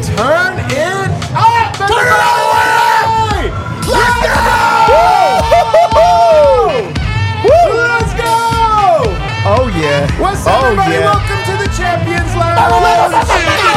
turn it up! Turn it everybody! Let's go! Let's go! Oh, yeah. What's up, everybody? Yeah. Welcome to the Champions Lounge. Let's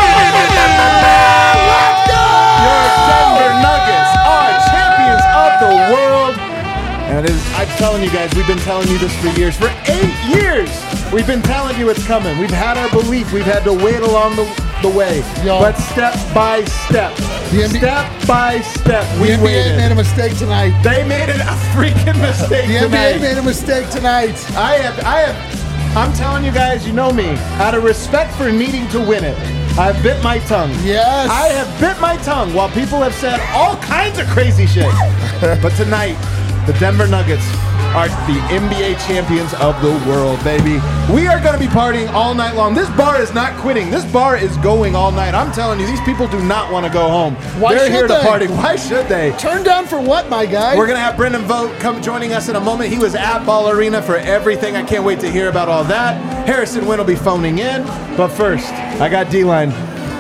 go! Your Denver Nuggets are champions of the world. And I'm telling you guys, we've been telling you this for years. For 8 years, we've been telling you it's coming. We've had our belief. We've had to wait along the way. Yo. But step by step, step by step, we The NBA waited. made a mistake tonight. They made a freaking mistake The tonight. NBA made a mistake tonight. I'm telling you guys, you know me. Out of respect for needing to win it, I've bit my tongue. Yes. I have bit my tongue while people have said all kinds of crazy shit. But tonight, the Denver Nuggets are the NBA champions of the world, baby. We are going to be partying all night long. This bar is not quitting. This bar is going all night. I'm telling you, these people do not want to go home. Why They're should here to they? party. Why should they? Turn down for what, my guy? We're going to have Brendan Vogt come joining us in a moment. He was at Ball Arena for everything. I can't wait to hear about all that. Harrison Wynn will be phoning in. But first, I got D-Line.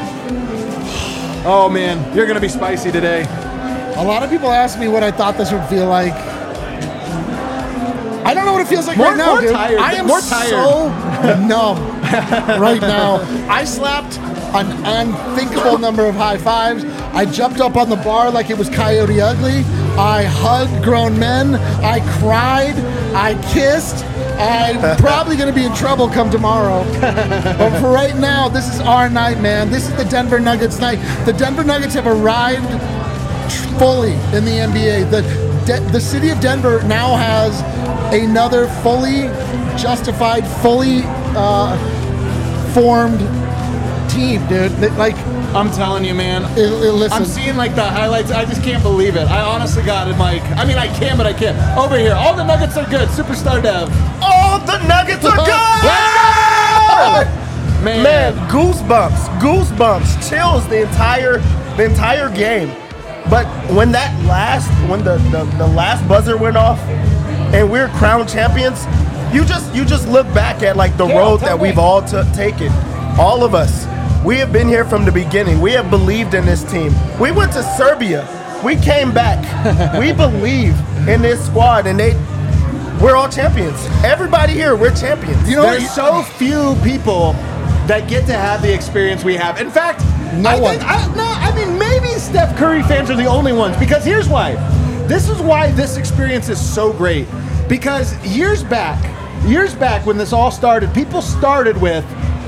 Oh, man. You're going to be spicy today. A lot of people ask me what I thought this would feel like. I don't know what it feels like right now, more dude. tired. I am More tired. so numb right now. I slapped an unthinkable number of high fives. I jumped up on the bar like it was Coyote Ugly. I hugged grown men. I cried. I kissed. I'm probably going to be in trouble come tomorrow. But for right now, this is our night, man. This is the Denver Nuggets night. The Denver Nuggets have arrived fully in the NBA. The city of Denver now has another fully justified, fully formed team, dude. Like, I'm telling you, man. listen. I'm seeing like the highlights. I just can't believe it. I honestly got it, Mike. I mean, I can, but I can't. Over here, all the Nuggets are good. Superstar Dev. All the Nuggets are good! Man, goosebumps, chills the entire game. But when the last buzzer went off and we're crowned champions, you just look back at like the road that we've all taken. All of us. We have been here from the beginning. We have believed in this team. We went to Serbia. We came back. We believe in this squad, and we're all champions. Everybody here, we're champions. You know, there's so few people that get to have the experience we have. In fact, I mean, maybe Steph Curry fans are the only ones, because here's why. This is why this experience is so great. Because years back when this all started, people started with,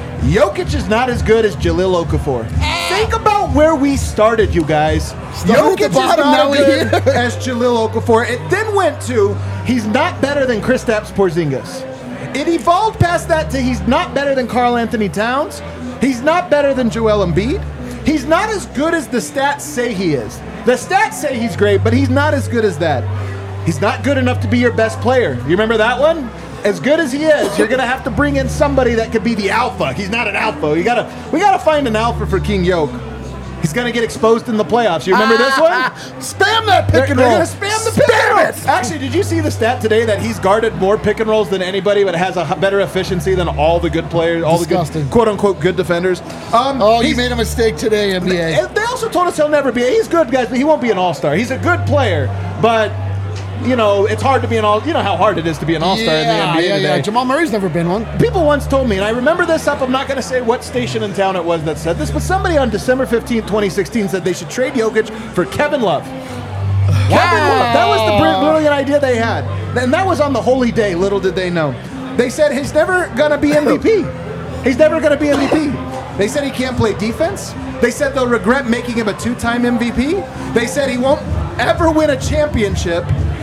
Jokic is not as good as Jahlil Okafor. Think about where we started, you guys. Jokic is not as good as Jahlil Okafor. It then went to, he's not better than Kristaps Porzingis. It evolved past that to he's not better than Karl Anthony Towns. He's not better than Joel Embiid. He's not as good as the stats say he is. The stats say he's great, but he's not as good as that. He's not good enough to be your best player. You remember that one? As good as he is, you're gonna have to bring in somebody that could be the alpha. He's not an alpha. We gotta find an alpha for King Yoke. He's gonna get exposed in the playoffs. You remember this one? Spam that pick and roll. They're gonna spam the pick and roll. Actually, did you see the stat today that he's guarded more pick and rolls than anybody, but has a better efficiency than all the good players, all the good, quote unquote, good defenders? You made a mistake today, NBA. They also told us he'll never be. He's good, guys, but he won't be an all-star. He's a good player, but. You know, it's hard to be you know how hard it is to be an all-star in the NBA today. Yeah. Jamal Murray's never been one. People once told me, and I remember this up, I'm not going to say what station in town it was that said this, but somebody on December 15th, 2016 said they should trade Jokic for Kevin Love. Kevin Love. That was the brilliant idea they had. And that was on the holy day, little did they know. They said he's never going to be MVP. He's never going to be MVP. They said he can't play defense. They said they'll regret making him a 2-time MVP. They said he won't ever win a championship.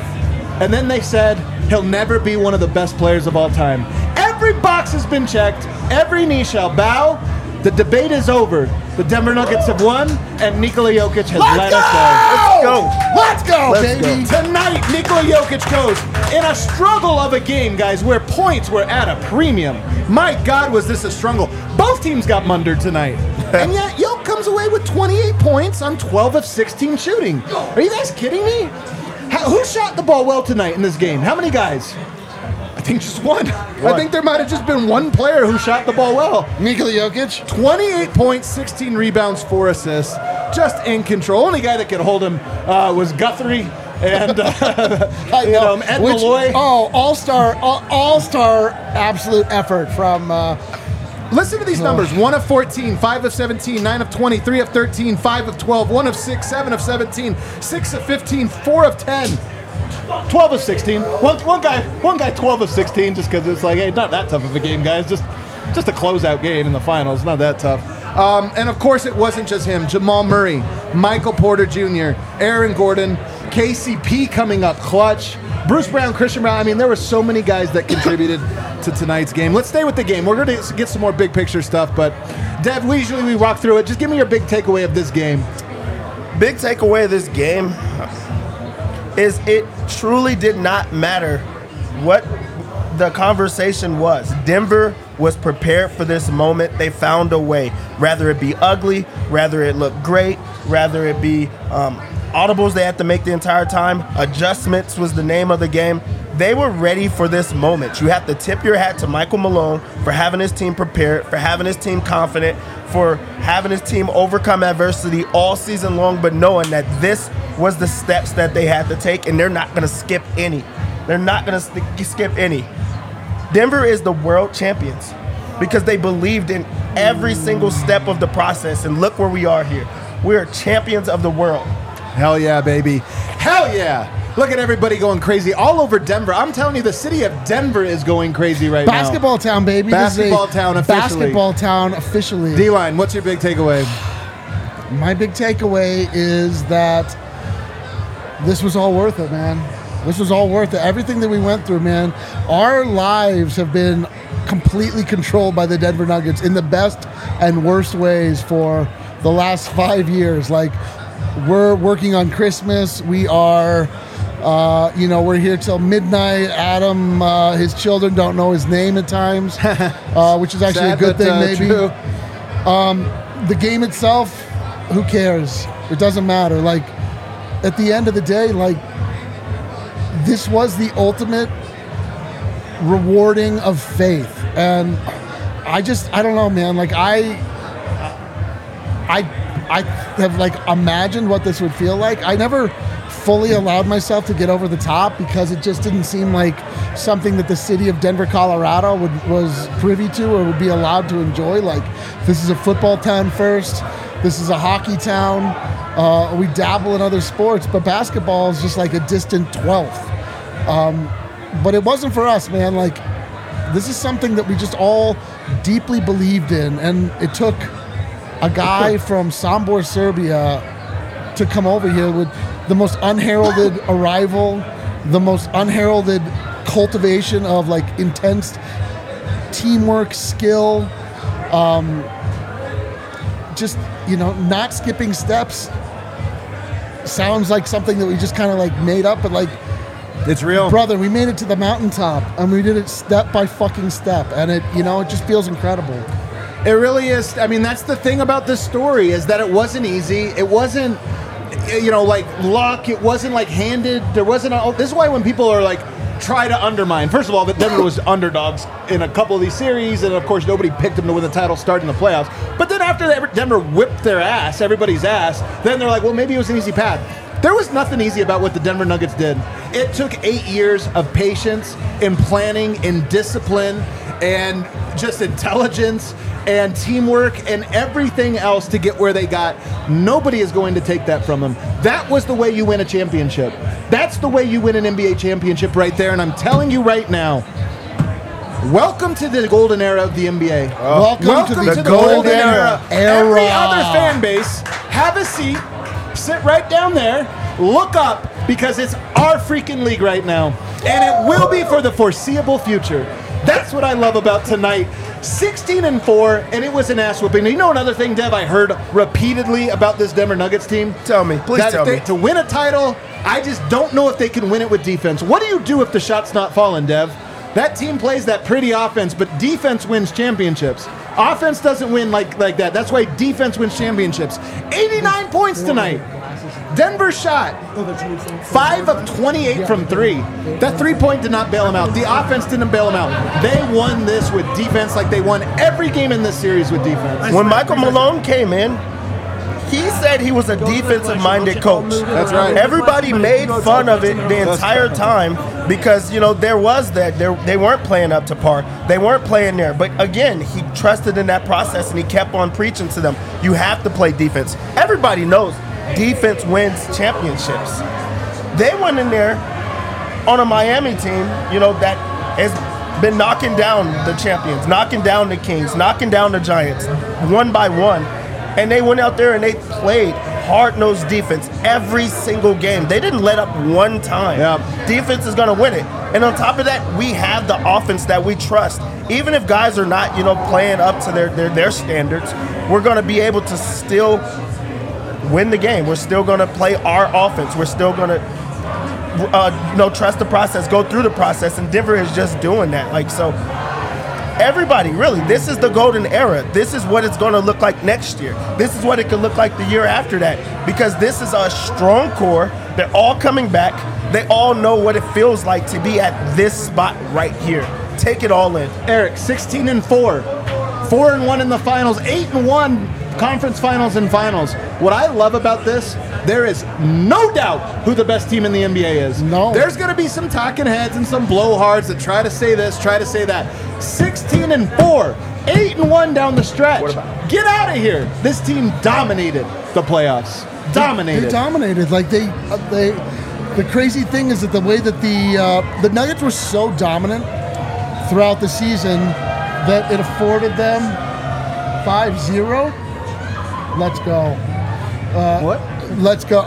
And then they said he'll never be one of the best players of all time. Every box has been checked. Every knee shall bow. The debate is over. The Denver Nuggets have won, and Nikola Jokic has let us go. Let's go, baby. Tonight, Nikola Jokic goes in a struggle of a game, guys, where points were at a premium. My God, was this a struggle. Both teams got mundered tonight. And yet, Jokic comes away with 28 points on 12 of 16 shooting. Are you guys kidding me? Who shot the ball well tonight in this game? How many guys? think just one. I think there might have just been one player who shot the ball well. Nikola Jokic. 28 points, 16 rebounds, 4 assists. Just in control. Only guy that could hold him was Guthrie and Ed Malloy. Oh, all-star absolute effort from... Listen to these numbers. 1 of 14, 5 of 17, 9 of 20, 3 of 13, 5 of 12, 1 of 6, 7 of 17, 6 of 15, 4 of 10. 12 of 16. One guy 12 of 16 just because it's like, hey, not that tough of a game, guys. Just a closeout game in the finals. Not that tough. And, of course, it wasn't just him. Jamal Murray, Michael Porter Jr., Aaron Gordon, KCP coming up clutch, Bruce Brown, Christian Brown. I mean, there were so many guys that contributed to tonight's game. Let's stay with the game. We're going to get some more big picture stuff, but, Dev, we walk through it. Just give me your big takeaway of this game. Big takeaway of this game is it truly did not matter what the conversation was. Denver was prepared for this moment. They found a way. Rather it be ugly, rather it look great, rather it be audibles they had to make the entire time. Adjustments was the name of the game. They were ready for this moment. You have to tip your hat to Michael Malone for having his team prepared, for having his team confident, for having his team overcome adversity all season long, but knowing that this was the steps that they had to take, and they're not going to skip any. They're not going to skip any. Denver is the world champions because they believed in every single step of the process, and look where we are here. We are champions of the world. Hell yeah, baby. Hell yeah. Look at everybody going crazy all over Denver. I'm telling you, the city of Denver is going crazy right Basketball town, baby. Basketball town officially. Basketball town officially. D-Line, what's your big takeaway? My big takeaway is that this was all worth it, man. This was all worth it. Everything that we went through, man. Our lives have been completely controlled by the Denver Nuggets in the best and worst ways for the last 5 years. Like, we're working on Christmas. We are, we're here till midnight. Adam, his children don't know his name at times, which is actually a good thing, maybe. True. The game itself, who cares? It doesn't matter. Like, at the end of the day, like, this was the ultimate rewarding of faith. And I don't know, man. Like, I have, like, imagined what this would feel like. I never fully allowed myself to get over the top because it just didn't seem like something that the city of Denver, Colorado was privy to or would be allowed to enjoy. Like, this is a football town first. This is a hockey town. We dabble in other sports, but basketball is just like a distant 12th. But it wasn't for us, man. Like, this is something that we just all deeply believed in, and it took a guy from Sombor, Serbia to come over here with the most unheralded arrival, the most unheralded cultivation of, like, intense teamwork, skill, just, not skipping steps. Sounds like something that we just kind of, like, made up, but, like, it's real. Brother, we made it to the mountaintop, and we did it step by fucking step, and it just feels incredible. It really is. I mean, that's the thing about this story is that it wasn't easy. It wasn't, like luck. It wasn't like handed. There wasn't. This is why when people are like, try to undermine. First of all, that Denver was underdogs in a couple of these series, and of course nobody picked them to win the title starting the playoffs. But then after Denver whipped their ass, everybody's ass, then they're like, well, maybe it was an easy path. There was nothing easy about what the Denver Nuggets did. It took 8 years of patience and planning and discipline and just intelligence and teamwork and everything else to get where they got. Nobody is going to take that from them. That was the way you win a championship. That's the way you win an NBA championship right there. And I'm telling you right now, welcome to the golden era of the NBA. Welcome to the golden era. Every other fan base, have a seat, sit right down there, look up, because it's our freaking league right now. And it will be for the foreseeable future. That's what I love about tonight. 16-4, and it was an ass whooping. You know another thing, Dev, I heard repeatedly about this Denver Nuggets team? Tell me. Please tell me. To win a title, I just don't know if they can win it with defense. What do you do if the shot's not falling, Dev? That team plays that pretty offense, but defense wins championships. Offense doesn't win like that. That's why defense wins championships. 89 points tonight. Denver shot 5 of 28 from 3. That 3-point did not bail them out. The offense didn't bail them out. They won this with defense like they won every game in this series with defense. When Michael Malone came in, he said he was a defensive-minded coach. That's right. Everybody made fun of it the entire time because, there was that. They weren't playing up to par. They weren't playing there. But, again, he trusted in that process, and he kept on preaching to them. You have to play defense. Everybody knows defense wins championships. They went in there on a Miami team, that has been knocking down the champions, knocking down the Kings, knocking down the Giants, one by one. And they went out there and they played hard-nosed defense every single game. They didn't let up one time. Yeah. Defense is going to win it. And on top of that, we have the offense that we trust. Even if guys are not, playing up to their standards, we're going to be able to still win the game. We're still going to play our offense. We're still going to, trust the process, go through the process. And Denver is just doing that. So everybody, really, this is the golden era. This is what it's going to look like next year. This is what it could look like the year after that. Because this is a strong core. They're all coming back. They all know what it feels like to be at this spot right here. Take it all in. Eric, 16-4, 4-1 in the finals, 8-1 conference finals and finals. What I love about this, there is no doubt who the best team in the NBA is. No. There's going to be some talking heads and some blowhards that try to say this, try to say that. 16-4, 8-1 down the stretch. Get out of here. This team dominated the playoffs. Dominated. They dominated. The crazy thing is that the way that the Nuggets were so dominant throughout the season that it afforded them 5-0. Let's go. What? Let's go.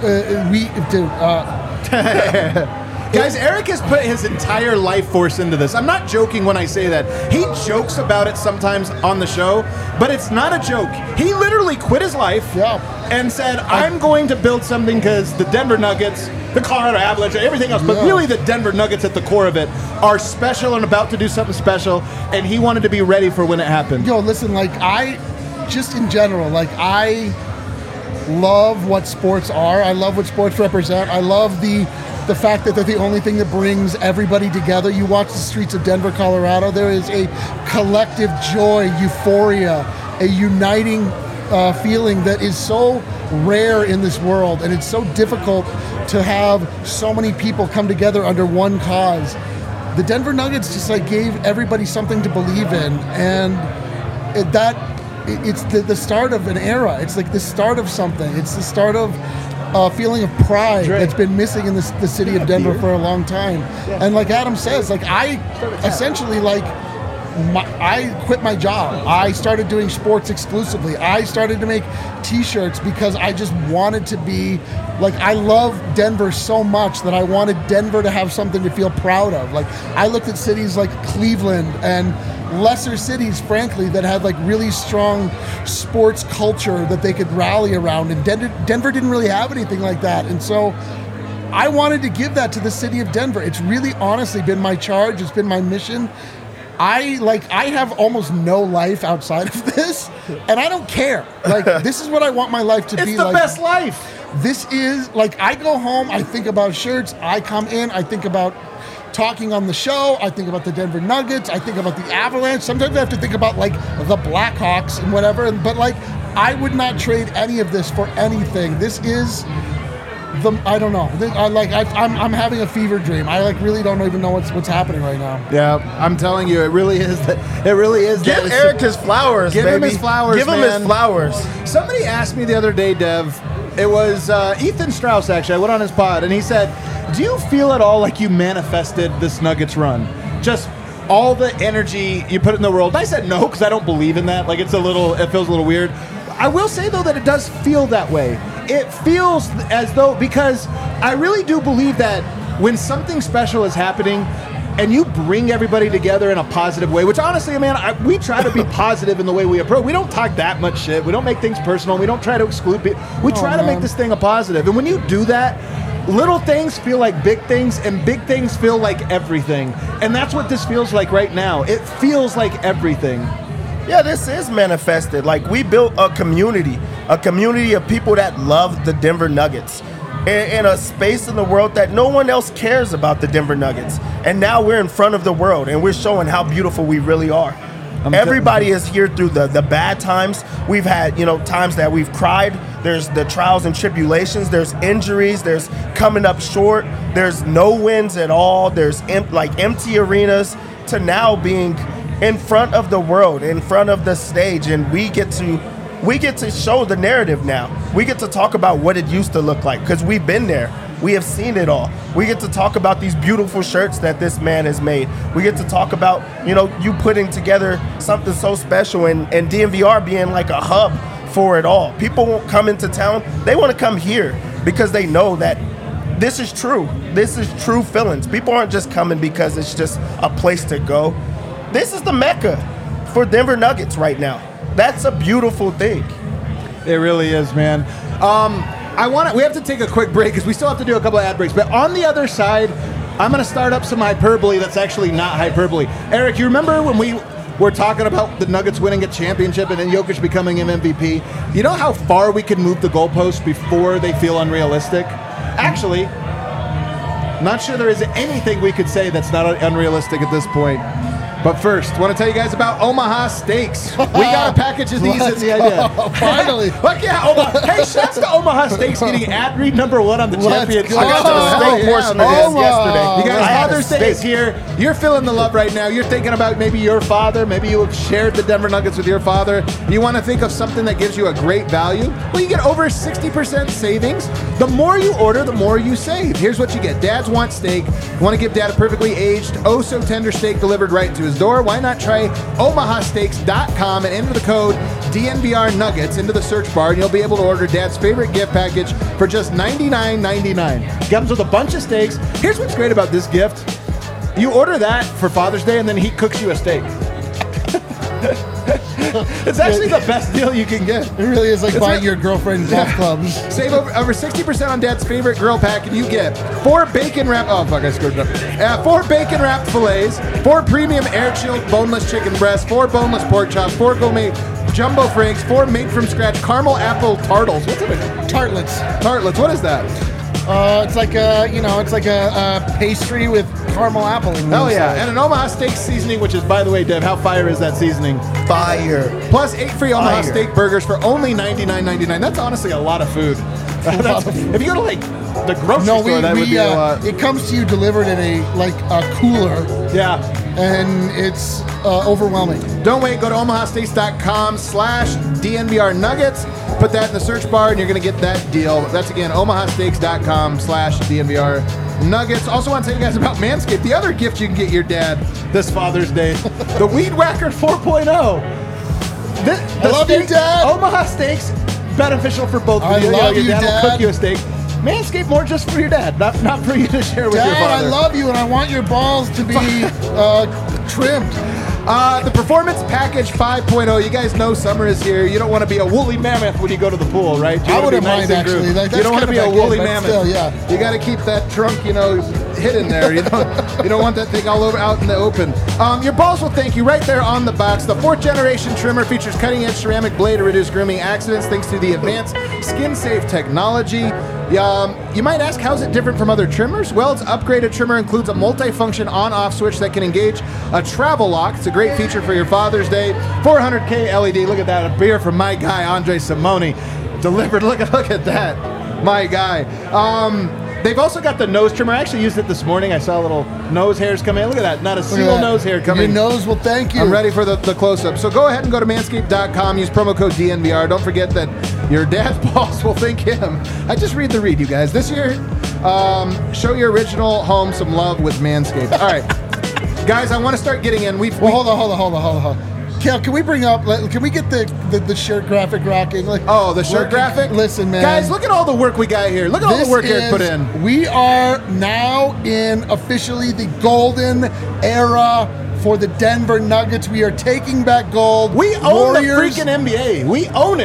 Guys, Eric has put his entire life force into this. I'm not joking when I say that. He jokes about it sometimes on the show, but it's not a joke. He literally quit his life and said, I'm going to build something because the Denver Nuggets, the Colorado Avalanche, everything else, but really the Denver Nuggets at the core of it are special and about to do something special, and he wanted to be ready for when it happened. Yo, listen, just in general, I love what sports are. I love what sports represent. I love the fact that they're the only thing that brings everybody together. You watch the streets of Denver, Colorado, there is a collective joy, euphoria, a uniting feeling that is so rare in this world, and it's so difficult to have so many people come together under one cause. The Denver Nuggets just gave everybody something to believe in, and it's the start of an era. It's the start of something. It's the start of a feeling of pride that's been missing in the city of Denver for a long time. And like Adam says, I essentially I quit my job. I started doing sports exclusively. I started to make t-shirts because I just wanted to be I love Denver so much that I wanted Denver to have something to feel proud of. I looked at cities like Cleveland and lesser cities, frankly, that had really strong sports culture that they could rally around, and Denver didn't really have anything like that. And so I wanted to give that to the city of Denver. It's really honestly been my charge. It's been my mission. I have almost no life outside of this, and I don't care. This is what I want my life to be. It's the best life. This is I go home, I think about shirts, I come in, I think about talking on the show, I think about the Denver Nuggets, I think about the Avalanche. Sometimes I have to think about the Blackhawks and whatever, but I would not trade any of this for anything. This is I don't know. I'm having a fever dream. I really don't even know what's happening right now. Yeah, I'm telling you, it really is. Give Eric his flowers. Give him his flowers. Give him his flowers. Somebody asked me the other day, Dev. It was Ethan Strauss, actually. I went on his pod, and he said, do you feel at all like you manifested this Nuggets run? Just all the energy you put in the world. I said no, because I don't believe in that. It feels a little weird. I will say, though, that it does feel that way. It feels as though, because I really do believe that when something special is happening and you bring everybody together in a positive way, which honestly, man, we try to be positive in the way we approach. We don't talk that much shit. We don't make things personal. We don't try to exclude people. We try to make this thing a positive. And when you do that, little things feel like big things, and big things feel like everything. And that's what this feels like right now. It feels like everything. Yeah, this is manifested. We built a community. a community of people that love the Denver Nuggets, in a space in the world that no one else cares about the Denver Nuggets. And now we're in front of the world, and we're showing how beautiful we really are. Everybody is here through the bad times. We've had, times that we've cried. There's the trials and tribulations. There's injuries. There's coming up short. There's no wins at all. There's empty arenas, to now being in front of the world, in front of the stage, and we get to show the narrative now. We get to talk about what it used to look like, because we've been there. We have seen it all. We get to talk about these beautiful shirts that this man has made. We get to talk about, you putting together something so special, and DNVR being like a hub for it all. People won't come into town. They want to come here because they know that this is true. This is true feelings. People aren't just coming because it's just a place to go. This is the Mecca for Denver Nuggets right now. That's a beautiful thing. It really is, man. We have to take a quick break because we still have to do a couple of ad breaks. But on the other side, I'm going to start up some hyperbole that's actually not hyperbole. Eric, you remember when we were talking about the Nuggets winning a championship and then Jokic becoming an MVP? You know how far we can move the goalposts before they feel unrealistic? Actually, not sure there is anything we could say that's not unrealistic at this point. But first, I want to tell you guys about Omaha Steaks. We got a package of these at the idea. Finally. Look, yeah, Hey, shouts to Omaha Steaks getting ad read number 1 on the championship. Go. I got to the steak portion of this yesterday. You guys, I had a Father's Day is here. You're feeling the love right now. You're thinking about maybe your father. Maybe you have shared the Denver Nuggets with your father. You want to think of something that gives you a great value? Well, you get over 60% savings. The more you order, the more you save. Here's what you get. Dads want steak. You want to give Dad a perfectly aged, oh-so-tender steak delivered right to his door? Why not try omahasteaks.com and enter the code DNVR Nuggets into the search bar, and you'll be able to order Dad's favorite gift package for just $99.99. Comes with a bunch of steaks. Here's what's great about this gift. You order that for Father's Day, and then he cooks you a steak. It's actually the best deal you can get. It really is like buying your girlfriend golf clubs. Save over 60% on Dad's favorite grill pack, and you get 4 bacon wrapped. Oh fuck! I screwed it up. 4 bacon wrapped fillets, 4 premium air chilled boneless chicken breasts, 4 boneless pork chops, 4 gourmet jumbo franks, 4 made from scratch caramel apple tartles. What's it? Tartlets. Tartlets. What is that? It's like a pastry with caramel apple in it. Oh yeah, and an Omaha Steak seasoning, which is, by the way, Dev, how fire is that seasoning? Fire. Plus 8 free Omaha Steak burgers for only $99.99. That's honestly a lot of food. If you go to like the grocery store, that would be a lot. It comes to you delivered in a cooler. Yeah. And it's overwhelming. Don't wait. Go to omahasteaks.com/DNVR Nuggets. Put that in the search bar, and you're going to get that deal. That's, again, omahasteaks.com/DNVR Nuggets. Also want to tell you guys about Manscaped, the other gift you can get your dad this Father's Day. The Weed Whacker 4.0. I love you, Dad. Omaha Steaks, beneficial for both of you. I love you, Your dad Dad. will cook you a steak. Manscaped, more just for your dad, not for you to share with your Dad, father. I love you, and I want your balls to be trimmed. The Performance Package 5.0. You guys know summer is here. You don't want to be a woolly mammoth when you go to the pool, right? You I wanna wouldn't be nice mind, and actually. grooved. That's You don't want to be a kind of woolly good, but mammoth. still, yeah. You got to keep that trunk, hidden there. You don't want that thing all over out in the open. Your balls will thank you right there on the box. The 4th generation trimmer features cutting-edge ceramic blade to reduce grooming accidents thanks to the advanced skin-safe technology. You might ask, how's it different from other trimmers? Well, its upgraded trimmer includes a multi-function on-off switch that can engage a travel lock. It's a great feature for your Father's Day. 400K LED. Look at that. A beer from my guy, Andre Simone. Delivered. Look at that. My guy. They've also got the nose trimmer. I actually used it this morning. I saw little nose hairs come in. Look at that. Not a single nose hair coming. Your nose will thank you. I'm ready for the close-up. So go ahead and go to manscaped.com. Use promo code DNVR. Don't forget that your dad's balls will thank him. I just read the read, you guys. This year, show your original home some love with Manscaped. All right. Guys, I want to start getting in. Hold on. Kel, can we get the shirt graphic rocking? The shirt graphic? Listen, man. Guys, look at all the work we got here. Look at all the work Eric put in. We are now in officially the golden era for the Denver Nuggets. We are taking back gold. We own Warriors. the freaking NBA. We own it.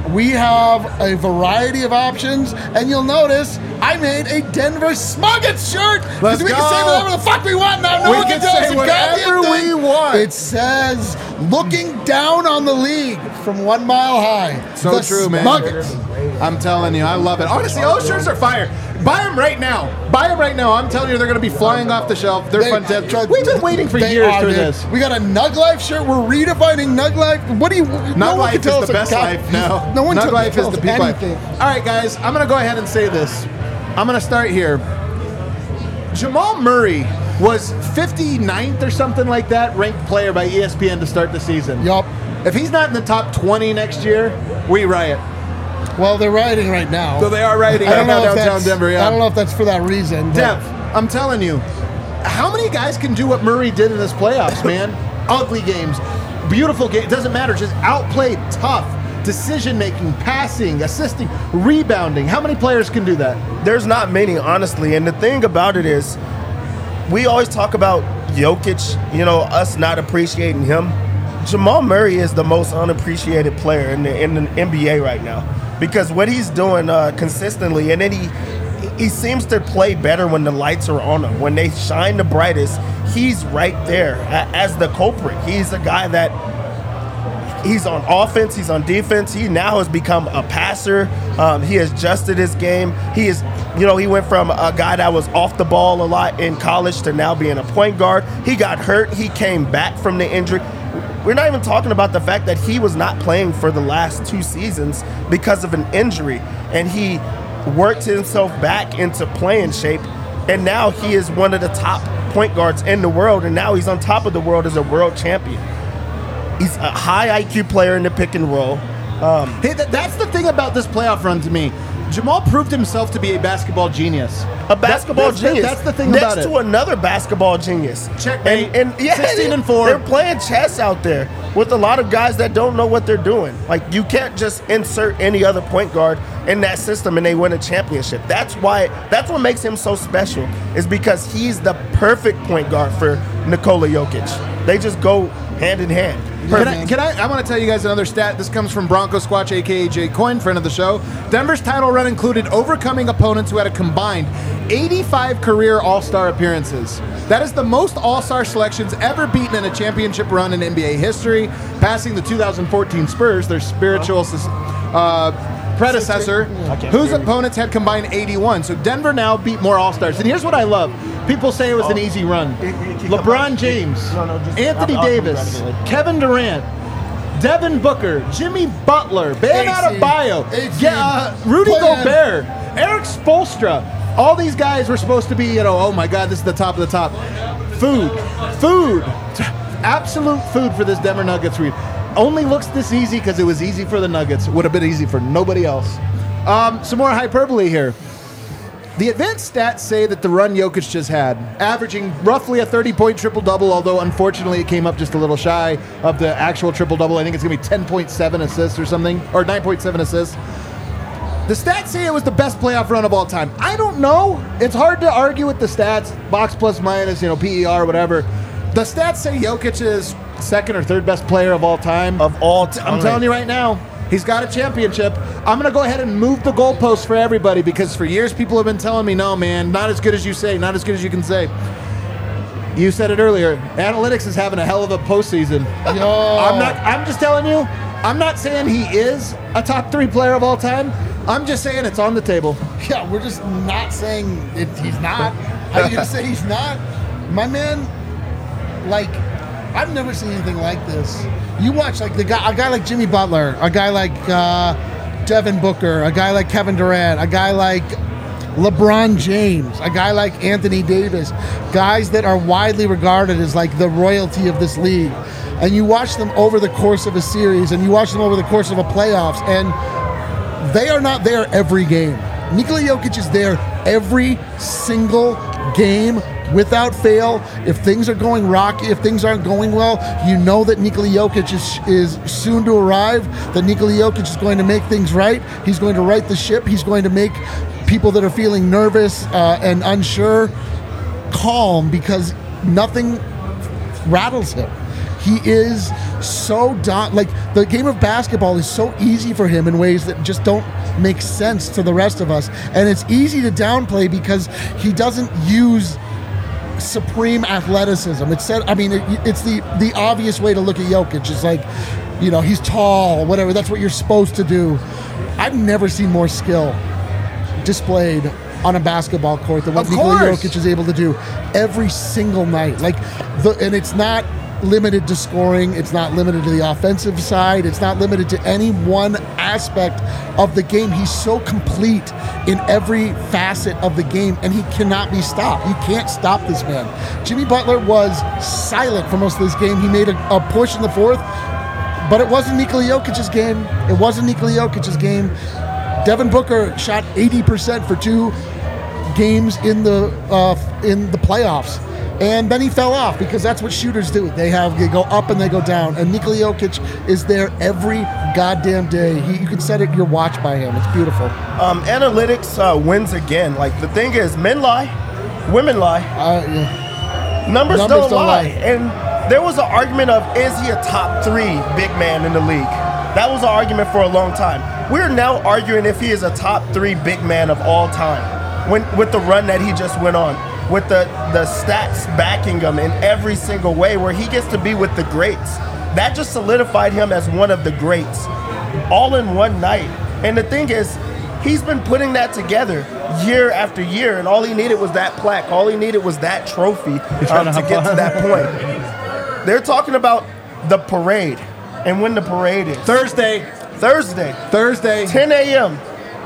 we have a variety of options, and you'll notice I made a Denver Smuggets shirt. Let's we go. can say whatever the fuck we want now. No We one can tell us say a whatever goddamn we thing. want. It says, looking down on the league from 1 mile high. So the true, man. Smuggets. I'm telling you, I love it. Honestly, all shirts are fire. Buy them right now. Buy them right now. I'm telling you, they're going to be flying off the shelf. They're fantastic. We've been waiting for years for this. We got a Nug Life shirt. We're redefining Nug Life. What do you? Nug Life is the best life. No one Nug Life is the peak life. anything. All right, guys, I'm going to go ahead and say this. I'm going to start here. Jamal Murray was 59th or something like that ranked player by ESPN to start the season. Yup. If he's not in the top 20 next year, we riot. Well, they're rioting right now. So they are rioting I right don't now know if downtown that's- Denver. Yeah. I don't know if that's for that reason. but- Dev, I'm telling you, how many guys can do what Murray did in this playoffs, man? Ugly games, beautiful games, doesn't matter, just outplayed, tough, decision-making, passing, assisting, rebounding. How many players can do that? There's not many, honestly. And the thing about it is, we always talk about Jokic, us not appreciating him. Jamal Murray is the most unappreciated player in the NBA right now, because what he's doing consistently, and then he seems to play better when the lights are on him. When they shine the brightest, he's right there as the culprit. He's a guy that he's on offense, he's on defense. He now has become a passer. He has adjusted his game. He is, he went from a guy that was off the ball a lot in college to now being a point guard. He got hurt. He came back from the injury. We're not even talking about the fact that he was not playing for the last 2 seasons because of an injury, and he worked himself back into playing shape, and now he is one of the top point guards in the world, and now he's on top of the world as a world champion. He's a high IQ player in the pick and roll. Hey, that's the thing about this playoff run to me. Jamal proved himself to be a basketball genius. A basketball genius. That's the thing next about it. to another basketball genius. Checkmate. And 16-4. They're playing chess out there with a lot of guys that don't know what they're doing. Like, you can't just insert any other point guard in that system and they win a championship. That's what makes him so special, is because he's the perfect point guard for Nikola Jokic. They just go hand in hand. I want to tell you guys another stat. This comes from Bronco Squatch, a.k.a. Jay Coyne, friend of the show. Denver's title run included overcoming opponents who had a combined 85 career All-Star appearances. That is the most All-Star selections ever beaten in a championship run in NBA history, passing the 2014 Spurs, their spiritual predecessor, whose opponents had combined 81. So Denver now beat more All-Stars. And here's what I love. People say it was an easy run. LeBron James, Anthony Davis, Kevin Durant, Devin Booker, Jimmy Butler, Bam Adebayo, Rudy Gobert, Eric Spoelstra. All these guys were supposed to be, oh my God, this is the top of the top. Food. Absolute food for this Denver Nuggets read. Only looks this easy because it was easy for the Nuggets. Would have been easy for nobody else. Some more hyperbole here. The advanced stats say that the run Jokic just had, averaging roughly a 30-point triple-double, although unfortunately it came up just a little shy of the actual triple-double. I think it's going to be 10.7 assists or something, or 9.7 assists. The stats say it was the best playoff run of all time. I don't know. It's hard to argue with the stats, box plus minus, PER, whatever. The stats say Jokic is second or third best player of all time. Of all time. I'm telling you right now, he's got a championship. I'm going to go ahead and move the goalposts for everybody, because for years people have been telling me, no, man, not as good as you say, not as good as you can say. You said it earlier. Analytics is having a hell of a postseason. I'm just telling you, I'm not saying he is a top 3 player of all time. I'm just saying it's on the table. Yeah, we're just not saying he's not. How are you going to say he's not? My man, I've never seen anything like this. You watch a guy like Jimmy Butler, a guy like Devin Booker, a guy like Kevin Durant, a guy like LeBron James, a guy like Anthony Davis, guys that are widely regarded as like the royalty of this league. And you watch them over the course of a series, and you watch them over the course of a playoffs, and they are not there every game. Nikola Jokic is there every single game without fail. If things are going rocky, if things aren't going well, you know that Nikola Jokic is soon to arrive, that Nikola Jokic is going to make things right. He's going to right the ship. He's going to make people that are feeling nervous and unsure calm, because nothing rattles him. He is so like the game of basketball is so easy for him in ways that just don't make sense to the rest of us, and it's easy to downplay because he doesn't use supreme athleticism. It's the obvious way to look at Jokic. It's like, he's tall, whatever. That's what you're supposed to do. I've never seen more skill displayed on a basketball court than what Nikola Jokic is able to do every single night. And it's not limited to scoring. It's not limited to the offensive side. It's not limited to any one aspect of the game. He's so complete in every facet of the game, and he cannot be stopped. You can't stop this man. Jimmy Butler was silent for most of this game. He made a push in the fourth, but it wasn't Nikola Jokic's game. It wasn't Nikola Jokic's game. Devin Booker shot 80% for 2 games in the playoffs. And then he fell off because that's what shooters do. They go up and they go down. And Nikola Jokic is there every goddamn day. You can set your watch by him. It's beautiful. Analytics wins again. The thing is, men lie, women lie. Yeah. Numbers don't lie. And there was an argument of, is he a top 3 big man in the league? That was an argument for a long time. We're now arguing if he is a top 3 big man of all time with the run that he just went on. With the stats backing him in every single way, where he gets to be with the greats. That just solidified him as one of the greats, all in one night. And the thing is, he's been putting that together year after year, and all he needed was that plaque. All he needed was that trophy to get to that point. They're talking about the parade, and when the parade is. Thursday. 10 a.m.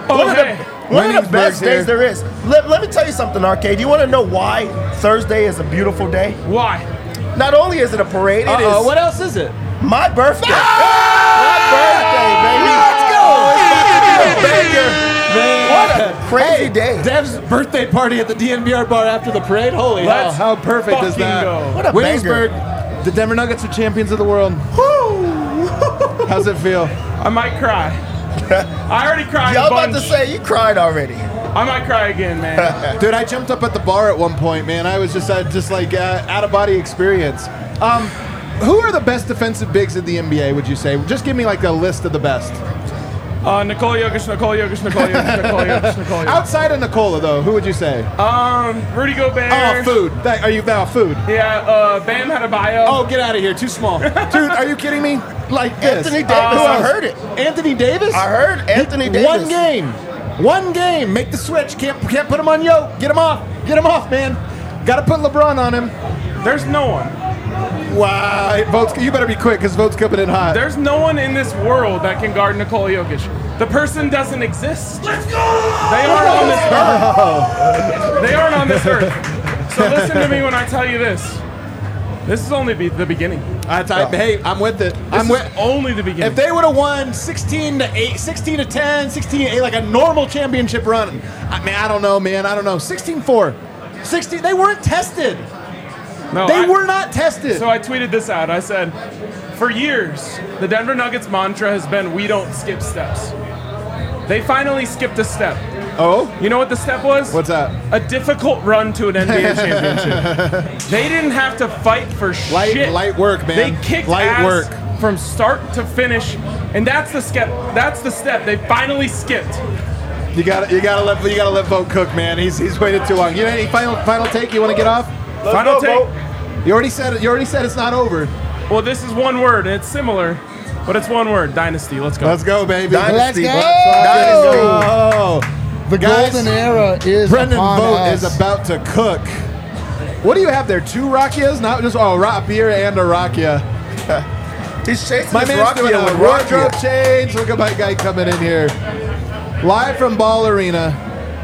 One of the best days there is. Let me tell you something, Arcade. You want to know why Thursday is a beautiful day? Why? Not only is it a parade, it is. What else is it? My birthday. My birthday, baby. Let's go. What a crazy day. Dev's birthday party at the DNVR bar after the parade. Holy hell. How perfect is that? Go. What a Williamsburg, the Denver Nuggets are champions of the world. How's it feel? I might cry. I already cried. I was about to say, you cried already. I might cry again, man. Dude, I jumped up at the bar at one point, man. I was just out of body experience. Who are the best defensive bigs in the NBA, would you say? Just give me a list of the best. Nikola Jokic. Outside of Nikola, though, who would you say? Rudy Gobert. Oh, food. Are you now food? Yeah, Bam Adebayo. Oh, get out of here. Too small. Dude, are you kidding me? This. Anthony Davis, I heard it. Anthony Davis? I heard Anthony Davis. One game. Make the switch. Can't put him on Yo. Get him off, man. Got to put LeBron on him. There's no one. Wow. Votes, you better be quick because votes coming in hot. There's no one in this world that can guard Nikola Jokic. The person doesn't exist. Let's go! They aren't on this earth. They aren't on this earth. So listen to me when I tell you this. This is only the beginning. Hey, I'm with it. Only the beginning. If they would have won 16-8, 16-10, 16-8, like a normal championship run, I don't know, man. I don't know. 16-4. 16. They weren't tested. No, they were not tested. So I tweeted this out. I said, for years, the Denver Nuggets mantra has been, we don't skip steps. They finally skipped a step. Oh? You know what the step was? What's that? A difficult run to an NBA championship. They didn't have to fight for shit. Light work, man. They kicked ass from start to finish, and that's the step. That's the step they finally skipped. You gotta let Vogt cook, man. He's waited too long. You know any final take? You want to get off? Final take. You already said it. You already said it's not over. Well, this is one word, and it's similar, but it's one word. Dynasty. Let's go. Let's go, baby. Dynasty. Dynasty. The golden era is Brendan upon Vogt us. is about to cook. What do you have there? 2 Rackias? Not just a beer and a Rakia. He's chasing my his man's doing Rakia a with wardrobe Rakia. change. Look at my guy coming in here. Live from Ball Arena.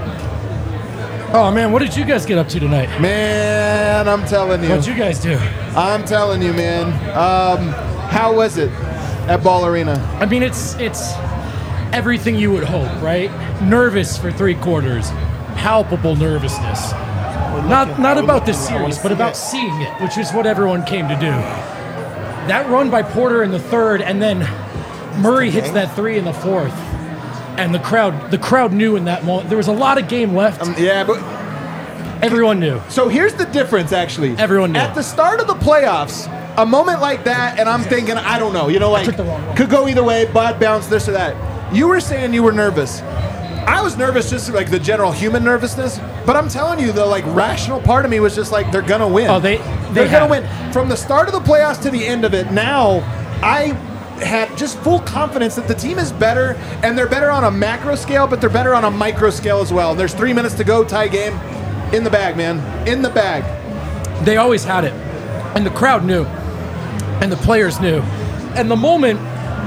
Oh, man, what did you guys get up to tonight? Man, I'm telling you. What'd you guys do? I'm telling you, man. How was it at Ball Arena? I mean, it's everything you would hope, right? Nervous for 3 quarters. Palpable nervousness. Not about this series, but about seeing it, which is what everyone came to do. That run by Porter in the third, and then Murray hits that 3 in the fourth. And the crowd knew in that moment. There was a lot of game left. Yeah, but everyone knew. So here's the difference, actually. Everyone knew. At the start of the playoffs, a moment like that, and I'm thinking, I don't know, like, could go either way, bad bounce, this or that. You were saying you were nervous. I was nervous, just like the general human nervousness, but I'm telling you, the like rational part of me was just like, they're gonna win. Oh, they're gonna win. From the start of the playoffs to the end of it, now I had just full confidence that the team is better, and they're better on a macro scale, but they're better on a micro scale as well. There's 3 minutes to go, tie game, in the bag, man, in the bag. They always had it, and the crowd knew, and the players knew, and the moment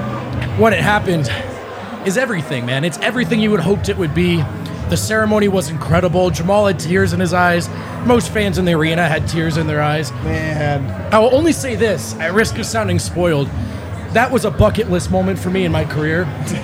when it happened is everything, man. It's everything you would hoped it would be. The ceremony was incredible. Jamal had tears in his eyes. Most fans in the arena had tears in their eyes. Man. I will only say this, at risk of sounding spoiled, that was a bucket list moment for me in my career.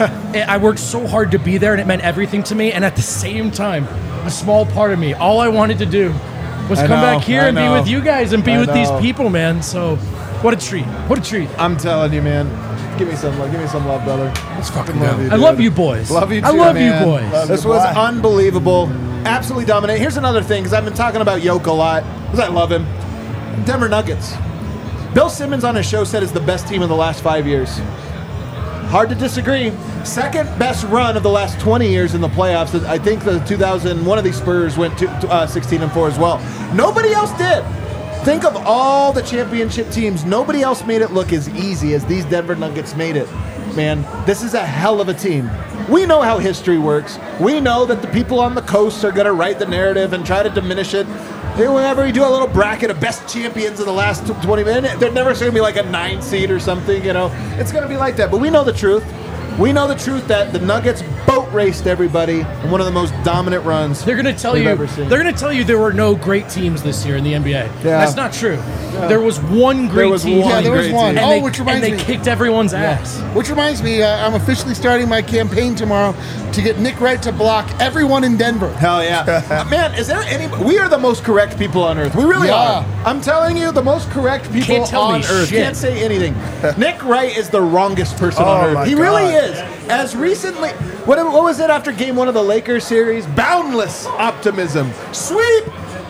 I worked so hard to be there, and it meant everything to me, and at the same time, a small part of me, all I wanted to do was come back here and be with you guys and be with these people, man. So, what a treat. What a treat. I'm telling you, man. Give me some love, brother. Let's fucking love you, I love you boys. Love you too, I love man. you boys. This was unbelievable. Absolutely dominant. Here's another thing, because I've been talking about Yoke a lot, because I love him. Denver Nuggets. Bill Simmons on his show said it's the best team in the last 5 years. Hard to disagree. Second best run of the last 20 years in the playoffs. I think the 2000, one of these Spurs went to 16-4 as well. Nobody else did. Think of all the championship teams. Nobody else made it look as easy as these Denver Nuggets made it. Man, this is a hell of a team. We know how history works. We know that the people on the coast are going to write the narrative and try to diminish it. Whenever we do a little bracket of best champions of the last 20 minutes, they're never going to be like a 9 seed or something, It's going to be like that. But we know the truth. We know the truth that the Nuggets boat raced everybody in one of the most dominant runs they're going to tell you. They're going to tell you there were no great teams this year in the NBA. Yeah. That's not true. Yeah. There was one great team. Yeah, there was one. And which reminds me. And they kicked everyone's ass. Which reminds me, I'm officially starting my campaign tomorrow to get Nick Wright to block everyone in Denver. Hell yeah. Man, is there any... We are the most correct people on Earth. We really are. I'm telling you, the most correct people on Earth. Shit. Can't say anything. Nick Wright is the wrongest person on Earth. He really is. As recently... What was it after Game 1 of the Lakers series? Boundless optimism. Sweep!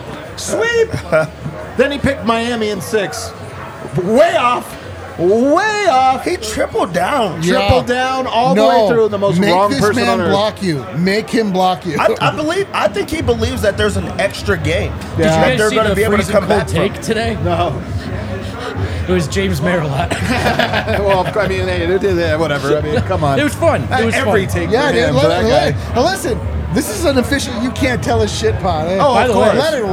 Then he picked Miami in 6. Way off. He tripled down. Tripled down all the way through. The most wrong person on Earth. Make him block you. I think he believes that there's an extra game. Yeah. Did you guys they're see going to the be able to freezing come cold back take from today? No. It was James Merrillat. Well, I mean, hey, whatever. I mean, come on. It was fun. It was Every fun. take Yeah, for him, dude. for that guy. Now listen, this is an official. You can't tell us shit pod. Eh? Oh, By of the way, course. Let it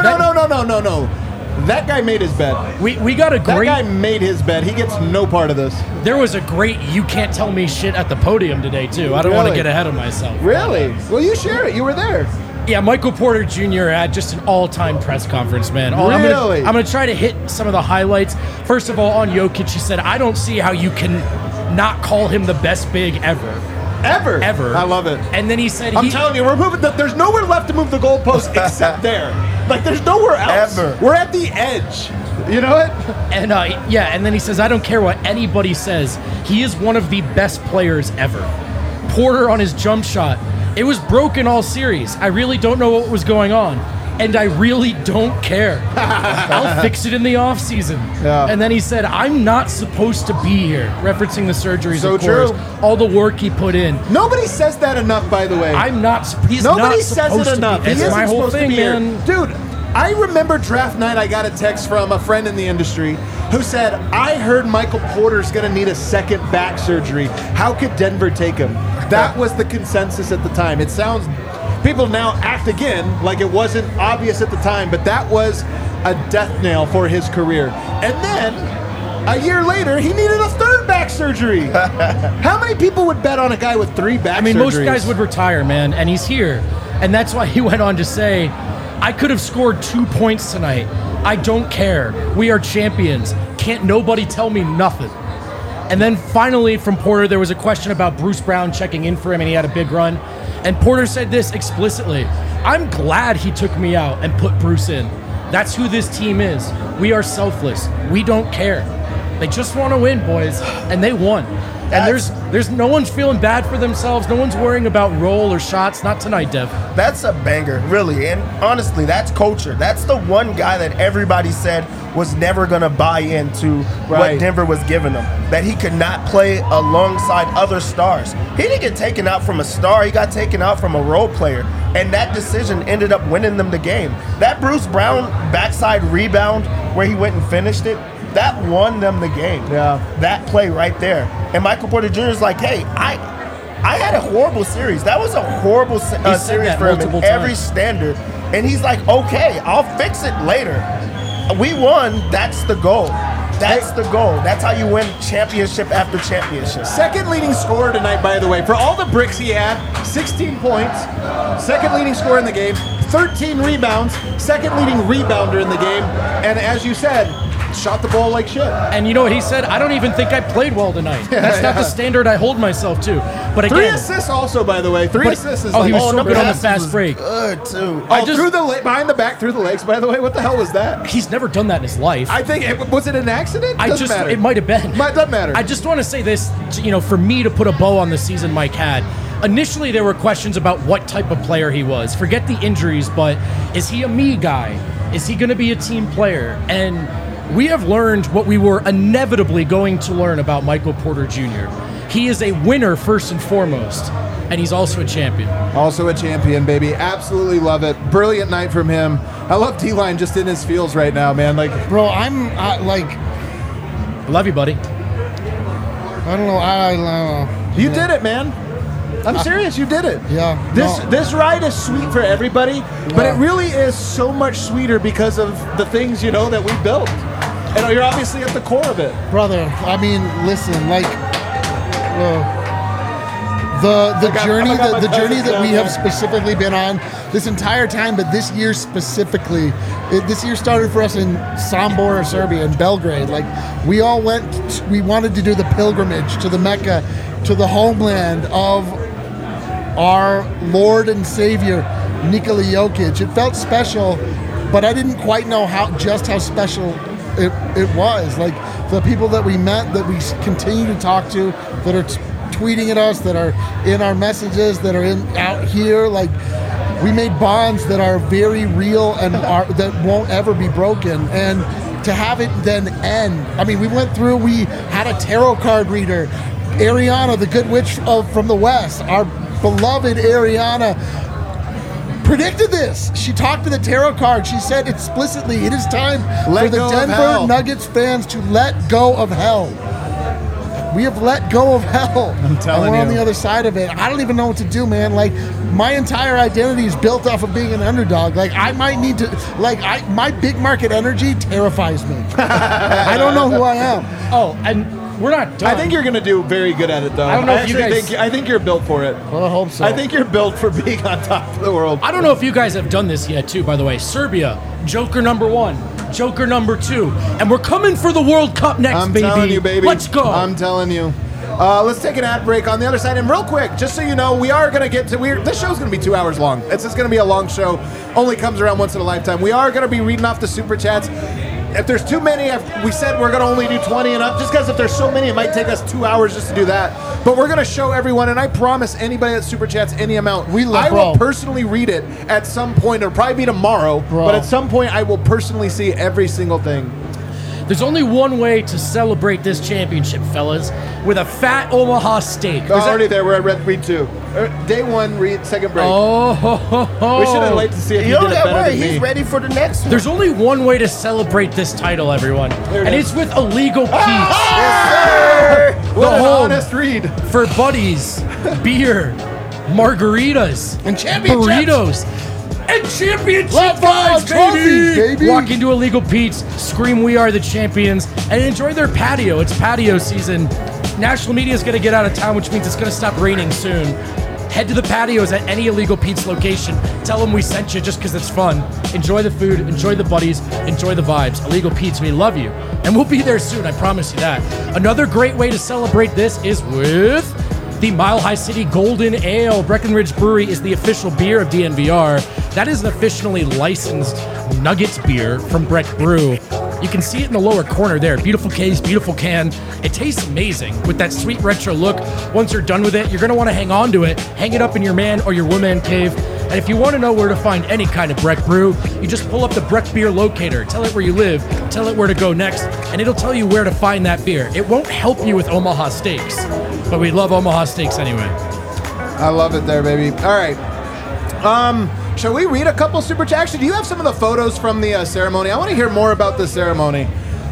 No. That guy made his bed. We got a That great. guy made his bed. He gets no part of this. There was a great "you can't tell me shit" at the podium today too. I don't want to get ahead of myself. Really? Well, you share it. You were there. Yeah, Michael Porter Jr. had just an all-time press conference, man. Really? I'm gonna try to hit some of the highlights. First of all, on Jokic, he said, "I don't see how you can not call him the best big ever." Ever. I love it. And then he said, I'm telling you, we're moving. There's nowhere left to move the goalpost except there. Like, there's nowhere else. Ever. We're at the edge. You know what? And and then he says, "I don't care what anybody says. He is one of the best players ever." Porter on his jump shot. It was broken all series. I really don't know what was going on. And I really don't care. I'll fix it in the offseason. Yeah. And then he said, "I'm not supposed to be here," referencing the surgeries, So of course. true. All the work he put in. Nobody says that enough, by the way. He's Nobody not says supposed it to enough. be. He It's isn't my whole supposed to thing, be here. man. Dude, I remember draft night, I got a text from a friend in the industry who said, "I heard Michael Porter's going to need a second back surgery. How could Denver take him?" That was the consensus at the time. It sounds... People now act again like it wasn't obvious at the time, but that was a death nail for his career. And then, a year later, he needed a third back surgery. How many people would bet on a guy with 3 back surgeries? Most guys would retire, man, and he's here. And that's why he went on to say, "I could have scored 2 points tonight. I don't care. We are champions. Can't nobody tell me nothing." And then finally from Porter, there was a question about Bruce Brown checking in for him, and he had a big run. And Porter said this explicitly: "I'm glad he took me out and put Bruce in. That's who this team is. We are selfless. We don't care. They just want to win, boys." And they won. And there's no one's feeling bad for themselves. No one's worrying about roll or shots. Not tonight, Dev. That's a banger, really. And honestly, that's culture. That's the one guy that everybody said was never going to buy into what Denver was giving him. That he could not play alongside other stars. He didn't get taken out from a star. He got taken out from a role player. And that decision ended up winning them the game. That Bruce Brown backside rebound where he went and finished it, that won them the game. Yeah. That play right there. And Michael Porter Jr. is like, hey, I had a horrible series. That was a horrible series for him in every standard. And he's like, okay, I'll fix it later. We won. That's the goal. That's the goal. That's how you win championship after championship. Second leading scorer tonight, by the way. For all the bricks he had, 16 points. Second leading scorer in the game. 13 rebounds. Second leading rebounder in the game. And as you said, shot the ball like shit. And you know what he said? I don't even think I played well tonight. That's not the standard I hold myself to. But again, 3 assists also, by the way. 3 assists is he was so good on the fast break. Good too. Through the behind the back, through the legs. By the way, what the hell was that? He's never done that in his life. I think was it an accident? Doesn't matter. It might have been. Doesn't matter. I just want to say this, for me to put a bow on the season Mike had. Initially, there were questions about what type of player he was. Forget the injuries, but is he a me guy? Is he going to be a team player? And we have learned what we were inevitably going to learn about Michael Porter Jr. He is a winner first and foremost, and he's also a champion. Also a champion, baby. Absolutely love it. Brilliant night from him. I love D-Line just in his feels right now, man. Bro, I'm love you, buddy. I don't know. I don't know. You did it, man. I'm serious. You did it. Yeah. This ride is sweet for everybody, but it really is so much sweeter because of the things that we built. And you're obviously at the core of it, brother. I mean, listen, the journey that we have specifically been on this entire time, but this year specifically, this year started for us in Sombor, Serbia, in Belgrade. We all we wanted to do the pilgrimage to the Mecca, to the homeland of our Lord and Savior, Nikola Jokic. It felt special, but I didn't quite know how special it was. The people that we met, that we continue to talk to, that are tweeting at us, that are in our messages, that are out here, we made bonds that are very real and that won't ever be broken. And to have it then end, I mean, we had a tarot card reader, Ariana, the good witch from the West, our beloved Ariana, predicted this. She talked to the tarot card. She said explicitly, it is time for the Denver Nuggets fans to let go of hell. We have let go of hell. I'm telling you. And we're on the other side of it. I don't even know what to do, man. My entire identity is built off of being an underdog. I might need to, my big market energy terrifies me. I don't know who I am. Oh, and we're not done. I think you're going to do very good at it, though. I don't know if you guys... I think you're built for it. Well, I hope so. I think you're built for being on top of the world. I don't know if you guys have done this yet, too, by the way. Serbia, Joker number 1, Joker number 2. And we're coming for the World Cup next, baby. I'm telling you, baby. Let's go. I'm telling you. Let's take an ad break on the other side. And real quick, just so you know, we are going to get to... This show's going to be 2 hours long. It's just going to be a long show. Only comes around once in a lifetime. We are going to be reading off the Super Chats. If there's too many, we said we're going to only do 20 and up, just because if there's so many, it might take us 2 hours just to do that. But we're going to show everyone, and I promise anybody that Super Chats any amount, I will personally read it at some point. It'll probably be tomorrow, but at some point I will personally see every single thing. There's only one way to celebrate this championship, fellas, with a fat Omaha steak. Already there. We're at read 2. Day 1, second break. Oh, ho, ho, ho. We should have waited to see if he did it better than me. He's ready for the next one. There's only one way to celebrate this title, everyone, and it's with Illegal Pete's. Yes, sir! What an honest read. For buddies, beer, margaritas, and championships. Burritos. And championship vibes, baby! Walk into Illegal Pete's, scream "We are the champions," and enjoy their patio. It's patio season. National media is going to get out of town, which means it's going to stop raining soon. Head to the patios at any Illegal Pete's location. Tell them we sent you just because it's fun. Enjoy the food, enjoy the buddies, enjoy the vibes. Illegal Pete's, we love you. And we'll be there soon, I promise you that. Another great way to celebrate this is with the Mile High City Golden Ale. Breckenridge Brewery is the official beer of DNVR. That is an officially licensed Nuggets beer from Breck Brew. You can see it in the lower corner there. Beautiful case, beautiful can. It tastes amazing with that sweet retro look. Once you're done with it, you're going to want to hang on to it. Hang it up in your man or your woman cave. And if you want to know where to find any kind of Breck brew, you just pull up the Breck beer locator, tell it where you live, tell it where to go next, and it'll tell you where to find that beer. It won't help you with Omaha Steaks, but we love Omaha Steaks anyway. I love it there, baby. All right. Shall we read a couple super chats? Actually, do you have some of the photos from the ceremony? I want to hear more about this ceremony.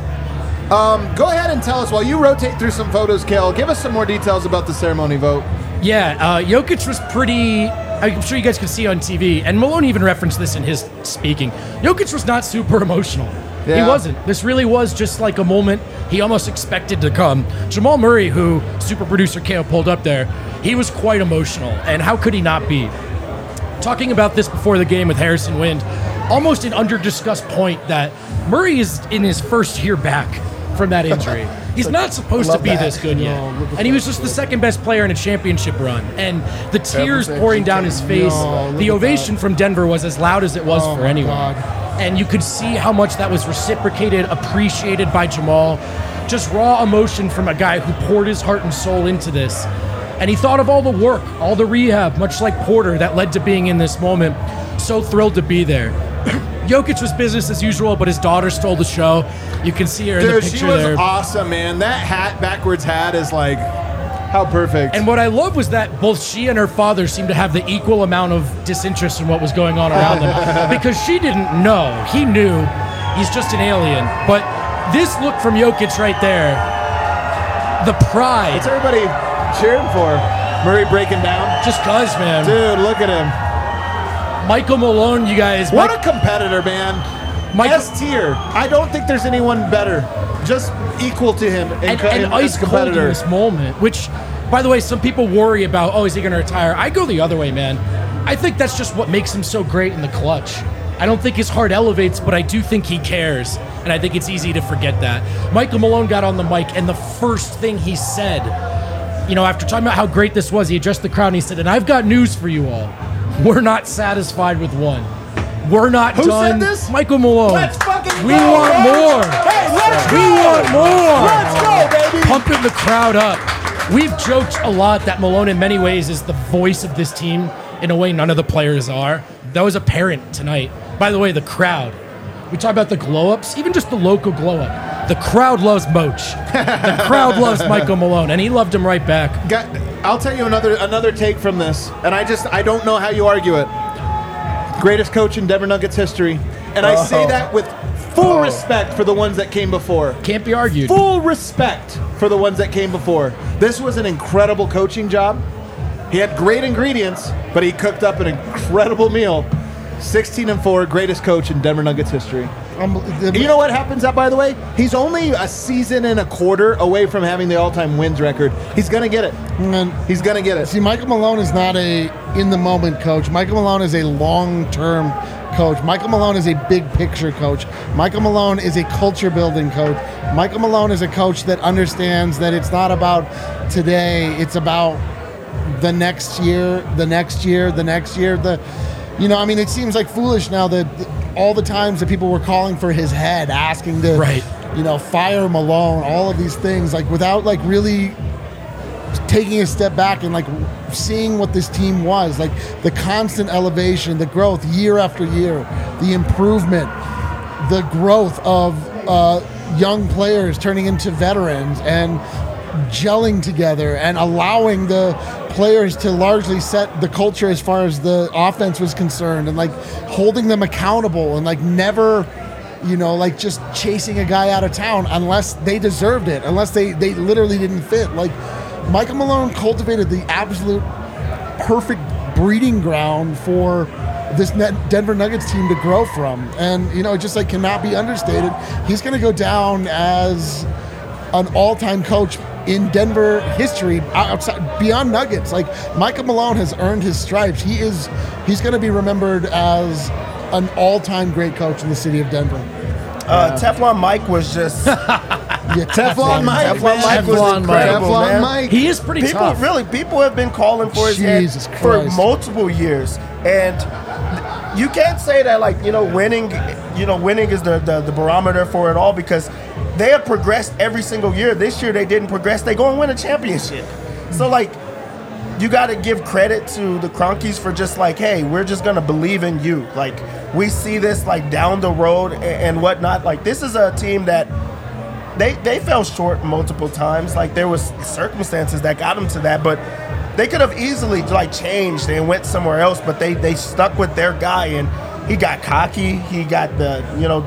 Go ahead and tell us, while you rotate through some photos, Kale, give us some more details about the ceremony vote. Yeah, Jokic was pretty... I'm sure you guys could see on TV, and Malone even referenced this in his speaking. Jokic was not super emotional. Yeah. He wasn't. This really was just like a moment he almost expected to come. Jamal Murray, who super producer Kale pulled up there, he was quite emotional, and how could he not be? Talking about this before the game with Harrison Wind, almost an under-discussed point that Murray is in his first year back from that injury. He's not supposed to be this good yet. And he was just the second best player in a championship run. And the tears pouring down his face, the ovation from Denver was as loud as it was for anyone. And you could see how much that was reciprocated, appreciated by Jamal. Just raw emotion from a guy who poured his heart and soul into this. And he thought of all the work, all the rehab, much like Porter, that led to being in this moment. So thrilled to be there. Jokic was business as usual, but his daughter stole the show. You can see her in the picture there. Dude, she was awesome, man. That hat, backwards hat, is like, how perfect. And what I love was that both she and her father seemed to have the equal amount of disinterest in what was going on around them. Because she didn't know. He knew. He's just an alien. But this look from Jokic right there, the pride. What's everybody cheering for? Murray breaking down? Just cuz, man. Dude, look at him. Michael Malone, you guys. What a competitor, man. S tier. I don't think there's anyone better. Just equal to him. And ice cold in this moment, which, by the way, some people worry about, is he going to retire? I go the other way, man. I think that's just what makes him so great in the clutch. I don't think his heart elevates, but I do think he cares. And I think it's easy to forget that. Michael Malone got on the mic, and the first thing he said, after talking about how great this was, he addressed the crowd and he said, and I've got news for you all. We're not satisfied with one. We're not done. Who said this? Michael Malone. Let's fucking go. We want more. Hey, let's go. We want more. Let's go, baby. Pumping the crowd up. We've joked a lot that Malone in many ways is the voice of this team in a way none of the players are. That was apparent tonight. By the way, the crowd. We talk about the glow-ups, even just the local glow-up. The crowd loves Moch. The crowd loves Michael Malone, and he loved him right back. I'll tell you another take from this, and I don't know how you argue it. Greatest coach in Denver Nuggets history, and I say that with full respect for the ones that came before. Can't be argued. Full respect for the ones that came before. This was an incredible coaching job. He had great ingredients, but he cooked up an incredible meal. 16-4, greatest coach in Denver Nuggets history. You know what happens out, by the way? He's only a season and a quarter away from having the all-time wins record. He's going to get it. He's going to get it. See, Michael Malone is not a in-the-moment coach. Michael Malone is a long-term coach. Michael Malone is a big-picture coach. Michael Malone is a culture-building coach. Michael Malone is a coach that understands that it's not about today. It's about the next year, the next year, the next year. It seems like foolish now that all the times that people were calling for his head, asking to, fire Malone, all of these things, without really taking a step back and seeing what this team was, the constant elevation, the growth year after year, the improvement, the growth of young players turning into veterans and gelling together and allowing the players to largely set the culture as far as the offense was concerned, and holding them accountable, and never, just chasing a guy out of town unless they deserved it, unless they literally didn't fit. Michael Malone cultivated the absolute perfect breeding ground for this Denver Nuggets team to grow from, and it just cannot be understated. He's going to go down as an all-time coach in Denver history, outside beyond Nuggets. Michael Malone has earned his stripes. He's going to be remembered as an all-time great coach in the city of Denver. Teflon Mike was just Teflon Mike. Teflon Mike was incredible, man. Mike. He is pretty tough. People have been calling for his head for multiple years, and you can't say that winning. winning is the barometer for it all because they have progressed every single year. This year they didn't progress. They go and win a championship. So, like, you got to give credit to the Cronkies for just like, hey, we're just going to believe in you. Like, we see this, like, down the road and whatnot. Like, this is a team that they fell short multiple times. Like, there was circumstances that got them to that, but they could have easily, like, changed and went somewhere else, but they stuck with their guy, and he got cocky. He got the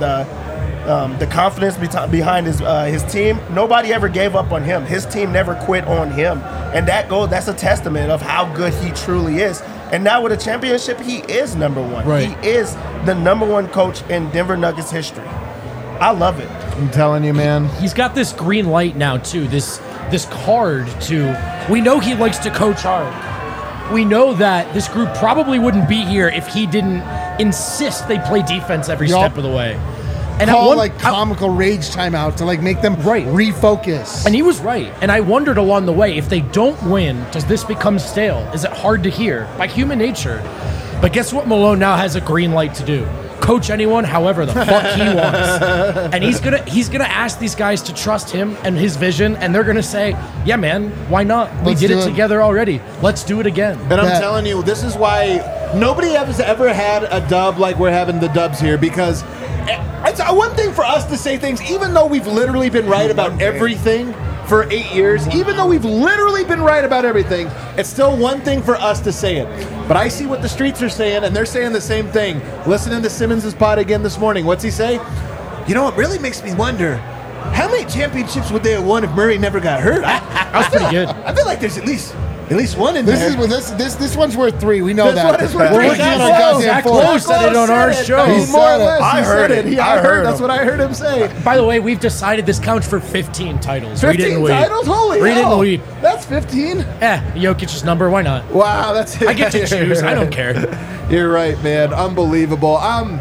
confidence behind his team. Nobody ever gave up on him. His team never quit on him. And that's a testament of how good he truly is. And now with a championship, he is number one. Right. He is the number one coach in Denver Nuggets history. I love it. I'm telling you, man. He's got this green light now, too. This card to... We know he likes to coach hard. We know that this group probably wouldn't be here if he didn't insist they play defense every step of the way. And call comical rage timeout to like make them refocus. And he was right. And I wondered along the way, if they don't win, does this become stale? Is it hard to hear? By human nature. But guess what Malone now has a green light to do? Coach anyone however the fuck he wants. And he's gonna ask these guys to trust him and his vision, and they're gonna say, yeah, man, why not? We did it together already. Let's do it again. And I'm telling you, this is why nobody has ever had a dub like we're having the dubs here, because it's one thing for us to say things, even though we've literally been right about everything for 8 years, even though we've literally been right about everything, it's still one thing for us to say it. But I see what the streets are saying, and they're saying the same thing. Listening to Simmons' pod again this morning, what's he say? You know, it really makes me wonder, how many championships would they have won if Murray never got hurt? That was pretty good. I feel like there's at least one in there. This one's worth 3. We know this that. One is worth We're 3. working on our goddamn Zach 4. Lowe said it on our show. He said it. I heard it. I heard. That's what I heard him say. By the way, we've decided this counts for 15 titles. 15 titles? Holy Read it hell. and leap. That's 15? Jokic's number. Why not? Wow, that's it. I get to choose. I don't care. You're right, man. Unbelievable.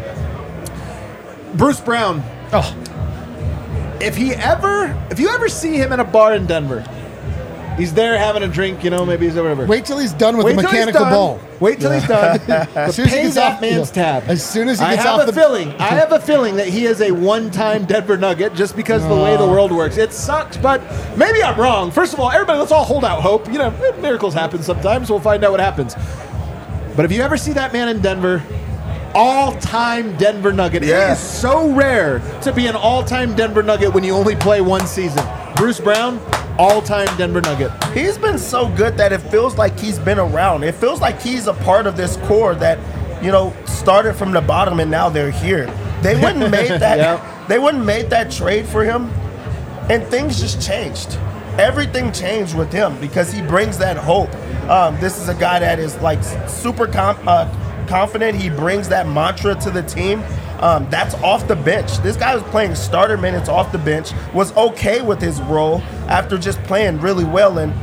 Bruce Brown. Oh, If you ever see him in a bar in Denver, he's there having a drink, maybe he's whatever. Wait till he's done with the mechanical ball. Wait till he's done. As soon as he Pay gets that off- man's tab. As soon as he I gets have off a feeling that he is a one-time Denver Nugget just because of the way the world works. It sucks, but maybe I'm wrong. First of all, everybody, let's all hold out hope. Miracles happen sometimes. We'll find out what happens. But if you ever see that man in Denver, all-time Denver Nugget. Yeah. It is so rare to be an all-time Denver Nugget when you only play one season. Bruce Brown, all-time Denver Nugget. He's been so good that it feels like he's been around. It feels like he's a part of this core that, started from the bottom and now they're here. They wouldn't made that. Yep. They wouldn't made that trade for him, and things just changed. Everything changed with him because he brings that hope. This is a guy that is like super confident. He brings that mantra to the team. That's off the bench. This guy was playing starter minutes off the bench, was okay with his role after just playing really well. And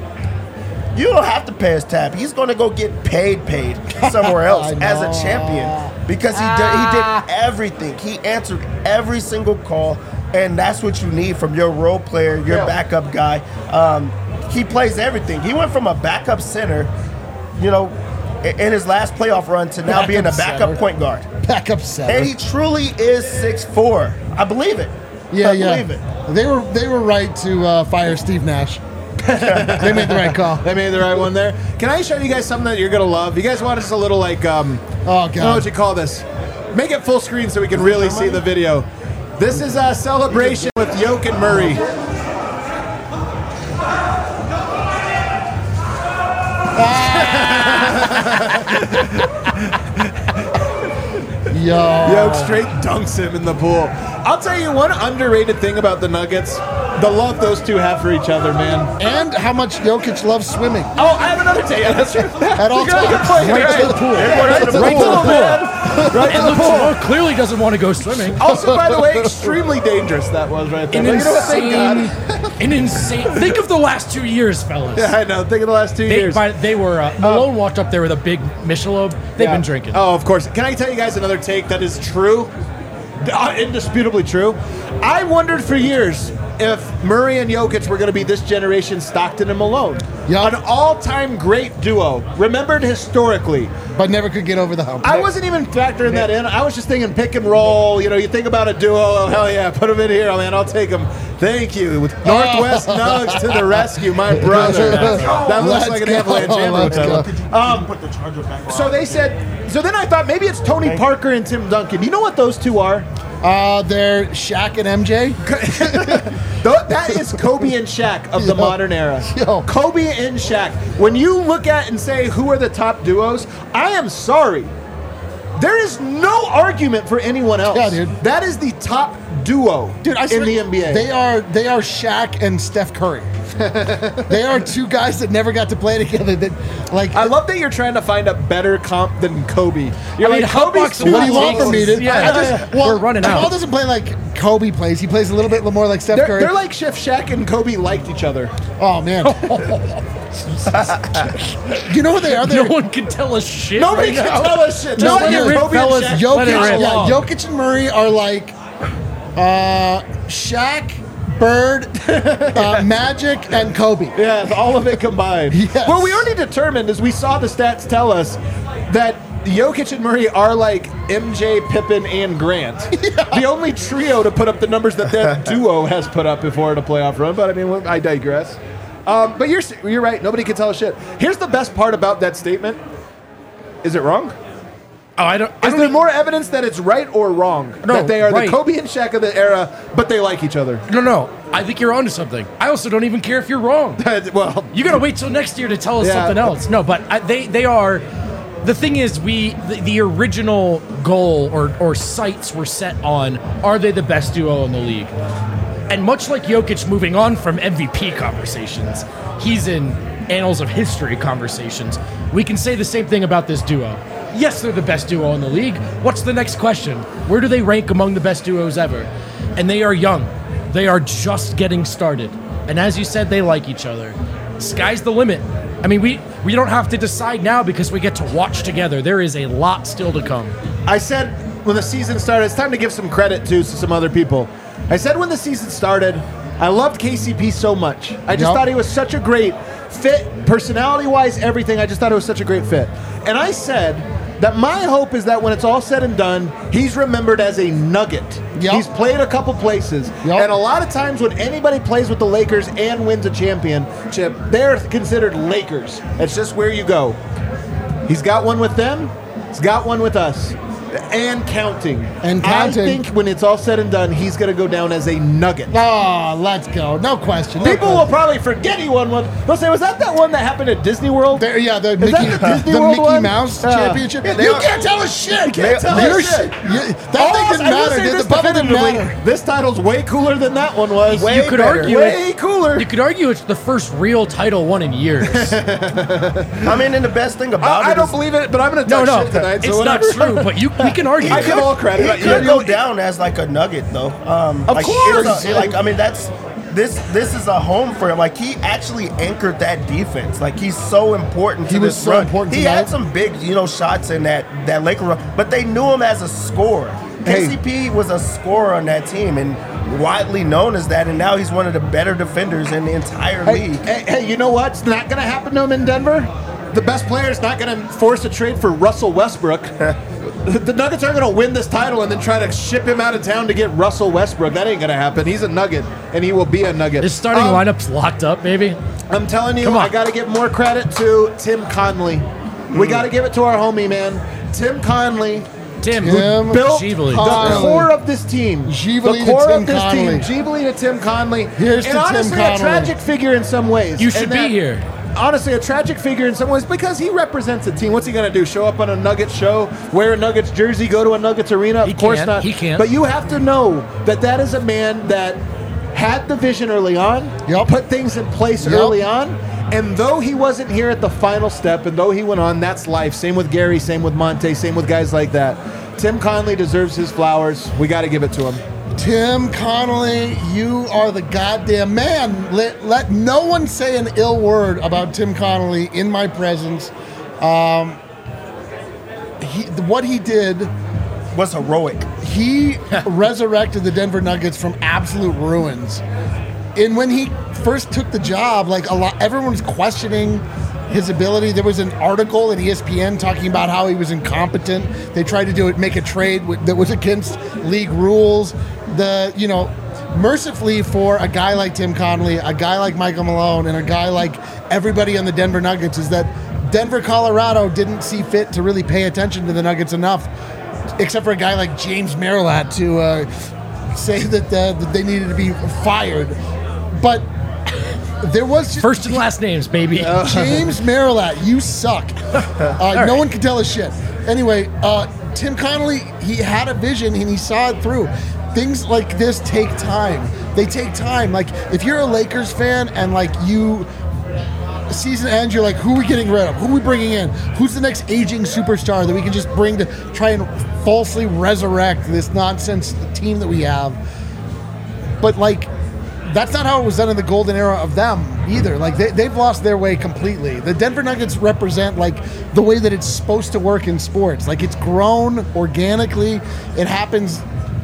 you don't have to pay his tab. He's going to go get paid somewhere else as a champion because he did everything. He answered every single call, and that's what you need from your role player, your backup guy. He plays everything. He went from a backup center, in his last playoff run to now being a backup point guard. Backup center. And he truly is 6'4". I believe it. Yeah, I believe it. They were right to fire Steve Nash. They made the right call. They made the right one there. Can I show you guys something that you're going to love? You guys want us a little oh, God. I don't know what you call this. Make it full screen so we can really see the video. This is a celebration with Yoke and Murray. Yoke straight dunks him in the pool. I'll tell you one underrated thing about the Nuggets, the love those two have for each other, man. And how much Jokic loves swimming. Oh, I have another take. That's true. At all times. right to the pool. Right to the pool, man. Right to And the Luke pool. Simone clearly doesn't want to go swimming. Also, by the way, extremely dangerous that was right there. An But you know what? Thank God. insane. Think of the last 2 years, fellas. Yeah, I know. Think of the last 2 years. They were Malone walked up there with a big Michelob. They've been drinking. Oh, of course. Can I tell you guys another take that is true? Indisputably true. I wondered for years, if Murray and Jokic were going to be this generation Stockton and Malone. Yep. An all-time great duo, remembered historically. But never could get over the hump. I wasn't even factoring that in. I was just thinking pick and roll. You know, you think about a duo. Oh, hell yeah, put them in here. Oh, man, I'll take them. Thank you. With Northwest Nugs to the rescue, my brother. That looks like an Avalanche ammo. So they said, so then I thought maybe it's Tony Parker and Tim Duncan. You know what those two are? They're Shaq and MJ. That is Kobe and Shaq of the modern era. Yo. Kobe and Shaq. When you look at and say who are the top duos, I am sorry. There is no argument for anyone else. Yeah, dude. That is the top duo in the NBA. They are Shaq and Steph Curry. They are two guys that never got to play together. I love that you're trying to find a better comp than Kobe. You're I mean, Kobe's Hotbox, what do you want from me, dude? Yeah, we're running Jamal out. doesn't play like Kobe plays. He plays a little bit more like Steph Curry. They're like Chef Shaq and Kobe liked each other. Oh man. You know who they are? No one can tell us shit. Nobody right can now. tell us shit. Just Just let it rip, Kobe and fellas. Shaq. Let it rip. Jokic and Murray are like Shaq, Bird, Magic, and Kobe. Yeah, all of it combined. Yes. Well, we already determined, as we saw the stats tell us, that Jokic and Murray are like MJ, Pippen, and Grant. The only trio to put up the numbers that duo has put up before in a playoff run. But I mean, I digress. But you're right. Nobody can tell us shit. Here's the best part about that statement. Is it wrong? Oh, I don't. Is there more evidence that it's right or wrong? No, that they are right. the Kobe and Shaq of the era, but they like each other. No. I think you're onto something. I also don't even care if you're wrong. Well, You gotta wait till next year to tell us Yeah. something else. No, but they are. The thing is, the original goal or sights were set on, are they the best duo in the league? And much like Jokic moving on from MVP conversations, he's in annals of history conversations. We can say the same thing about this duo. Yes, they're the best duo in the league. What's the next question? Where do they rank among the best duos ever? And they are young. They are just getting started. And as you said, they like each other. Sky's the limit. I mean, we don't have to decide now because we get to watch together. There is a lot still to come. I said when the season started, it's time to give some credit to some other people. I said when the season started, I loved KCP so much. I just thought he was such a great fit, personality-wise, everything. I just thought it was such a great fit. And I said that my hope is that when it's all said and done, he's remembered as a nugget. Yep. He's played a couple places. Yep. And a lot of times when anybody plays with the Lakers and wins a championship, they're considered Lakers. That's just where you go. He's got one with them. He's got one with us. And counting. And counting. I think when it's all said and done, he's going to go down as a nugget. Oh, let's go. No question. People will probably forget he won one. They'll say, was that one that happened at Disney World? The that Mickey, the Disney the World Mickey one? Mouse Championship. Yeah, You can't tell us shit. You can't tell us shit. That thing didn't matter. Dude. The bubble didn't matter. This title's way cooler than that one was. You could argue way cooler. You could argue it's the first real title won in years. I mean, and the best thing about I it don't is believe it, but I'm going to No, talk shit no, tonight. it's so not whatever. true. But we can argue. I give all credit. He could go down as like a nugget, though. Of course. I mean, that's this is a home for him. Like, he actually anchored that defense. Like, he's so important to He was this so run. important He tonight. had some big, shots in that Laker run, but they knew him as a scorer. Hey. KCP was a scorer on that team and widely known as that, and now he's one of the better defenders in the entire league. Hey, you know what's not going to happen to him in Denver? The best player is not going to force a trade for Russell Westbrook. The Nuggets aren't going to win this title and then try to ship him out of town to get Russell Westbrook. That ain't going to happen. He's a Nugget, and he will be a Nugget. His starting lineup's locked up, maybe. I'm telling you, Come on. I got to give more credit to Tim Conley. We got to give it to our homie, man. Tim Conley. Tim Built Gively. the core of this team. Gively the to core Tim of this Conley. team. Gively to Tim Conley. Here's and to Tim honestly, Conley. a tragic figure in some ways. You should And be that- here. Honestly, a tragic figure in some ways because he represents a team. What's he going to do? Show up on a Nuggets show, wear a Nuggets jersey, go to a Nuggets arena? Of course can't. not. He can't. But you have to know that is a man that had the vision early on, Yep. put things in place Yep. early on, and though he wasn't here at the final step, and though he went on, that's life. Same with Gary, same with Monte, same with guys like that. Tim Conley deserves his flowers. We got to give it to him. Tim Connolly, you are the goddamn man. Let no one say an ill word about Tim Connolly in my presence. What he did, Was heroic. he resurrected the Denver Nuggets from absolute ruins. And when he first took the job, like everyone was questioning his ability. There was an article in ESPN talking about how he was incompetent. They tried to make a trade that was against league rules. Mercifully for a guy like Tim Connolly, a guy like Michael Malone, and a guy like everybody on the Denver Nuggets, is that Denver, Colorado didn't see fit to really pay attention to the Nuggets enough, except for a guy like James Merilatt to say that they needed to be fired. But there was first and last names, baby. James Merilatt, you suck. No one can tell us shit. Anyway, Tim Connolly, he had a vision and he saw it through. Things like this take time. They take time. Like if you're a Lakers fan and like season ends, you're like, who are we getting rid of? Who are we bringing in? Who's the next aging superstar that we can just bring to try and falsely resurrect this nonsense team that we have? But like, that's not how it was done in the golden era of them either. Like they've lost their way completely. The Denver Nuggets represent like the way that it's supposed to work in sports. Like it's grown organically. It happens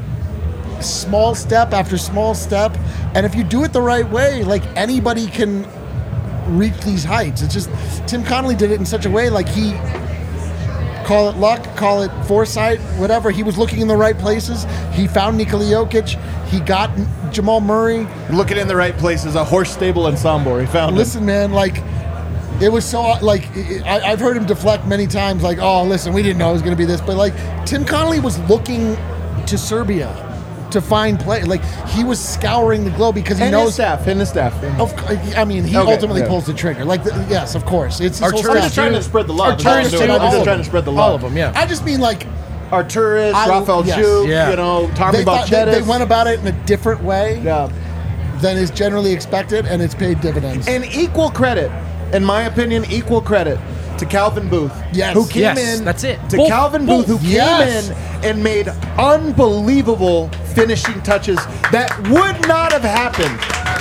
small step after small step. And if you do it the right way, like anybody can reach these heights. It's just Tim Connolly did it in such a way, like he, call it luck, call it foresight, whatever. He was looking in the right places. He found Nikola Jokic. He got Jamal Murray. Looking in the right places, a horse stable in Sombor. He found Listen, man, like, it was so, like, I've heard him deflect many times, like, oh, listen, we didn't know it was going to be this. But, like, Tim Connolly was looking to Serbia to find play. Like, he was scouring the globe because he knows. And his staff. I mean, he ultimately pulls the trigger. Like, yes, of course. It's his whole I'm just trying to spread the love. I'm just trying to spread the love. All of them, yeah. I just mean, like, Arturis, Rafael Juke, Tommy Balchetis. They went about it in a different way than is generally expected, and it's paid dividends. And equal credit, in my opinion, to Calvin Booth. Yes. Who came in. That's it. To Calvin Booth, who came in and made unbelievable finishing touches that would not have happened.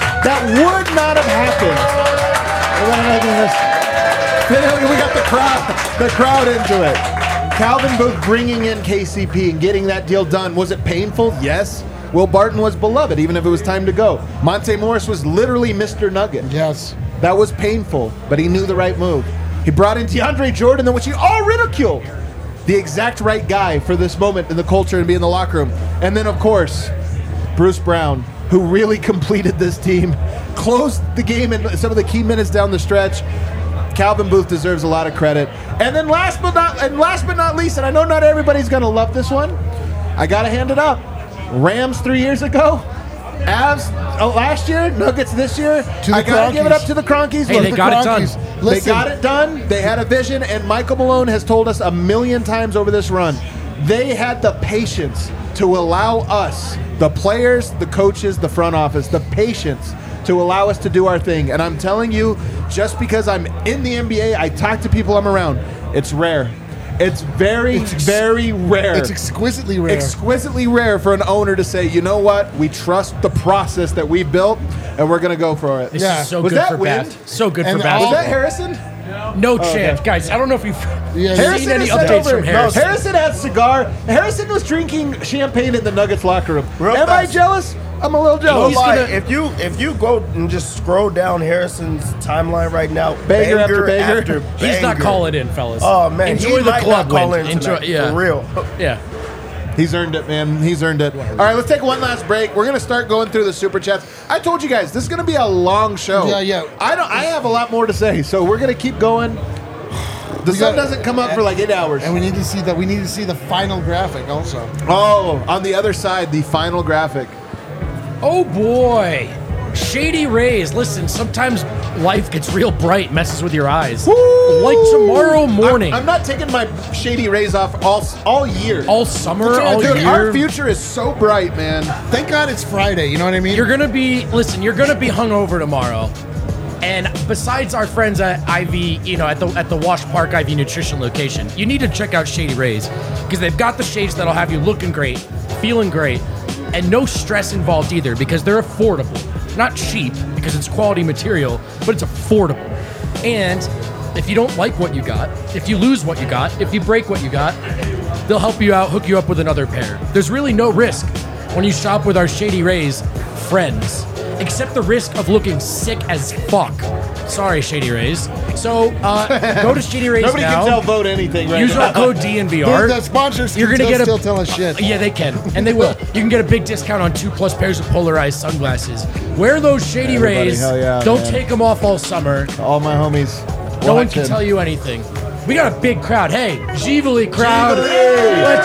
We got the crowd into it. Calvin Booth bringing in KCP and getting that deal done. Was it painful? Yes. Will Barton was beloved, even if it was time to go. Monte Morris was literally Mr. Nugget. Yes. That was painful, but he knew the right move. He brought in DeAndre Jordan, which he all ridiculed. The exact right guy for this moment in the culture and be in the locker room. And then, of course, Bruce Brown, who really completed this team, closed the game in some of the key minutes down the stretch. Calvin Booth deserves a lot of credit. And then last but not least, and I know not everybody's going to love this one, I got to hand it up. Rams 3 years ago, Avs last year, Nuggets this year. I got to give it up to the Cronkies. Hey, they got it done. They got it done. They had a vision, and Michael Malone has told us a million times over this run, they had the patience to allow us, the players, the coaches, the front office, the patience to allow us to do our thing. And I'm telling you, just because I'm in the NBA, I talk to people I'm around, it's rare. It's very rare. It's exquisitely rare. Exquisitely rare for an owner to say, you know what, we trust the process that we've built, and we're going to go for it. This is so Was good that for wind? So good for Was basketball. that Harrison? No chance. Guys, I don't know if you've seen any is updates from Harrison. Harrison had cigar. Harrison was drinking champagne in the Nuggets locker room. Real Am I fast. jealous? I'm a little jealous. If you go and just scroll down Harrison's timeline right now, Banger after banger. He's not calling in, fellas. Oh man, enjoy he the might club not call win. in tonight, for real. Yeah. He's earned it, man. He's earned it. All right, let's take one last break. We're going to start going through the Super Chats. I told you guys, this is going to be a long show. Yeah. I have a lot more to say, so we're going to keep going. The sun doesn't come up for like 8 hours. And we need to see that. We need to see the final graphic also. Oh, on the other side, the final graphic. Oh boy. Shady rays. Listen, sometimes life gets real bright, messes with your eyes. Woo! Like tomorrow morning. I'm not taking my shady rays off all year. All summer, all Dude, year. our future is so bright, man. Thank God it's Friday. You know what I mean? You're gonna be hungover tomorrow. And besides our friends at IV, at the Wash Park IV Nutrition location, you need to check out Shady Rays because they've got the shades that'll have you looking great, feeling great, and no stress involved either because they're affordable. Not cheap because it's quality material, but it's affordable. And if you don't like what you got, if you lose what you got, if you break what you got, they'll help you out, hook you up with another pair. There's really no risk when you shop with our Shady Rays friends. except the risk of looking sick as fuck. Sorry, Shady Rays. So go to Shady Rays Nobody now. can tell vote anything right Use now. our code DNVR. The sponsors You're can gonna get still tell us shit. Yeah, they can, and they will. You can get a big discount on 2+ pairs of polarized sunglasses. Wear those Shady Everybody, Rays. hell yeah, Don't man. take them off all summer. All my homies. No one can watching. tell you anything. We got a big crowd. Hey, Givali crowd. Givali! Let's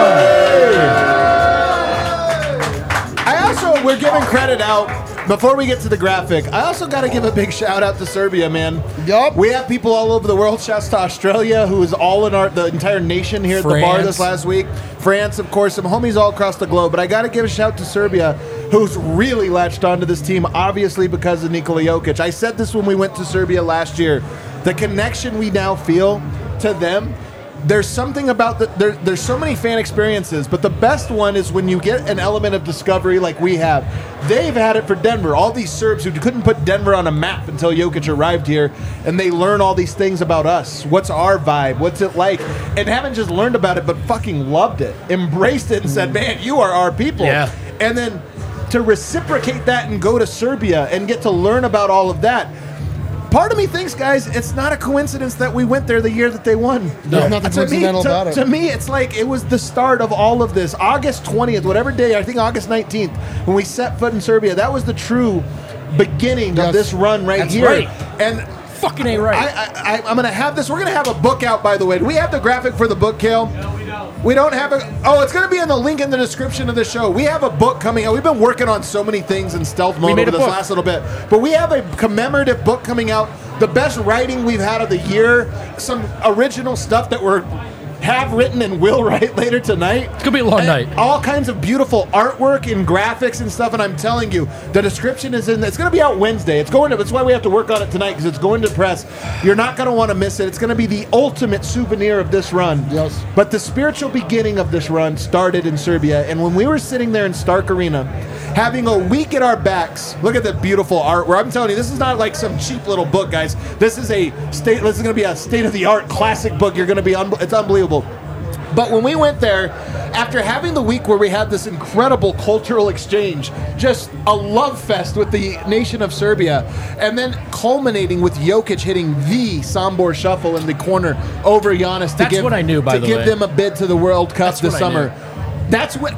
go. We're giving credit out. Before we get to the graphic, I also got to give a big shout out to Serbia, man. Yup. We have people all over the world. Shouts to Australia, who is all in the entire nation here at the bar this last week. France, of course, some homies all across the globe. But I got to give a shout to Serbia, who's really latched onto this team, obviously because of Nikola Jokic. I said this when we went to Serbia last year. The connection we now feel to them, there's something about there's so many fan experiences, but the best one is when you get an element of discovery like we have. They've had it for Denver. All these Serbs who couldn't put Denver on a map until Jokic arrived here, and they learn all these things about us. What's our vibe? What's it like? And haven't just learned about it, but fucking loved it, embraced it, and said, man, you are our people. Yeah. And then to reciprocate that and go to Serbia and get to learn about all of that. Part of me thinks, guys, it's not a coincidence that we went there the year that they won. There's nothing coincidental about it. To me, it's like it was the start of all of this. August 20th, whatever day, I think August 19th, when we set foot in Serbia, that was the true beginning of this run right That's here. right. And Fucking ain't right. I'm going to have this. We're going to have a book out, by the way. Do we have the graphic for the book, Kale? We don't have a... Oh, it's going to be in the link in the description of the show. We have a book coming out. We've been working on so many things in stealth mode over this last little bit. But we have a commemorative book coming out. The best writing we've had of the year. Some original stuff that we're have written and will write later tonight. It's gonna be a long night. All kinds of beautiful artwork and graphics and stuff. And I'm telling you, the description is in. It's going to be out Wednesday. It's going to. That's why we have to work on it tonight, because it's going to press. You're not going to want to miss it. It's going to be the ultimate souvenir of this run. Yes. But the spiritual beginning of this run started in Serbia, and when we were sitting there in Stark Arena, having a week at our backs. Look at the beautiful artwork. I'm telling you, this is not like some cheap little book, guys. This is This is going to be a state-of-the-art classic book. You're going to be. It's unbelievable. But when we went there, after having the week where we had this incredible cultural exchange, just a love fest with the nation of Serbia, and then culminating with Jokic hitting the Sombor shuffle in the corner over Giannis to give them a bid to the World Cup this summer. That's what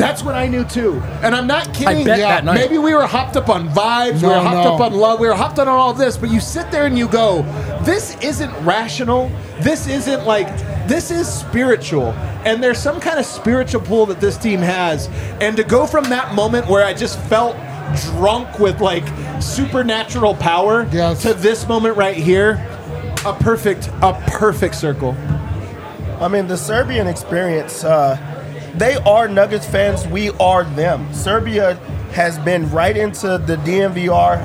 I knew too, and I'm not kidding. I bet that night. Maybe we were hopped up on vibes, we were hopped up on love, we were hopped on all of this. But you sit there and you go, "This isn't rational. This isn't this is spiritual." And there's some kind of spiritual pull that this team has. And to go from that moment where I just felt drunk with supernatural power to this moment right here, a perfect circle. I mean, the Serbian experience. They are Nuggets fans. We are them. Serbia has been right into the DNVR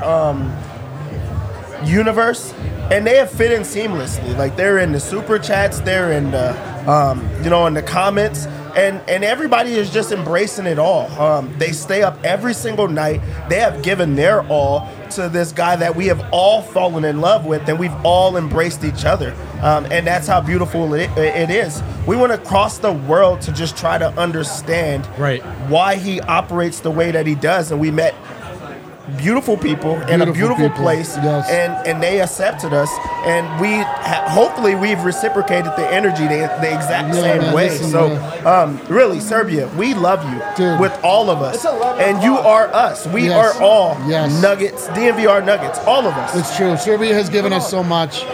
universe, and they have fit in seamlessly. They're in the super chats, they're in the, in the comments, and everybody is just embracing it all. They stay up every single night. They have given their all to this guy that we have all fallen in love with, and we've all embraced each other. And that's how beautiful it is. We want to cross the world to just try to understand why he operates the way that he does. And we met beautiful people in a beautiful place, and they accepted us. And hopefully we've reciprocated the energy the exact same way. Really, Serbia, we love you with all of us. And you are us. We are all Nuggets, DNVR Nuggets, all of us. It's true. Serbia has given us so much.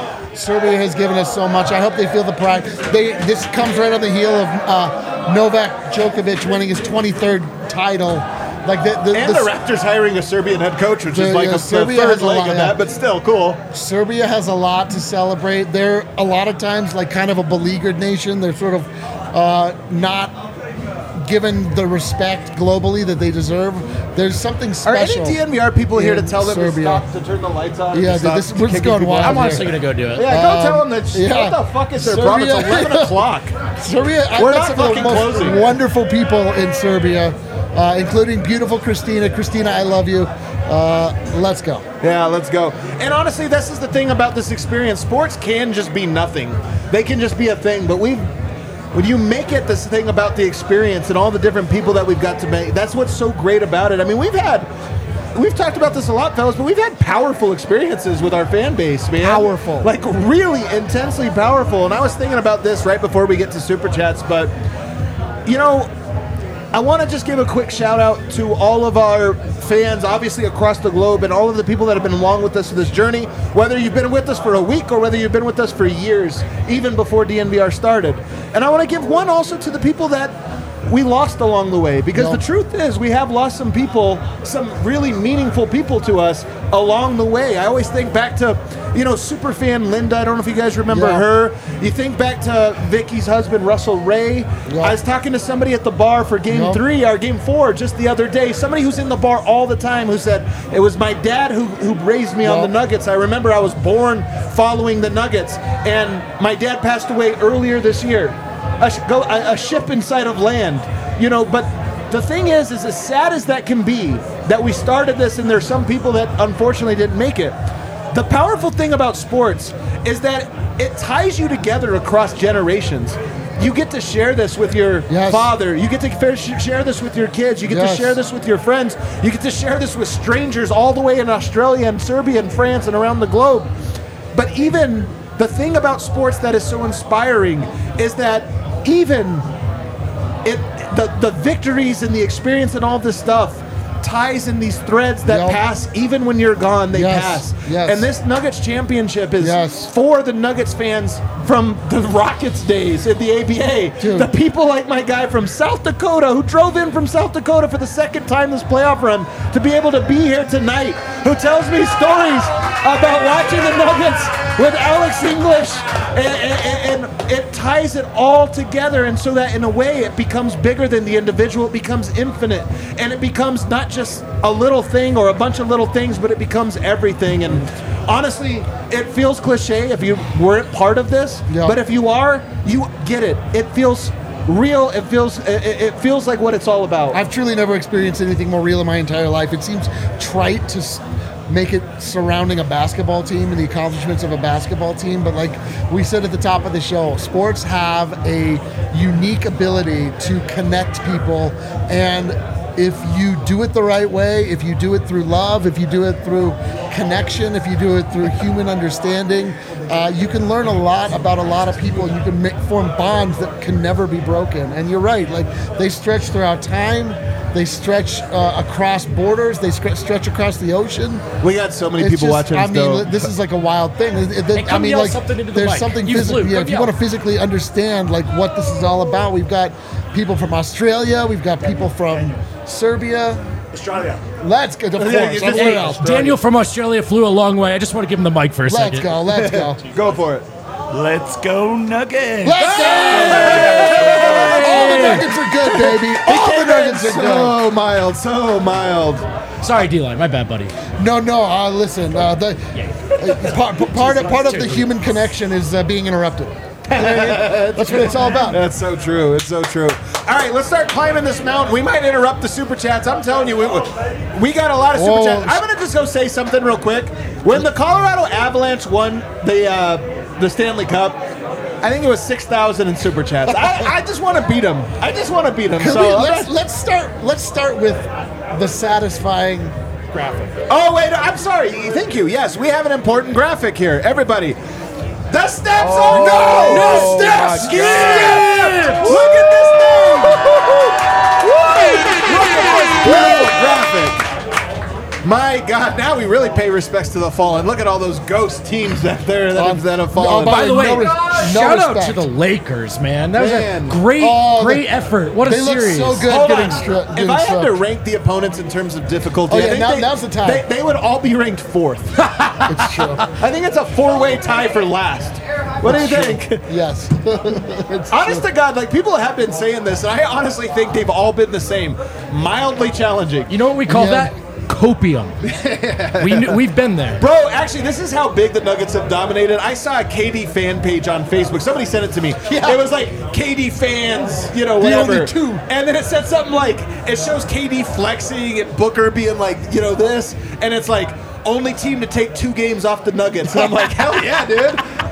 I hope they feel the pride. This comes right on the heel of Novak Djokovic winning his 23rd title. The Raptors hiring a Serbian head coach, which is the third leg of that, but still cool. Serbia has a lot to celebrate. They're a lot of times kind of a beleaguered nation. They're sort of not given the respect globally that they deserve. There's something special. Are any DNVR people here to tell them to stop, to turn the lights on? Yeah, we're just going wild. I'm honestly going to go do it. Yeah, go tell them that. What the fuck is their problem? It's 11 o'clock. Serbia, we're not some of the most closing. Wonderful people in Serbia, including beautiful Christina. Christina, I love you. Let's go. Yeah, let's go. And honestly, this is the thing about this experience. Sports can just be nothing. They can just be a thing, but when you make it this thing about the experience and all the different people that we've got to make, that's what's so great about it. I mean, we've had we've talked about this a lot, fellas, but we've had powerful experiences with our fan base, man. Powerful. Like, really intensely powerful. And I was thinking about this right before we get to Super Chats, but, you know, I want to just give a quick shout out to all of our fans, obviously across the globe, and all of the people that have been along with us for this journey, whether you've been with us for a week or whether you've been with us for years, even before DNVR started. And I want to give one also to the people that we lost along the way, because the truth is we have lost some people, some really meaningful people to us along the way. I always think back to, you know, superfan Linda. I don't know if you guys remember her. You think back to Vicky's husband, Russell Ray. I was talking to somebody at the bar for Game 3 or Game 4 just the other day. Somebody who's in the bar all the time who said, it was my dad who raised me on the Nuggets. I remember I was born following the Nuggets, and my dad passed away earlier this year. A ship inside of land, you know. But the thing is as sad as that can be, that we started this and there's some people that unfortunately didn't make it. The powerful thing about sports is that it ties you together across generations. You get to share this with your father. You get to share this with your kids. You get to share this with your friends. You get to share this with strangers all the way in Australia and Serbia and France and around the globe. But even the thing about sports that is so inspiring is that even the victories and the experience and all this stuff ties in these threads that pass. Even when you're gone, they pass. And this Nuggets championship is for the Nuggets fans from the Rockets days in the ABA. Dude. The people like my guy from South Dakota who drove in from South Dakota for the second time this playoff run to be able to be here tonight, who tells me stories about watching the Nuggets with Alex English, and it ties it all together, and so that in a way it becomes bigger than the individual. It becomes infinite, and it becomes not just a little thing or a bunch of little things, but it becomes everything. And honestly, it feels cliche if you weren't part of this, but if you are, you get it. It feels real. It feels like what it's all about. I've truly never experienced anything more real in my entire life. It seems trite to make it surrounding a basketball team and the accomplishments of a basketball team, but like we said at the top of the show, sports have a unique ability to connect people, and if you do it the right way, if you do it through love, if you do it through connection, if you do it through human understanding, you can learn a lot about a lot of people. You can form bonds that can never be broken. And you're right, like they stretch throughout time. They stretch across borders. They stretch across the ocean. We got so many people watching us. I mean, this is like a wild thing. I mean, like there's something physical. Yeah, if you want to physically understand like what this is all about, we've got people from Australia. We've got people from Serbia. Australia. Let's go. Of course. Daniel from Australia flew a long way. I just want to give him the mic for a second. Let's go. Go for it. Let's go Nuggets. Let's go. All the Nuggets are good, baby. All the Nuggets are good. So mild. Sorry, D-Line. My bad, buddy. No. Listen. Part of the human connection is being interrupted. That's what it's all about. That's so true. It's so true. All right, let's start climbing this mountain. We might interrupt the Super Chats. I'm telling you, we got a lot of Super Chats. I'm going to just go say something real quick. When the Colorado Avalanche won the Stanley Cup, I think it was 6,000 in Super Chats. I just want to beat them. Let's start with the satisfying graphic. Oh, wait, I'm sorry. Thank you. Yes, we have an important graphic here. Everybody. The steps are no steps. Skip! Look at this thing. Look at this beautiful graphic. My God! Now we really pay respects to the fallen. Look at all those ghost teams that have fallen. By the way, shout out to the Lakers, man. That was a great effort. What a series! They look so good. Hold on. If I had to rank the opponents in terms of difficulty, now's the time. They would all be ranked fourth. It's true. I think it's a 4-way tie for last. What do you think? Yes. Honest to God, like people have been saying this, and I honestly think they've all been the same. Mildly challenging. You know what we call that? Copium. We've been there. Bro, actually, this is how big the Nuggets have dominated. I saw a KD fan page on Facebook. Somebody sent it to me. Yeah. It was like, KD fans, whatever. The only two. And then it said something like, it shows KD flexing and Booker being like, this. And it's like, only team to take 2 games off the Nuggets. And I'm like, hell yeah, dude.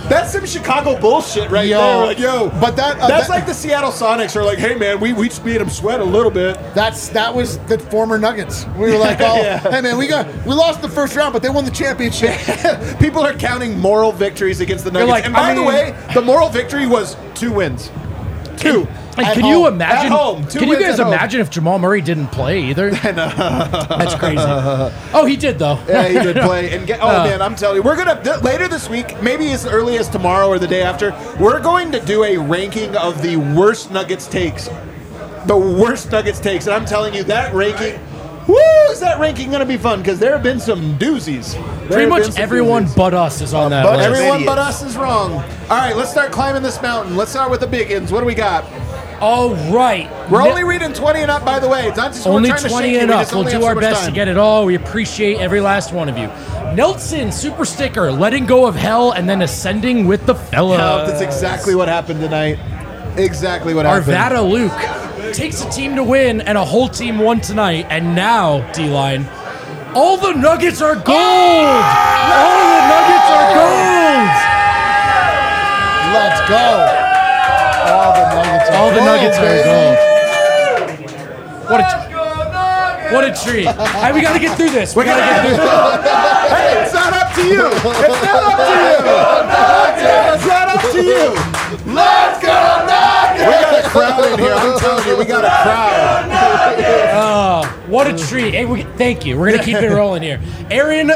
That's some Chicago bullshit right Yo. there. Like, yo, But that's like the Seattle Sonics are like, hey man, we just made them sweat a little bit. that was the former Nuggets. We were like, hey man, we lost the first round, but they won the championship. People are counting moral victories against the Nuggets. like, and by I the mean- way, the moral victory was 2 wins. 2. And At can home. you imagine? At home. 2 Can you wins guys at home. imagine if Jamal Murray didn't play either? That's crazy. Oh, he did though. Yeah, he did play. And man, I'm telling you, we're gonna later this week, maybe as early as tomorrow or the day after, we're going to do a ranking of the worst Nuggets takes. The worst Nuggets takes, and I'm telling you that ranking. Woo! Is that ranking going to be fun? Because there have been some doozies. Pretty much everyone but us is on that but list. Everyone idiots. but us is wrong. All right, let's start climbing this mountain. Let's start with the big ins. What do we got? All right. We're only reading 20 and up, by the way. It's not just Only we're trying to 20 shake you. and We up. just We'll only do have so our much best time. to get it all. We appreciate every last one of you. Nelson, super sticker, letting go of hell and then ascending with the fellas. That's exactly what happened tonight. Exactly what happened. Arvada Luke takes a team to win, and a whole team won tonight. And now, D-Line, all the Nuggets are gold! All the Nuggets are gold! Let's go. All the Nuggets are All the Nuggets are baby. gold. What a treat. Hey, we got to get through this. We got to get through this. Hey, it's not up to you. It's not up to you. It's not up to you. Let's go Nuggets! We got a crowd in here. I'm telling you, we got a crowd. What a treat. Hey, thank you. We're going to keep it rolling here. Aaron,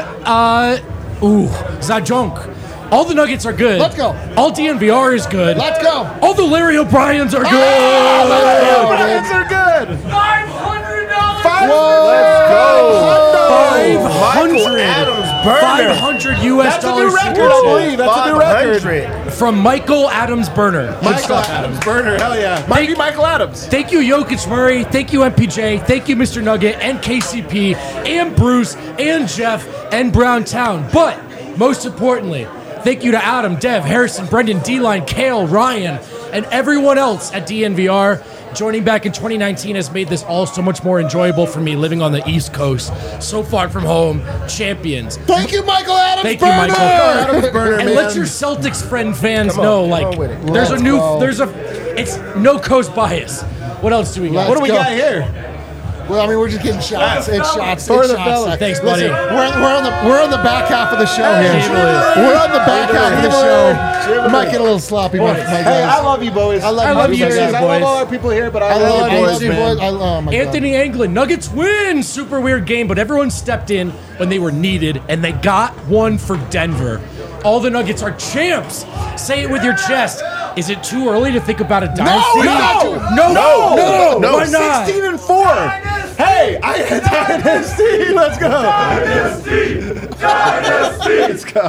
Zajonk. All the Nuggets are good. Let's go. All DNVR is good. Let's go. All the Larry O'Briens are good. Oh, Nuggets are good. $500. Let's go. 500. Adams burner. 500 US That's a dollars. new record, I believe. That's a new record. 500. From Michael Adams Burner. Good Michael stuff, Adams Burner, hell yeah. Might be Michael Adams. Thank you, Jokic Murray. Thank you, MPJ. Thank you, Mr. Nugget, and KCP, and Bruce, and Jeff, and Browntown. But most importantly, thank you to Adam, Dev, Harrison, Brendan, D-Line, Kale, Ryan, and everyone else at DNVR. Joining back in 2019 has made this all so much more enjoyable for me living on the East Coast, so far from home, champions. Thank you, Michael Adams. Thank you, Burner. Michael. Adams Burner, And man. let your Celtics fans Come on, know, come like, on with it. there's Let's a new, go. it's no coast bias. What else do we got? Let's What do we go. got here? Well, I mean, we're just getting shots. It's shots. For It's the shots. fellas. Thanks, buddy. Listen, we're on the back half of the show here. Hey, We're on the back half of the show. Shiver. We might get a little sloppy, my guys. Hey, I love you, boys. I love you you too, guys. I boys. love all our people here, but I I love you, love boys, you, man. boys. Oh my God. Anthony Anglin, Nuggets win. Super weird game, but everyone stepped in when they were needed, and they got one for Denver. All the Nuggets are champs. Say it with your chest. Is it too early to think about a dynasty? No. Why not? 16 and 4. Hey, I had dynasty. Let's go. Let's go.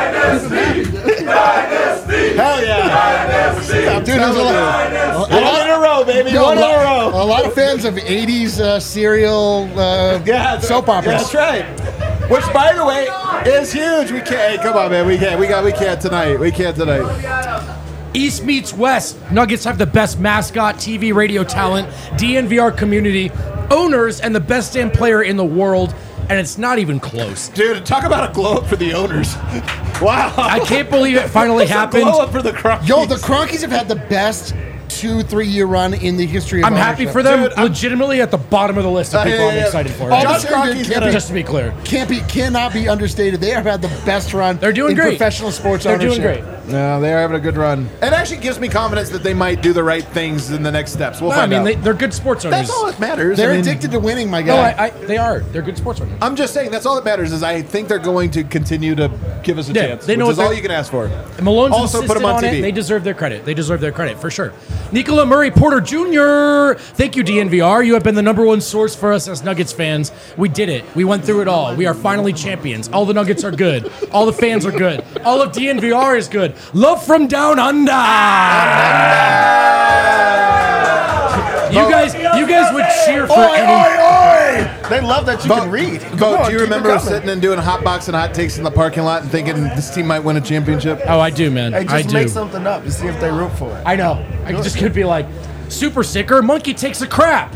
Hell yeah. Dude, there's a lot, One in a row, baby. yo, One in a row. a lot of fans of 80s serial Yeah, soap operas. That's right. Which, by the way, is huge. We can't. Hey, come on, man. We can't. We can't tonight. We can't tonight. East meets West. Nuggets have the best mascot, TV, radio talent, DNVR community, owners, and the best damn player in the world, and it's not even close. Dude, talk about a glow up for the owners. Wow. I can't believe it finally It's a happened. glow up for the Crockies. Yo, the Cronkies have had the best 2-3 year run in the history of I'm happy ownership. for them. Dude, I'm- legitimately at the bottom of the list of people I'm excited for. All Josh the Kroenke's gonna- Just to be clear. cannot be understated. They have had the best run. They're doing in great. professional sports They're ownership. doing great. No, they are having a good run. It actually gives me confidence that they might do the right things in the next steps. We'll No, find I out. mean, they're good sports owners. That's all that matters. They're I mean, addicted to winning, my No, guy. they are. They're good sports owners. I'm just saying that's all that matters is I think they're going to continue to give us a Yeah, chance, they know which is what all they're- you can ask for. And Malone's Also put insisted them on on TV. it. They deserve their credit. They deserve their credit, for sure. Nicola Murray Porter Jr. Thank you, DNVR. You have been the #1 source for us as Nuggets fans. We did it. We went through it all. We are finally champions. All the Nuggets are good. All the fans are good. All of DNVR is good. Love from down under. You guys would cheer for any. They love that you can read. Come Bo, on, do you keep it remember coming. sitting and doing hot box and hot takes in the parking lot and thinking this team might win a championship? Oh, I do, man. Hey, I just do. make something up to see if they root for it. I know. I just could be like, Super sticker, monkey takes a crap.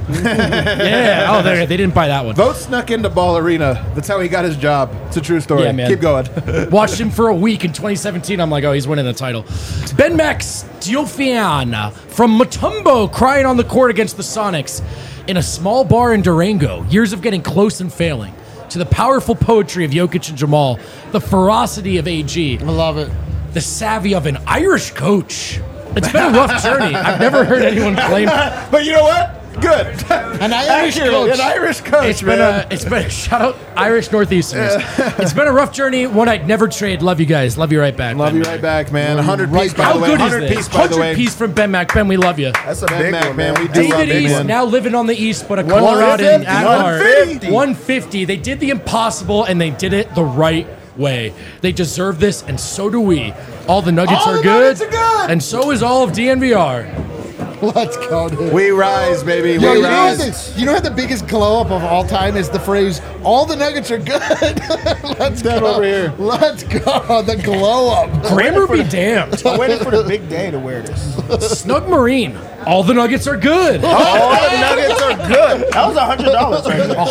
Yeah. Oh, they didn't buy that one. Vogt snuck into Ball Arena. That's how he got his job. It's a true story. Yeah, man. Keep going. Watched him for a week in 2017. I'm like, oh, he's winning the title. Ben Max Diofian from Mutombo crying on the court against the Sonics in a small bar in Durango. Years of getting close and failing. To the powerful poetry of Jokic and Jamal, the ferocity of AG, I love it. the savvy of an Irish coach. It's been a rough journey. I've never heard anyone claim. But you know what? Good. An Irish coach. An Irish coach, It's been shout out Irish Northeasterners. It's been a rough journey. One I'd never trade. Love you guys. Love you right back. Love Ben you Mac. right back, man. 100 Right piece, by back. the How way. good is 100 this? piece, by the way. 100 piece from Ben Mac. Ben, we love you. That's a Ben big Mac, one, man. man. We do love David it, East man. now living on the East, but a Colorado in 150. Adler. 150. 150. They did the impossible, and they did it the right way. They deserve this, and so do we. All the Nuggets All are the good, Nuggets are good. and so is all of DNVR. Let's go, dude. We rise, baby. Yo, We you know, rise. you know what the biggest glow up of all time is the phrase "all the Nuggets are good." Let's That go over here. Let's go. The glow up. Grammar be damned. I'm waiting for the big day to wear this. Snug Marine. All the Nuggets are good. All the Nuggets are good. That was $100 right there.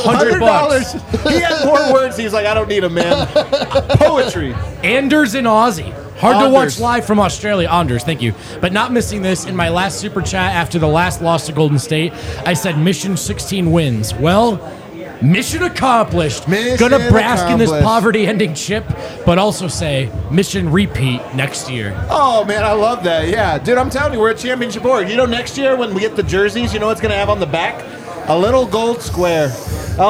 $100. He had more words. He's like, I don't need them, man. Poetry. Anders and Aussie. Hard to Anders. watch live from Australia. Anders, thank you. But not missing this in my last super chat after the last loss to Golden State. I said mission 16 wins. Well, mission accomplished. Mission Gonna bask in this accomplished. poverty-ending chip, but also say mission repeat next year. Oh, man, I love that. Yeah. Dude, I'm telling you, we're a championship org. You know, next year when we get the jerseys, you know what's going to have on the back? A little gold square. A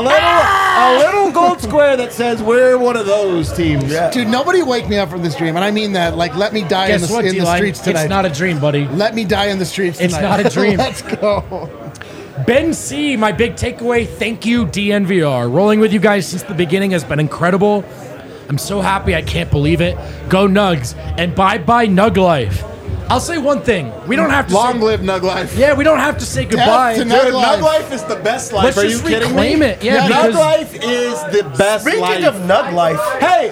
little gold square that says we're one of those teams. Yeah. Dude, nobody wake me up from this dream, and I mean that. Like, let me die Guess what, in the D-Line? streets tonight. It's not a dream, buddy. Let me die in the streets It's tonight. not a dream. Let's go. Ben C, my big takeaway, thank you, DNVR. Rolling with you guys since the beginning has been incredible. I'm so happy, I can't believe it. Go Nugs, and bye-bye Nug Life. I'll say one thing. We don't have to Long say... live Nug Life. Yeah, we don't have to say goodbye. to Dude, Nug Nug Life. Life is the best life. Let's Are just you kidding reclaim me? it. Yeah, Nug because- Life is the best Speaking life. of Nug Life, Hey,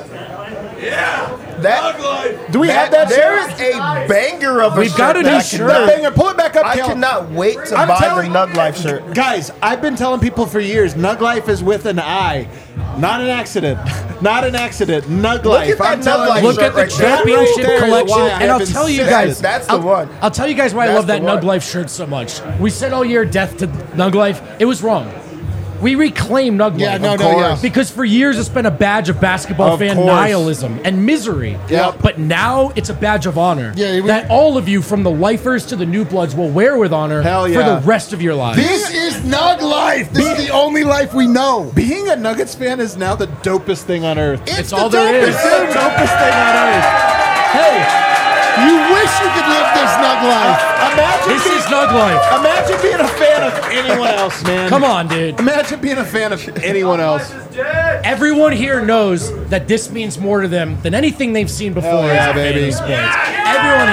that do we have that there shirt? is a banger of a We've shirt got a new that I shirt. cannot- Banger, pull it back up, I Kel. cannot wait to I'm buy the telling- Nug Life shirt. Guys, I've been telling people for years, Nug Life is with an I. Not an accident. Not an accident. Nug Life. at that I'm Nug telling Life you. Look at the right there. championship That right there is collection, why I and I'll have tell you insisted. guys. That's the one. I'll tell you guys why I That's love that the one. Nug Life shirt so much. We said all year death to Nug Life. It was wrong. We reclaim Nug Yeah, Life. no, Of no, yeah. course. Because for years it's been a badge of basketball Of fan course. nihilism and misery. Yep. But now it's a badge of honor Yeah, we- that all of you, from the lifers to the new bloods, will wear with honor Hell for yeah. the rest of your lives. This is Nug Life. This is the only life we know. Being a Nuggets fan is now the dopest thing on earth. It's all there is. It's the dopest thing on earth. Hey, You wish you could live this Nug Life. imagine This being, is Nug Life. imagine being a fan of anyone else, man. Come on, dude. Imagine being a fan of anyone else. Everyone here knows that this means more to them than anything they've seen before. Hell yeah, as a fan baby. of sports. Everyone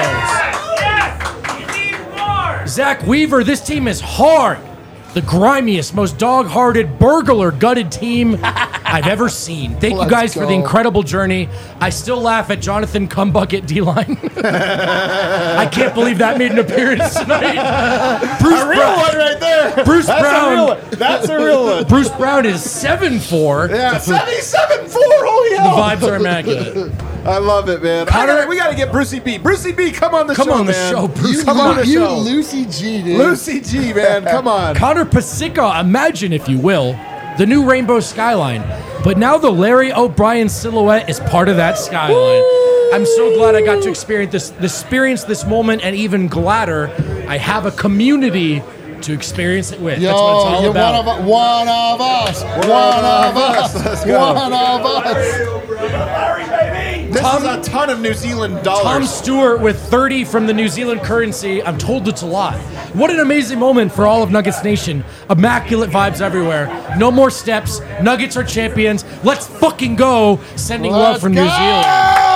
here knows. Zach Weaver, this team is hard. The grimiest, most dog-hearted, burglar-gutted team I've ever seen. Thank you Let's guys for the go. incredible journey. I still laugh at Jonathan Cumbucket D-line. I can't believe that made an appearance tonight. Bruce A real Brown. one right there. Bruce That's Brown. A real one. That's a real one. Bruce Brown is 7'4". Yeah, 77-4. Holy The hell. vibes are immaculate. I love it, man. We got to get Brucey B. Brucey B, come on the Come show, on the man. show, Bruce. Come on the you show. Lucy G, dude. Lucy G, man. Come on. Connor Pasica, imagine, if you will, the new rainbow skyline. But now the Larry O'Brien silhouette is part of that skyline. I'm so glad I got to experience this moment, and even gladder I have a community to experience it with. Yo, That's what it's all you're about. one of us. One of us. Let's go. One of us. This is a ton of New Zealand Tom dollars. Stewart with 30 from the New Zealand currency. I'm told it's a lot. What an amazing moment for all of Nuggets Nation. Immaculate vibes everywhere. No more steps. Nuggets are champions. Let's fucking go. Sending love Let's from go! New Zealand.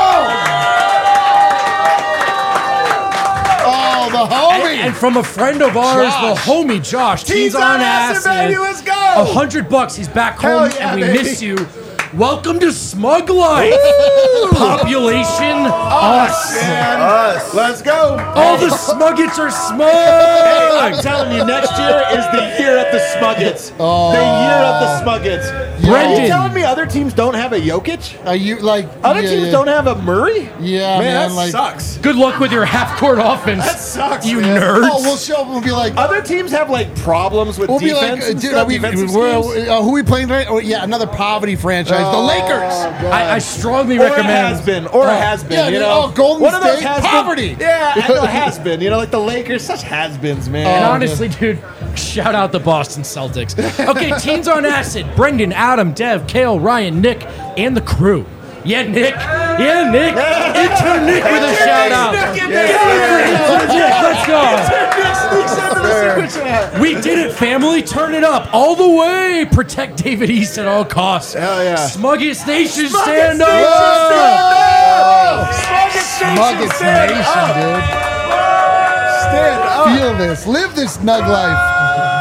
Oh, the homie. And from a friend of ours, Josh. the homie Josh. Teens on acid, baby. Let's go. $100. He's back Hell home, yeah, and we baby. miss you. Welcome to Smug Life. Population us. Us. Let's go. All the Smuggets are smug. Hey, I'm telling you, next year is the year of the Smuggets. The year of the Smuggets. Are Brendan. you telling me other teams don't have a Jokic? Are you like Other teams don't have a Murray? Yeah, man, that like- sucks. Good luck with your half-court offense. That sucks, you man. nerds. Oh, we'll show them. We'll be like, Other teams have like problems with we'll be defense. like, and dude, stuff, are we, defensive we're, schemes. who are we playing tonight? Oh, yeah, another poverty franchise, the Lakers. I strongly Or a recommend. has been, or a has been. Yeah, you dude, know, Golden one of those State, has poverty. Been, yeah, I know has been. You know, like the Lakers, such has beens, man. And honestly, dude, shout out the Boston Celtics. Okay, Teens on Acid, Brendan, Adam, Dev, Kale, Ryan, Nick, and the crew. Yeah, Nick. Yeah, Nick. Intern Nick with a shout out. Intern Nick, let's go. We did it, family. Turn it up all the way. Protect David East at all costs. Hell yeah. Smuggest Nation, stand up. Nuggets Nation, dude. Stand up. Feel this. Live this Nug life.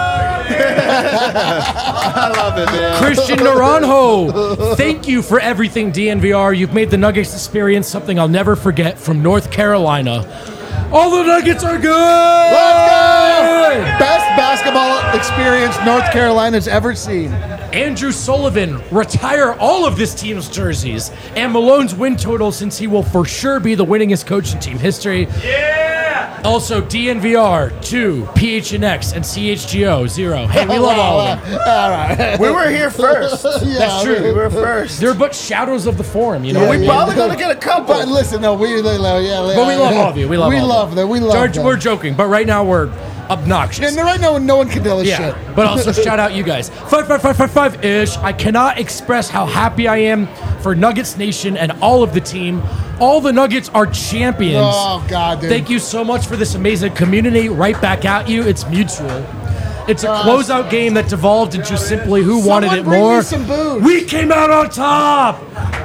I love it, man. Christian Naranjo, thank you for everything, DNVR. You've made the Nuggets experience something I'll never forget from North Carolina. All the Nuggets are good! Let's go! Best basketball experience North Carolina's ever seen. Andrew Sullivan, retire all of this team's jerseys and Malone's win total since he will for sure be the winningest coach in team history. Yeah! Also, DNVR, 2, PHNX, and CHGO, 0. Hey, we love all of them. All right. We were here first. That's true. We were first. They're but shadows of the forum, you know? We probably gonna get a couple. But listen, no, we But we love all of you. We love all of them. We love George, them. we're joking, but right now we're obnoxious. And right now, no one can tell us Yeah, shit. but also shout out you guys. 55555-ish. I cannot express how happy I am for Nuggets Nation and all of the team. All the Nuggets are champions. Oh, God, dude. Thank you so much for this amazing community. Right back at you. It's mutual. It's a closeout game that devolved into simply who wanted it bring me more. some booze. We came out on top.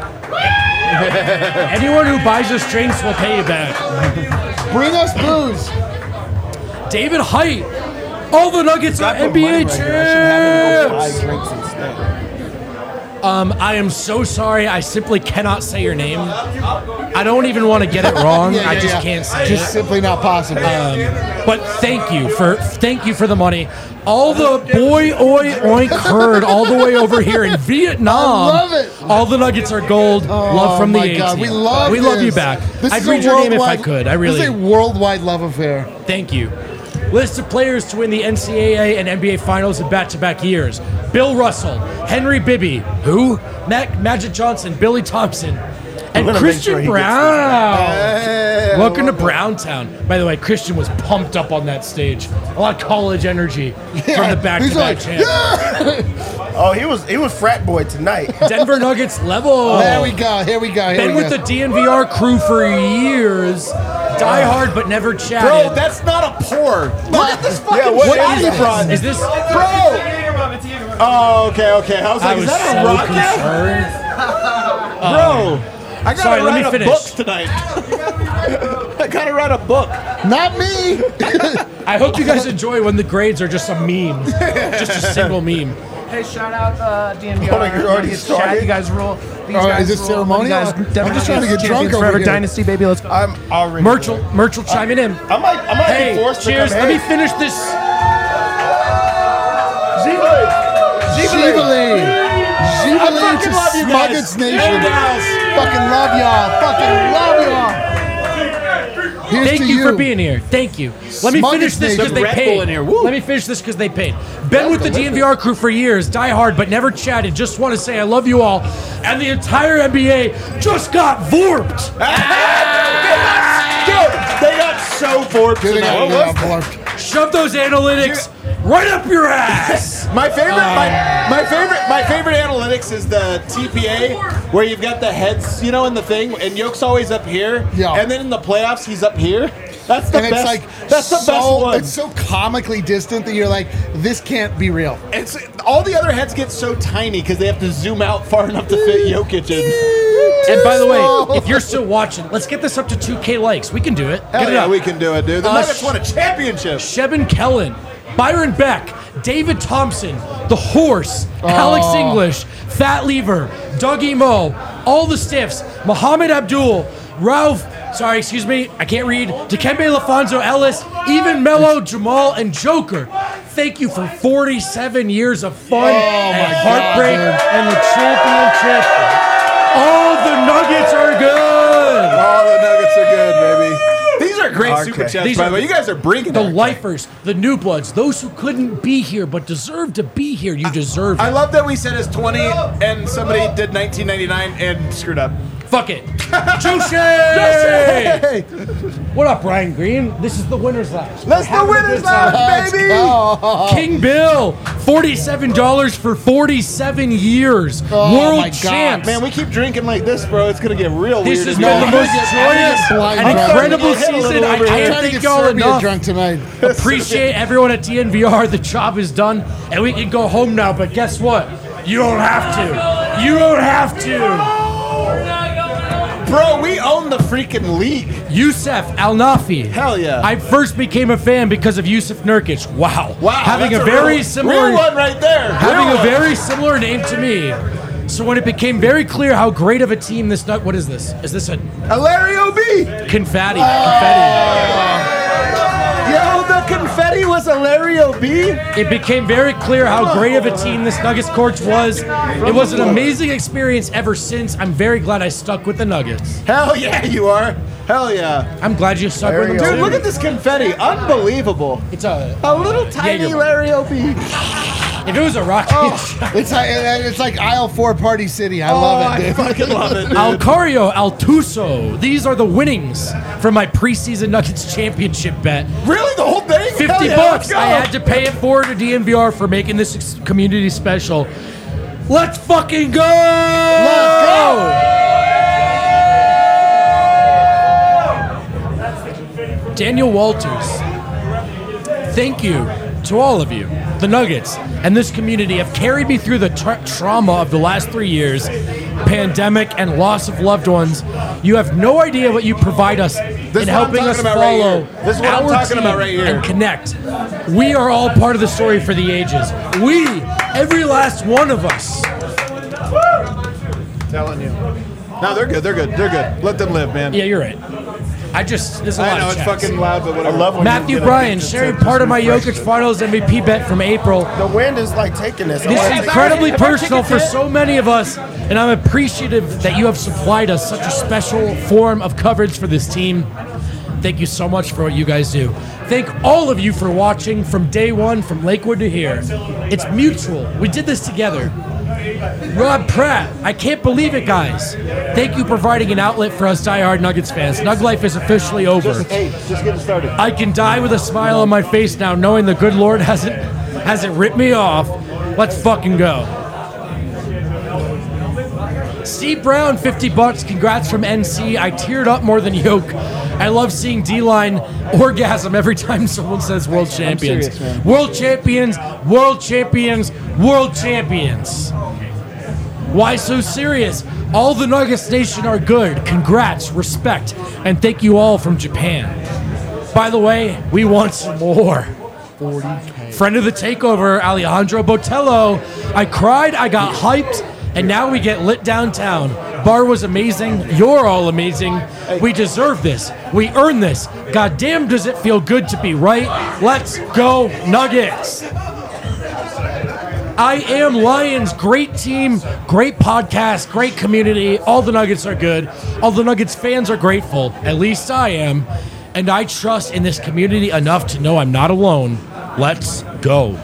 Anyone who buys us drinks will pay you back. Bring us booze. David Height. All the Nuggets are NBA champs. Drinks instead. I am so sorry. I simply cannot say your name. I don't even want to get it wrong. I just can't say Just it. simply not possible. But thank you for the money. All the boy oi oink herd all the way over here in Vietnam. I love it. All the Nuggets are gold. Love from the my 18. God, we love you this. back. This I'd is read a your name if I worldwide- could. I This is a really. worldwide love affair. Thank you. List of players to win the NCAA and NBA Finals in back-to-back years. Bill Russell, Henry Bibby, who? Magic Johnson, Billy Thompson, and gonna make Christian sure he gets Brown. Welcome to Browntown. By the way, Christian was pumped up on that stage. A lot of college energy from the back-to-back He's like, champ. Oh, he was frat boy tonight. Denver Nuggets level. There we go. Here we go. Been with the DNVR crew for years. Die hard but never chatted. Bro, that's not a pour. Look at this fucking what shot is he this? brought. Is this? Bro! Oh, okay. I was like, I is was that a so rock now? concerned. Bro, I gotta sorry, let me write a finish. book tonight. I gotta write a book. Not me. I hope you guys enjoy when the grades are just a meme, just a single meme. Hey, shout out DNVR. Hold on, you're already Nuggets started? chat. You guys rule. These Oh, guys is this rule. ceremonial? You guys, I'm Denver just trying to Nuggets get drunk champions over forever. here. Dynasty, baby. Let's go. I'm already. Myrtle chiming in. I might Hey, be forced to cheers. come Let me in. finish this. Jubilee. Jubilee fucking to love you guys. Smuggets Nation. And gals. Fucking love y'all. Fucking love y'all. Here's Thank to you for being here. Thank you. Let me Smuggets finish this because Nation. they Red paid. Bull in here. Woo. Let me finish this because they paid. Been with the DNVR crew for years. Die hard but never chatted. Just want to say I love you all. And the entire NBA just got vorped. Dude, they got so bored Dude, they tonight. got borked. Shove those analytics right up your ass. My favorite analytics is the TPA where you've got the heads, you know, in the thing, and Yoke's always up here. Yeah. And then in the playoffs, he's up here. That's the And best. it's like That's the best one. It's so comically distant that you're like, this can't be real. It's all the other heads get so tiny because they have to zoom out far enough to fit Jokic in. And by the way, if you're still watching, let's get this up to 2K likes. We can do it. Hell Get it yeah, up. we can do it, dude. The Uh, Nuggets won a championship. Sheben Kellen, Byron Beck, David Thompson, The Horse, Alex English, Fat Lever, Dougie Moe, all the stiffs, Muhammad Abdul, Ralph, I can't read, Dikembe Lafonso Ellis, even Mello, Jamal, and Joker. Thank you for 47 years of fun and heartbreak and the championship. All the Nuggets are good. All the Nuggets are good, baby. These are great super chats, These by are the way. You guys are bringing the it. lifers, the new bloods, those who couldn't be here but deserve to be here. You deserve it. I love that we said it's 20 and somebody did 1999 and screwed up. Fuck it. Joshi! What up, Brian Green? This is the winner's lap. Let's the winners lap, baby! King Bill, $47 for 47 years. Oh, World my God. champs. Man, we keep drinking like this, bro. It's going to get real This weird. has in been the here. most joyous blind and drunk. incredible I'm gonna hit a season. little I over here. can't Trying to thank get y'all Serbia enough. drunk tonight. Appreciate everyone at DNVR. The job is done, and we can go home now. But guess what? You don't have to. You don't have to. Bro, we own the freaking league. Yusuf Al Nafi. Hell yeah. I first became a fan because of Yusuf Nurkic. Wow. Wow. Having that's a very real, similar real one right there. having Real a one. very similar name to me. So when it became very clear how great of a team this what is this? Is this a Larry O.B. confetti? Yo, the confetti was a Larry O.B. It became very clear how great of a team this Nuggets coach was. It was an amazing experience ever since. I'm very glad I stuck with the Nuggets. Hell yeah, you are. Hell yeah. I'm glad you stuck with them Dude, too. look at this confetti. Unbelievable. It's a little tiny Jaeger. Larry O.B. if it was a rocket. It's like aisle 4 Party City. I love it, dude. I fucking love it, dude. Alcario Altuso. These are the winnings from my preseason Nuggets championship bet. Really? The whole thing? $50 Hell yeah, let's go. I had to pay it forward to DNVR for making this community special. Let's fucking go! Let's go! Daniel Walters. Thank you to all of you. The Nuggets and this community have carried me through the trauma of the last 3 years, pandemic and loss of loved ones. You have no idea what you provide us in what I'm helping talking us about right follow here. This is what I'm our talking team about right here. and connect. We are all part of the story for the ages. We, every last one of us. Telling you. No, they're good. They're good. They're good. Let them live, man. Yeah, you're right. There's a lot I know of it's chats. fucking loud, but whatever. I love when Matthew you get Bryan a- sharing part of my Jokic Finals MVP bet from April. The wind is like taking this. This is incredibly personal for so many of us, and I'm appreciative that you have supplied us such a special form of coverage for this team. Thank you so much for what you guys do. Thank all of you for watching from day one, from Lakewood to here. It's mutual. We did this together. Rob Pratt, I can't believe it, guys. Thank you for providing an outlet for us diehard Nuggets fans. Nug life is officially over. Just getting started. I can die with a smile on my face now, knowing the good Lord hasn't ripped me off. Let's fucking go. Steve Brown, $50. Congrats from NC. I teared up more than Yoke. I love seeing D-line orgasm every time someone says world champions. serious, man. World champions, world champions, world champions. Why so serious? All the Nuggets Nation are good. Congrats, respect, and thank you all from Japan. By the way, we want some more. 40K. Friend of the takeover, Alejandro Botello. I cried, I got hyped, and now we get lit downtown. Bar was amazing. You're all amazing. We deserve this. We earn this. God damn, does it feel good to be right? Let's go, Nuggets. I am Lions. Great team, great podcast, great community. All the Nuggets are good. All the Nuggets fans are grateful. At least I am. And I trust in this community enough to know I'm not alone. Let's go.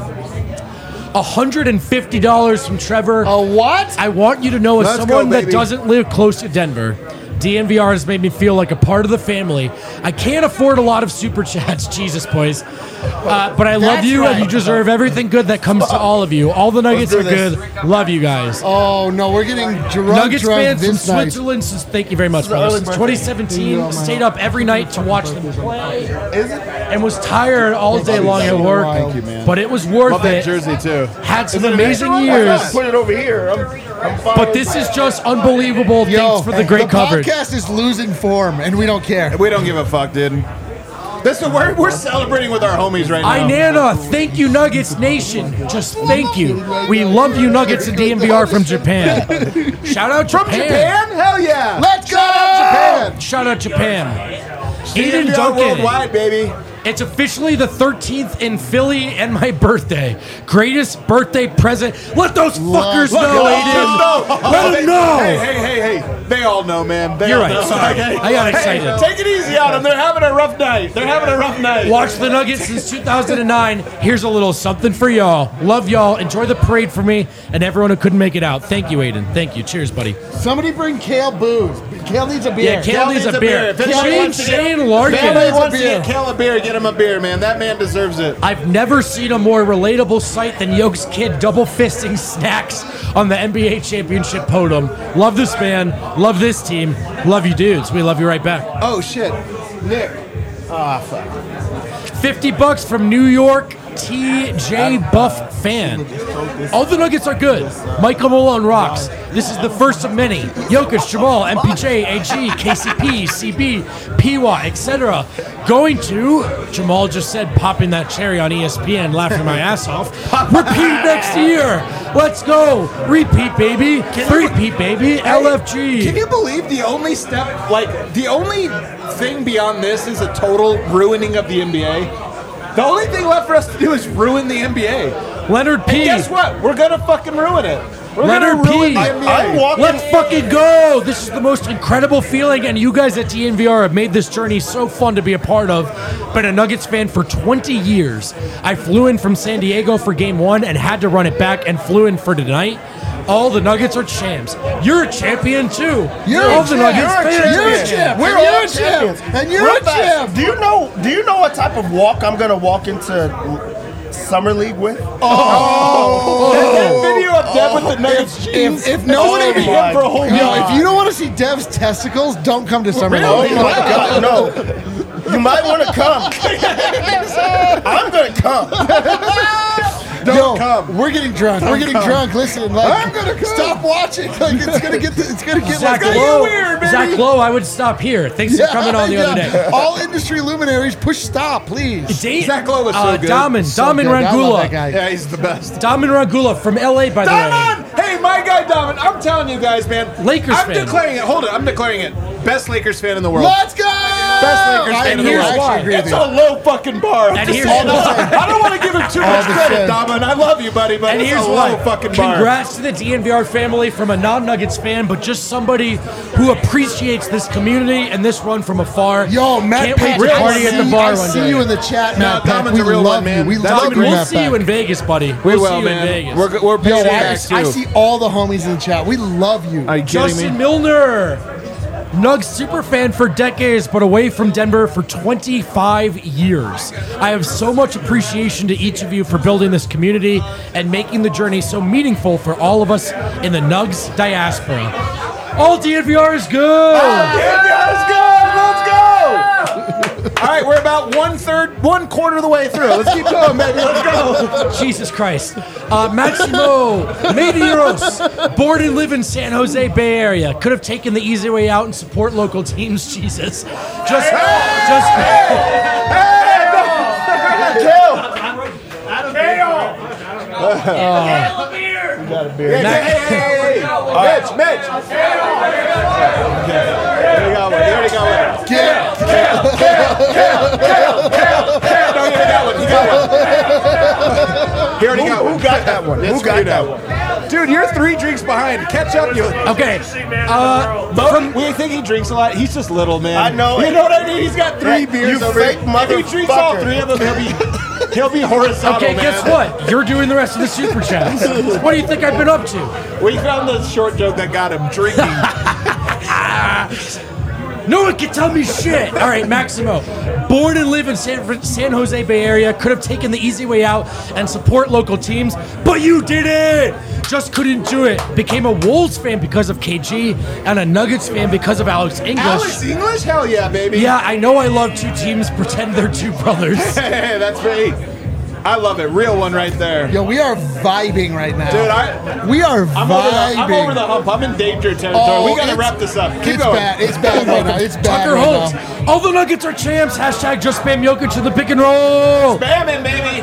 $150 from Trevor. A what? I want you to know, as Let's someone go, that baby. doesn't live close to Denver, DNVR has made me feel like a part of the family. I can't afford a lot of super chats, Jesus, boys. But I love That's you, and right. you deserve everything good that comes to all of you. All the Nuggets are do this. good. Love you guys. Oh, no, we're getting drunk Nuggets fans from this night. Switzerland, thank you very much, brother. Since 2017, stayed up every night to watch them play, and was tired all day long at work. Thank you, man. But it was worth Love that it. jersey, too. Had some amazing years. Put it over here. I'm fine. But this is just unbelievable. Yo, Thanks for the great the coverage. podcast is losing form, and we don't care. We don't give a fuck, dude. Listen, we're celebrating with our homies right now. Inanna, thank you, Nuggets Nation. Just thank you. We love you, Nuggets and DNVR from Japan. Shout out Japan. From Japan? Hell yeah. Let's go! Japan. Shout out Japan. Aiden DNVR Duncan. worldwide, baby. It's officially the 13th in Philly and my birthday. Greatest birthday present. Let those fuckers know, Aiden. Let them know. Hey. They all know, man. You're right. Sorry. I got excited. Hey, take it easy on them. They're having a rough night. Watch the Nuggets since 2009. Here's a little something for y'all. Love y'all. Enjoy the parade for me and everyone who couldn't make it out. Thank you, Aiden. Thank you. Cheers, buddy. Somebody bring Kale booze. Kale needs a beer. Yeah, Kale needs a beer. If anybody wants to get- Shane Larkin. If anybody wants to beer. get Kale a beer, get him a beer, man. That man deserves it. I've never seen a more relatable sight than Yoke's kid double fisting snacks on the NBA championship podium. Love this man. Love this team. Love you dudes. We love you right back. Oh, shit. Nick. Ah, fuck. $50 from New York TJ Buff fan. All the Nuggets are good. Michael Malone rocks. This is the first of many. Jokic, Jamal, MPJ, AG, KCP, CB, PY, etc. Going to, Jamal just said, popping that cherry on ESPN, laughing my ass off. Repeat next year. Let's go. Repeat, baby. Repeat, baby. LFG. Can you believe the only step, the only thing beyond this is a total ruining of the NBA? The only thing left for us to do is ruin the NBA. Leonard P. And guess what? We're gonna fucking ruin it. We're Leonard gonna ruin P. the NBA. I'm walking. Let's fucking go! This is the most incredible feeling, and you guys at DNVR have made this journey so fun to be a part of. Been a Nuggets fan for 20 years. I flew in from San Diego for Game 1 and had to run it back and flew in for tonight. All the Nuggets are champs. You're a champion too. You're all the Nuggets fans. You're a champ. We're And all you're a champ. champions. And you're Real a fast, champ. Do you know what type of walk I'm gonna walk into Summer League with? That video of Dev with the Nuggets jeans. If no one maybe him for a whole Yo, week. if you don't want to see Dev's testicles, don't come to Summer Oh League. my God, no! You might want to come. I'm gonna come. Yo, come. we're getting drunk. We're getting drunk. Listen, like, I'm gonna come. stop watching. Like, it's gonna get. It's gonna get Zach like Lowe, weird, baby. Zach Lowe, I would stop here. Thanks for coming on the other day. All industry luminaries, push stop, please. Zach Lowe was so good. Daman So good. I love that Rangula. guy. Yeah, he's the best. Daman Rangula from LA, by the way. Daman! Hey, my guy Daman. I'm telling you guys, man. Lakers I'm fan. declaring it. Hold it. I'm declaring it. Best Lakers fan in the world. Let's go! Best Lakers fan in the here's world. why. Agree with It's you. a low fucking bar. And here's I why. don't want to give him too All much the credit, same. Daman. I love you, buddy, but And it's here's a why. low fucking bar. Congrats to the DNVR family from a non-Nuggets fan, but just somebody who appreciates this community and this run from afar. Yo, Matt Can't wait Page, to party at the bar I one see day. you in the chat, No, Matt Peck. Daman's We a real love one, man. you. We That's love a you, great- We'll Matt see you Peck. in Vegas, buddy. We We'll will, see you man. in Vegas. We're Yo, paying I back, too. see all the homies in the chat. We love you. Are you kidding Justin me? Milner, Nugs super fan for decades, but away from Denver for 25 years. I have so much appreciation to each of you for building this community and making the journey so meaningful for all of us in the Nugs diaspora. All DNVR is good. Let's go! All right, we're about one quarter of the way through. Let's keep going, baby. Let's go. Jesus Christ. Maximo Medeiros, born and live in San Jose Bay Area. Could have taken the easy way out and support local teams. Jesus. Just Hey. Mitch. Here we go. Here we go. No, he got one. He already got one. Who got that one? It's Who got you that now. one? Dude, you're 3 drinks behind. Catch up, you. Okay. We think he drinks a lot. He's just little, man. I know You it. know what I mean? He's got 3 Yeah, beers you over fake it. If he drinks all motherfucker. 3 of them, he'll be horizontal, Okay, man. guess what? You're doing the rest of the super chats. What do you think I've been up to? We found the short joke that got him drinking. No one can tell me shit. All right, Maximo. Born and live in San Jose Bay Area. Could have taken the easy way out and support local teams, but you did it. Just couldn't do it. Became a Wolves fan because of KG and a Nuggets fan because of Alex English. Alex English? Hell yeah, baby. Yeah, I know I love 2 teams. Pretend they're 2 brothers. Hey, that's great. I love it. Real one right there. Yo, we are vibing right now. Dude, we are I'm vibing. over the hump. I'm in danger territory. Oh, We got to wrap this up. Keep It's going. bad. It's bad right now. It's bad Tucker right Holt. now. All the Nuggets are champs. Hashtag just spam Jokic in the pick and roll. Spam him, baby.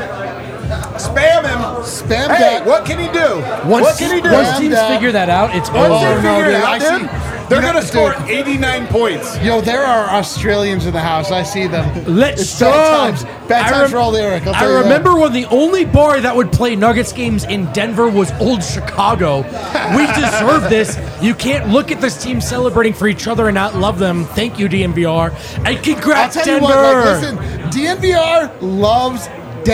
Spam him. Spam Hey, that. what can he do? Once, What can he do? once teams Spam that. figure that out, it's Once over. they no, figure it dude, out, I dude, see- they're you know, going to score dude. 89 points. Yo, there are Australians in the house. I see them. Let's It's go. bad times. Bad times for old Eric. I'll I tell you that. remember when the only bar that would play Nuggets games in Denver was Old Chicago. We deserve this. You can't look at this team celebrating for each other and not love them. Thank you, DNVR. And I'll congrats, tell Denver. you what. Like, listen, DNVR loves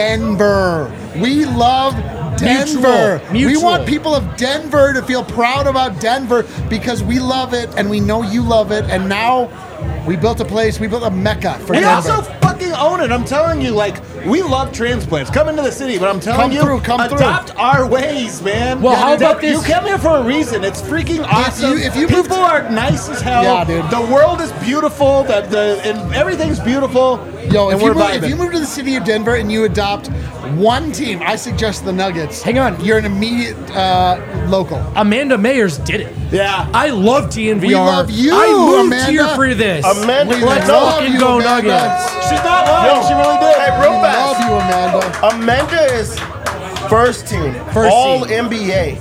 Denver. We love Denver. We Mutual. want people of Denver to feel proud about Denver because we love it and we know you love it. And now we built a place. We built a mecca for And Denver. also fucking own it. I'm telling you, like, we love transplants. Come into the city, but I'm telling Come you, through, come through. adopt our ways, man. Well, how about You this? came here for a reason. It's freaking awesome. if you moved People to- are nice as hell. Yeah, dude. The world is beautiful. And everything's beautiful. Yo, and if we're you, move, vibing. if you move to the city of Denver and you adopt one team, I suggest the Nuggets. Hang on. You're an immediate local. Amanda Mayers did it. Yeah. I love DNVR. We love you, I moved Amanda. here for this. Amanda, We Let's love fucking you, go, Amanda. Nuggets. She's not lying. She really did. Hey, We real love fast. you, Amanda. Amanda is first team, First all team. NBA.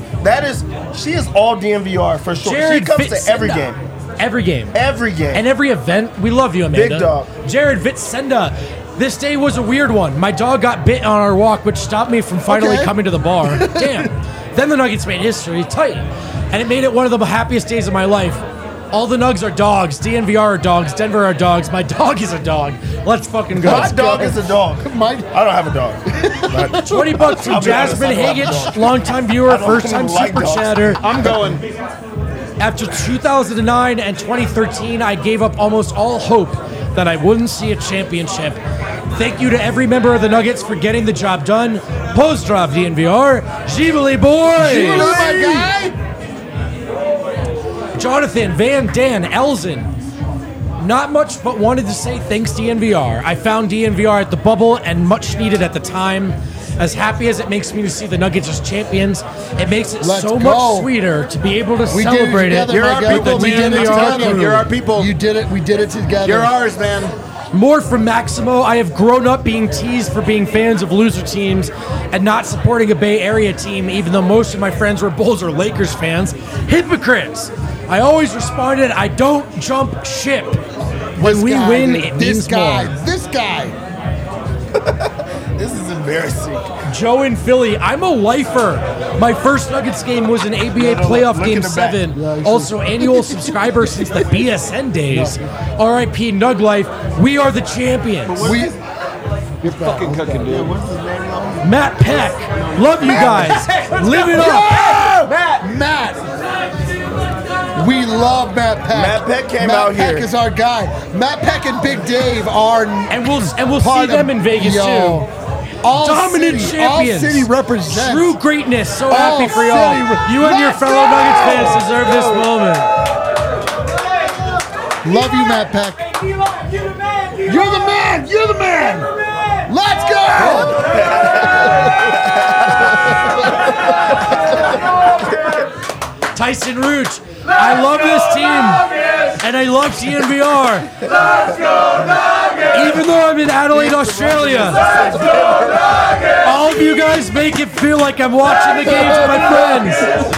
She is all DNVR for sure. Jared she comes to Fittsenda. every game. Every game. Every game. And every event. We love you, Amanda. Big dog. Jared Vitsenda. This day was a weird one. My dog got bit on our walk, which stopped me from finally Okay. coming to the bar. Damn. Then the Nuggets made history tight. And it made it one of the happiest days of my life. All the Nugs are dogs. DNVR are dogs. Denver are dogs. My dog is a dog. Let's fucking go. My dog is a dog. My, I don't have a dog. But $20 from I'll be honest, Jasmine I don't have a Hagich, dog. longtime viewer, I don't first time even like super dogs. chatter. I'm going. After 2009 and 2013, I gave up almost all hope that I wouldn't see a championship. Thank you to every member of the Nuggets for getting the job done. Pozdrav, DNVR. Ghibli boys! you know my guy? Jonathan, Van, Dan, Elzen. Not much, but wanted to say thanks DNVR. I found DNVR at the bubble and much needed at the time. As happy as it makes me to see the Nuggets as champions, it makes it Let's so go. much sweeter to be able to We did it celebrate it. together, You're my our guy. people, We man. did it I'm telling together. you, you're our people. You did it. We did it together. You're ours, man. More from Maximo. I have grown up being teased for being fans of loser teams and not supporting a Bay Area team, even though most of my friends were Bulls or Lakers fans. Hypocrites. I always responded, I don't jump ship. When This we guy, win, dude. it this means guy. more. This guy. this is embarrassing. Joe in Philly, I'm a lifer. My first Nuggets game was an ABA playoff look game in the back. 7. Yeah, I see. Also, annual subscriber since the BSN days. RIP Nug Life. We are the champions. We. You're fucking cooking, dude. Matt Peck. Love you guys. Live it up. Matt. We love Matt Peck. Matt Peck came Matt out Peck here. is our guy. Matt Peck and Big Dave are. And we'll see part them of- in Vegas Yo. too. All Dominant city, champions. All city represents. True greatness. So All happy for y'all. city You and your Let's fellow go! Nuggets fans deserve this moment. Love you, Matt Peck. You're the man. You're the man. Let's go. Tyson Rooch. I love this team. And I love DNVR. Even though I'm in Adelaide, Australia. All of you guys make it feel like I'm watching the games with my friends.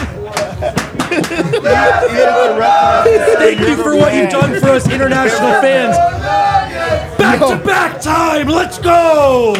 Thank you for what you've done for us international fans. Back to back time. Let's go.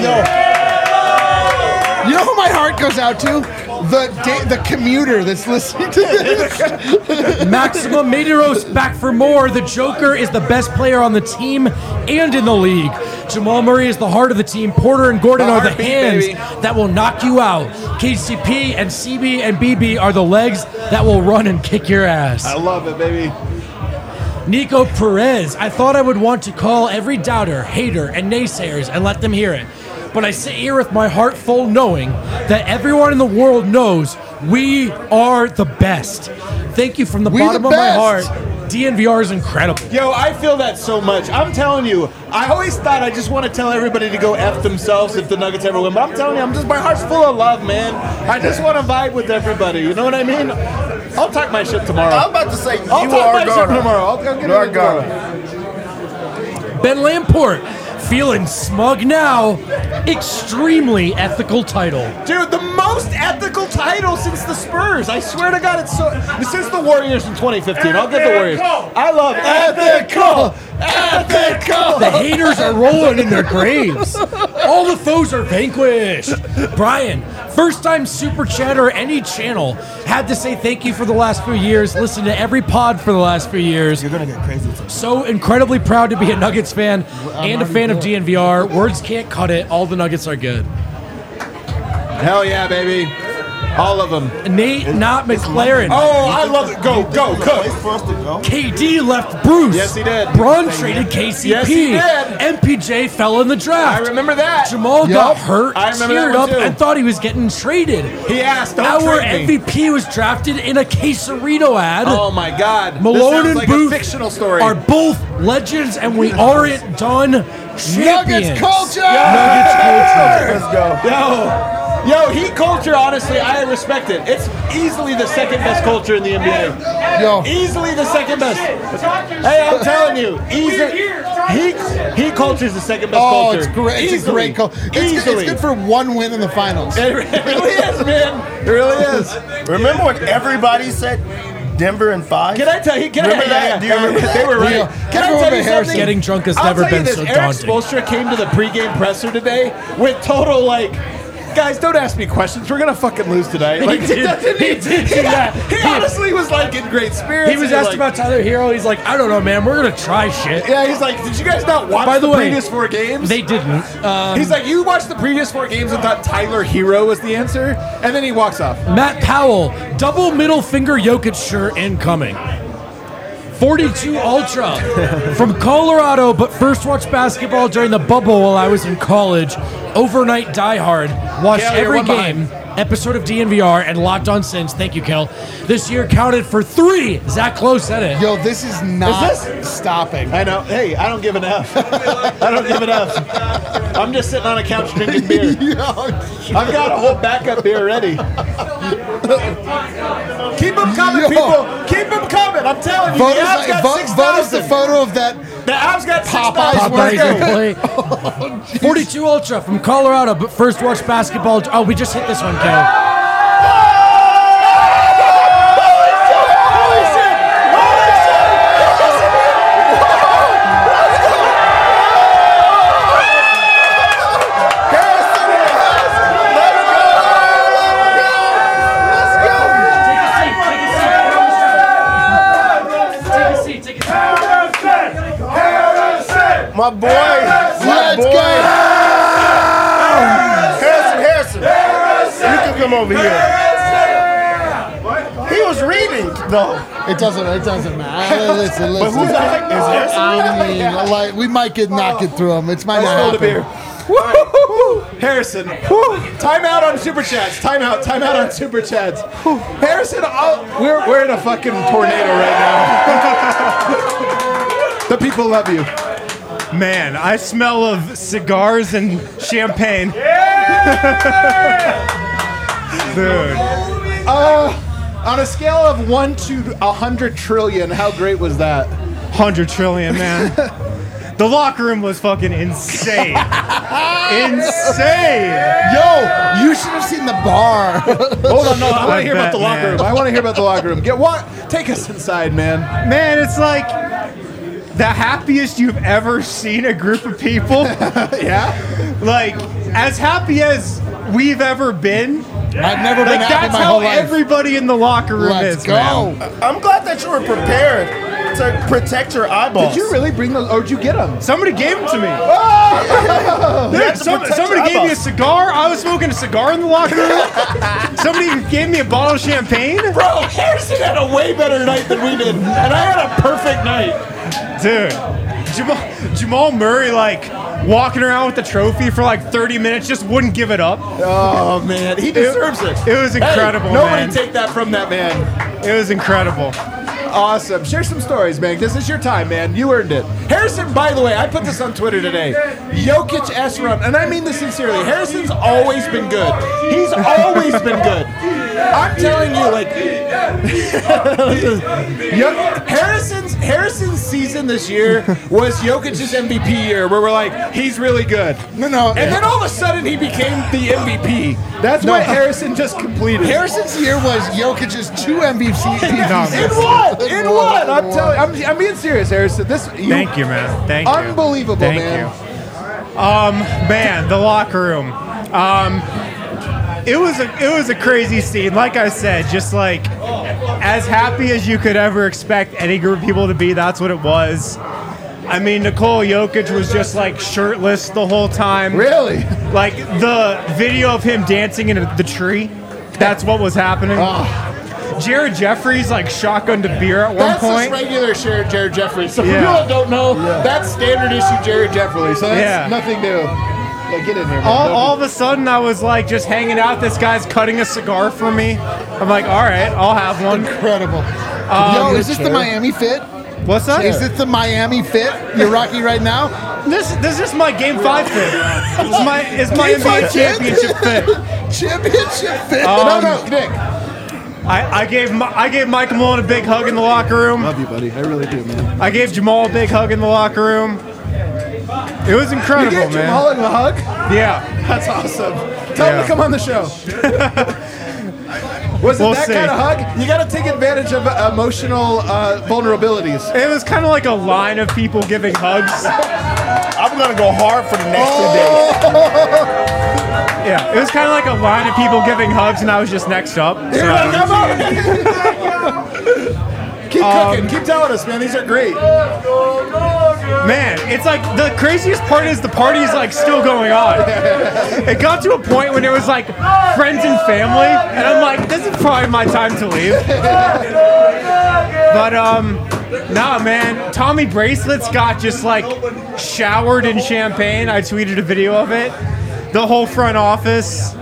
You know who my heart goes out to? The commuter that's listening to this. Maxima Medeiros back for more. The Joker is the best player on the team and in the league. Jamal Murray is the heart of the team. Porter and Gordon are the Heartbeat, hands baby. that will knock you out. KCP and CB and BB are the legs that will run and kick your ass. I love it, baby. Nico Perez. I thought I would want to call every doubter, hater, and naysayers and let them hear it. But I sit here with my heart full knowing that everyone in the world knows we are the best. Thank you from the We bottom the of my best. heart. DNVR is incredible. Yo, I feel that so much. I'm telling you, I always thought I just want to tell everybody to go F themselves if the Nuggets ever win. But I'm telling you, my heart's full of love, man. I just want to vibe with everybody. You know what I mean? I'll talk my shit tomorrow. I'm about to say you I'll talk are my shit gonna. tomorrow. I'll get You are it tomorrow. Ben Lamport, feeling smug now. Extremely ethical title. Dude, the most ethical title since the Spurs. I swear to God, it's so. Since the Warriors in 2015. I'll get the Warriors. I love ethical. Ethical. The haters are rolling in their graves. All the foes are vanquished. Brian, first time super chatter any channel. Had to say thank you for the last few years. Listened to every pod for the last few years. You're gonna get crazy. So incredibly proud to be a Nuggets fan and a fan of DNVR. Words can't cut it. All the Nuggets are good. Hell yeah, baby. All of them. Nate, not McLaren. Oh, I love it. Go, Cook. Place for us to go. KD left Bruce. Yes, he did. Braun traded KCP. Yes, he did. MPJ fell in the draft. I remember that. Jamal got hurt, I remember teared that one up, too. and thought he was getting traded. He asked, don't Our trade me. MVP was drafted in a Quesarito ad. Oh my God. Malone this sounds and like Booth a fictional story. are both legends, and we aren't done champions. Nuggets culture! Nuggets culture. Let's go. Yo, Heat culture, honestly, I respect it. It's easily the second best culture in the NBA. Yo. Easily the second best. Hey, I'm telling you, Heat culture is the second best Oh, culture. it's great. It's a Easily. great call. It's good for one win in the finals. It really is, man. It really is. Remember when everybody said Denver in 5? Can I tell you? Remember that? Do you remember that? They were right. Yeah. Can I Everyone tell but you Harrison. something? Getting drunk has I'll never tell you been this, so Eric daunting. Spoelstra came to the pregame presser today with total guys, don't ask me questions. We're gonna fucking lose tonight. He did do that. He honestly was in great spirits. He was and asked about Tyler Hero. He's like, I don't know, man. We're going to try shit. Yeah, he's like, did you guys not watch By the way, previous 4 games? They didn't. He's like, you watched the previous 4 games and thought Tyler Hero was the answer, and then he walks off. Matt Powell, double middle finger Jokic shirt incoming. 42 Ultra from Colorado, but first watched basketball during the bubble while I was in college. Overnight diehard. Watched Kel, you're every one game, episode of DNVR, and locked on since. Thank you, Kel. This year counted for 3. Zach Lowe said it. Yo, this is not Is this- stopping. I know. Hey, I don't give an F. I don't give an F. I'm just sitting on a couch drinking beer. I've got a whole backup beer ready. Keep them coming, Yo. people. Keep them coming. I'm telling you, Vote the us, Avs got vote us the 6,000. photo of that. The Avs got Popeyes 6,000. Popeyes Let's go. replay. 42 Ultra from Colorado, but first watched basketball. Oh, we just hit this one, Kel. My boy. My Let's boy. go. Harrison. You can come over here. He was reading, though. It doesn't matter. Listen. But who's that? Is Harrison? I mean, we might not get through them. It's might Let's not hold a beer. happen. Harrison, time out on Super Chats. Time out on Super Chats. Harrison, we're in a fucking tornado right now. The people love you. Man, I smell of cigars and champagne. Dude. On a scale of 1 to 100 trillion, how great was that? 100 trillion, man. The locker room was fucking insane. Insane. Yo, you should have seen the bar. Hold on, no, I want to hear about bet, the locker man. room. I want to hear about the locker room. Take us inside, man. Man, it's like the happiest you've ever seen a group of people. Yeah? Like, as happy as we've ever been. I've never been Like, happy that's my how whole life. everybody in the locker room Let's is, go. man. I'm glad that you were prepared to protect your eyeballs. Did you really bring those, or did you get them? Somebody gave them to me. You Dude, had to protect somebody your gave me a eyeballs. cigar. I was smoking a cigar in the locker room. Somebody gave me a bottle of champagne. Bro, Harrison had a way better night than we did, and I had a perfect night. Dude, Jamal Murray, like, walking around with the trophy for like 30 minutes, just wouldn't give it up. Oh, man, he deserves it. It was incredible, Hey, nobody man. take that from that man. It was incredible. Awesome. Share some stories, man. This is your time, man. You earned it. Harrison, by the way, I put this on Twitter today. Jokic S run, and I mean this sincerely. Harrison's always been good. He's always been good. I'm telling you, like, Harrison's season this year was Jokic's MVP year, where we're like, he's really good. No. And then all of a sudden he became the MVP. That's what Harrison just completed. Harrison's year was Jokic's 2 MVPs. In what? I'm being serious, Harrison. Thank you, man. Thank you. Unbelievable, Thank man. you. Man, the locker room. It was a crazy scene. Like I said, just like as happy as you could ever expect any group of people to be. That's what it was. I mean, Nikola Jokic was just like shirtless the whole time. Really? Like the video of him dancing in the tree. That's what was happening. Jared Jeffries like shotgunned a beer at one point. That's just regular Jared Jeffries. So for Yeah. people that don't know, that's standard issue Jared Jeffries. So that's nothing new. Like, get in here, man. All of a sudden, I was like just hanging out. This guy's cutting a cigar for me. I'm like, all right, I'll have one. Incredible. Yo, is this the Miami fit? What's that? Is it the Miami fit you're rocking right now? This is my Game 5 fit. It's my NBA championship fit. Championship fit. No, Nick. I gave Michael Malone a big hug in the locker room. Love you, buddy. I really do, man. I gave Jamal a big hug in the locker room. It was incredible, You gave man. Jamal a hug? Yeah. That's awesome. Tell him to come on the show. Was it We'll that see. kind of hug? You got to take advantage of emotional vulnerabilities. It was kind of like a line of people giving hugs. I'm gonna go hard for the next 2 days. Yeah, it was kind of like a line of people giving hugs, and I was just next up. You're like, come on. Keep cooking. Keep telling us, man. These are great. Man, it's like the craziest part is the party's like still going on. It got to a point when it was like friends and family, and I'm like, this is probably my time to leave. But nah, man, Tommy Bracelets got just like showered in champagne. I tweeted a video of it. The whole front office,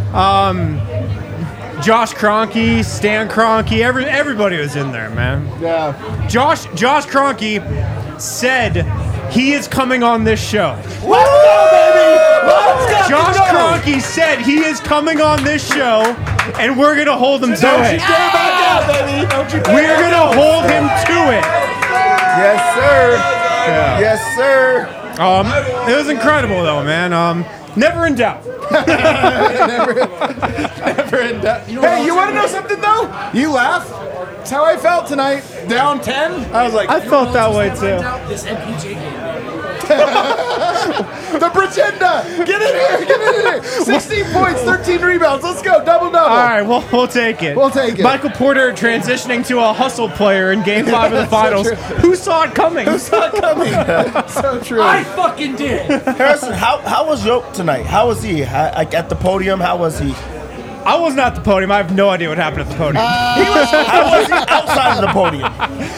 Josh Kroenke, Stan Kroenke, everybody was in there, man. Yeah. Josh Kroenke said he is coming on this show. Let's go, baby. Let's go. Josh Kroenke said he is coming on this show, and we're gonna hold him to Don't you it. dare back out, baby. Don't you dare We're back gonna out. hold him to it. Yes, sir. Yes, sir. It was incredible though, man. Never in doubt. Never in doubt. Hey, you want to know something though? You laugh. That's how I felt tonight. Down 10. I was like, I felt that way too. This MPJ game. the Pretender. Get in here. 16 points, 13 rebounds. Let's go. Double. All right, we'll take it. We'll take it. Michael Porter transitioning to a hustle player in Game 5 of the Finals. Who saw it coming? Not coming. So true. I fucking did. Harrison, how was Yoke tonight? How was he? Like at the podium, how was he? I wasn't at the podium. I have no idea what happened at the podium. How was he outside of the podium?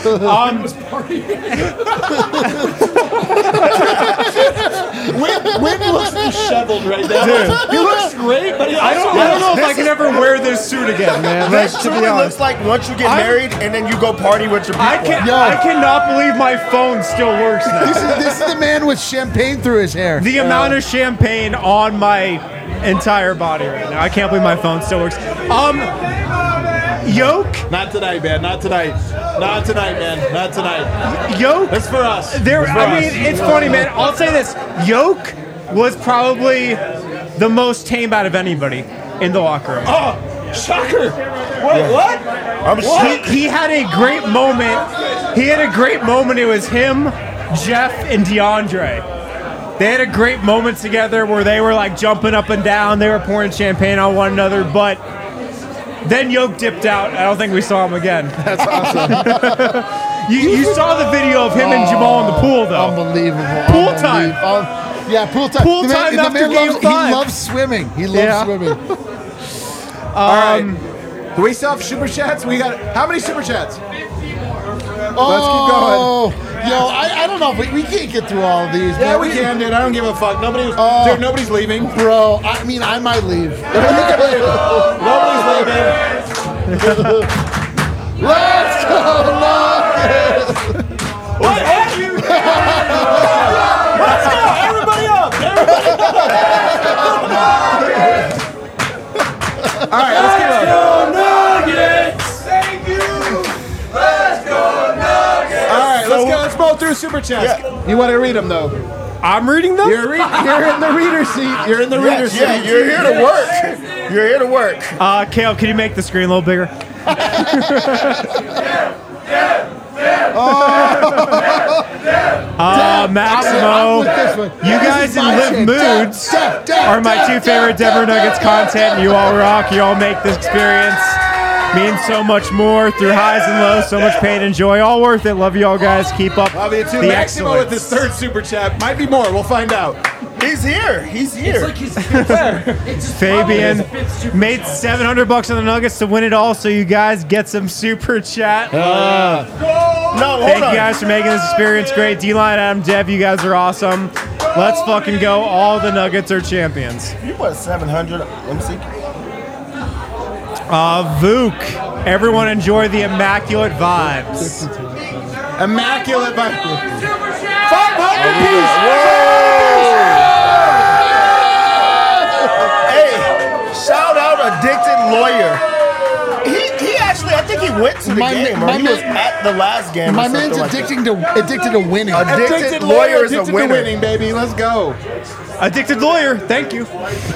Wynn looks disheveled right now. Dude. He looks great, but I don't know if I can ever wear this suit again, man. Like, This to be truly honest. looks like once you get I'm- married and then you go party with your people. I cannot believe my phone still works now. This is the man with champagne through his hair. The amount of champagne on my entire body right now. I can't believe my phone still works. Yoke, Not tonight, man. Not tonight. Not tonight, man. Not tonight. Yoke. It's for us. There, It's for I us. mean, it's funny, man. I'll say this: Yoke was probably the most tame out of anybody in the locker room. Oh, shocker. Wait, what? I'm shocked. He had a great moment. He had a great moment. It was him, Jeff, and DeAndre. They had a great moment together where they were like jumping up and down. They were pouring champagne on one another, but then Yoke dipped out. I don't think we saw him again. That's awesome. You saw the video of him and Jamal in the pool, though. Unbelievable. Pool time. Yeah, pool time. Pool The man- time the after man Game loves, 5. He loves swimming. He loves Yeah. swimming. All right. Do we still have super chats? We got how many super chats? Let's keep going. Yo, I don't know. We can't get through all of these. Yeah, man. we can, dude. I don't give a fuck. Nobody's leaving. Bro, I mean, I might leave. Nobody's leaving. Let's Let's go! Everybody up! All right, let's keep going. All right, let's go through Super Chats. You want to read them, though? I'm reading them? You're in the reader seat. You're in the reader seat. Yeah, you're here to work. You're here to work. Kale, can you make the screen a little bigger? Maximo, you guys in Live Moods are my two favorite Denver Nuggets content. You all rock. You all make this experience mean so much more through highs and lows. So much pain and joy. All worth it. Love you all, guys. Keep up Love you too. the Maximo with excellence. his third Super Chat. Might be more. We'll find out. He's here. He's here. Fabian made $700 on the Nuggets to win it all, so you guys get some Super Chat. No, Thank hold on. you guys for making this experience great. D-Line, Adam, Dev, you guys are awesome. Let's fucking go. All the Nuggets are champions. You put 700. Let me see. Vuk, everyone enjoy the immaculate vibes. Immaculate by 500 piece. Hey, shout out Addicted Lawyer. He actually, I think he went to the game, or he was at the last game. My or man's something like that. addicted to winning. Addicted Lawyer is a addicted to winner. winning, baby. Let's go. Addicted Lawyer, thank you.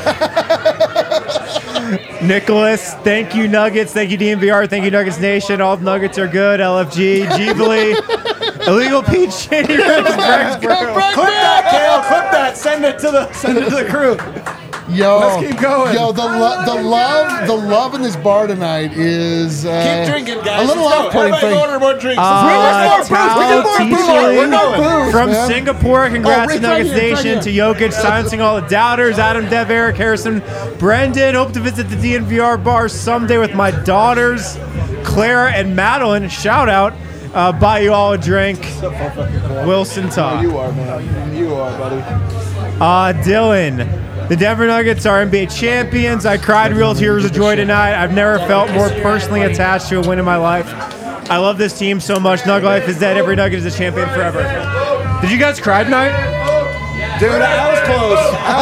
Nicholas, thank you Nuggets, thank you DMVR, thank you Nuggets Nation. All the Nuggets are good. LFG, Jeebly, Illegal Pete Shady, Clip that, Kale. Clip that. Send it to the crew. Yo, Let's keep going. Yo, the love in this bar tonight is Keep drinking, guys. a little Let's go. off-putting. Everybody order more drinks. Tao We're going. From man. Singapore, congrats Rick, to right Nuggets here, right Nation, here. to Jokic, silencing all the doubters, Adam, Dev, Eric, Harrison, Brendan. Hope to visit the DNVR bar someday with my daughters, Clara and Madeline. Shout out. Buy you all a drink. Wilson Todd. You are, man. You are, buddy. Dylan. The Denver Nuggets are NBA champions. I cried real tears of joy tonight. I've never felt more personally attached to a win in my life. I love this team so much. Nug life is dead. Every Nugget is a champion forever. Did you guys cry tonight? Dude, I was close.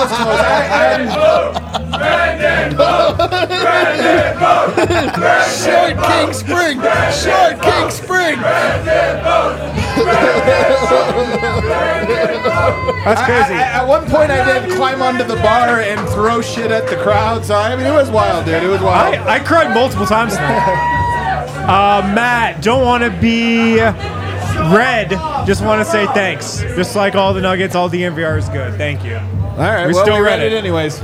Short King Spring. Short King Spring. That's crazy. At one point, I did climb onto the bar and throw shit at the crowd. So, I mean, it was wild, dude. It was wild. I cried multiple times tonight. Matt, don't want to be red. Just want to say thanks. Just like all the Nuggets, all the DNVR is good. Thank you. All right, We well, still we read read it it. anyways.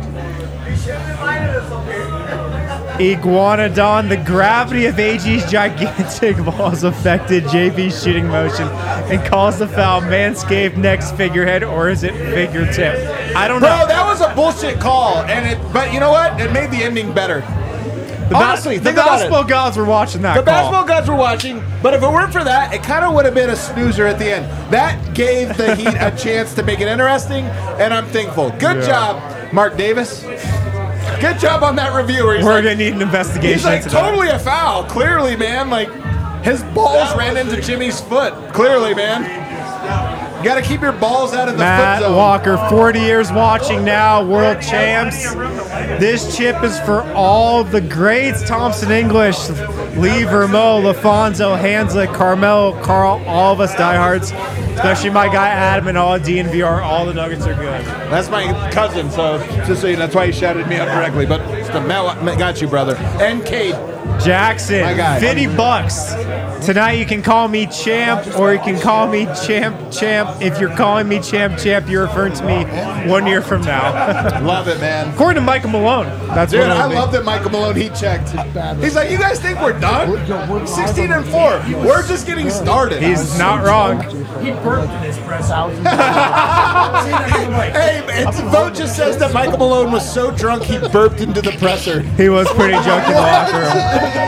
Iguanodon, the gravity of AG's gigantic balls affected JB's shooting motion and caused the foul. Manscaped next figurehead, or is it figure tip? I don't know. Bro, that was a bullshit call, but you know what? It made the ending better. Honestly, the think about it. basketball gods were watching that The call. basketball gods were watching, but if it weren't for that, it kind of would have been a snoozer at the end. That gave the Heat a chance to make it interesting, and I'm thankful. Good job, Mark Davis. Good job on that review. Where We're gonna need an investigation. he's like into that. totally a foul. Clearly, man. Like his balls ran into Jimmy's foot. Clearly, man. You got to keep your balls out of the foot Matt zone. Walker, 40 years watching now, world champs. This chip is for all the greats. Thompson English, Lee Vermeau, LaFonso, Hanslick, Carmel, Carl, all of us diehards, especially my guy Adam and all of DNVR. All the Nuggets are good. That's my cousin, so just so you know, that's why he shouted me out directly. But still, Matt got you, brother. And Cade. Jackson, My guy. 50 bucks. Tonight you can call me champ or you can call me champ. If you're calling me champ, you're referring to me 1 year from now. Love it, man. According to Michael Malone, that's Dude, what it'll I be. love that Michael Malone heat checked. He's like, you guys think we're done? 16-4. We're just getting started. He's not wrong. He burped in his press out. Hey, the vote just says that Michael Malone was so drunk he burped into the presser. He was pretty drunk in the locker room.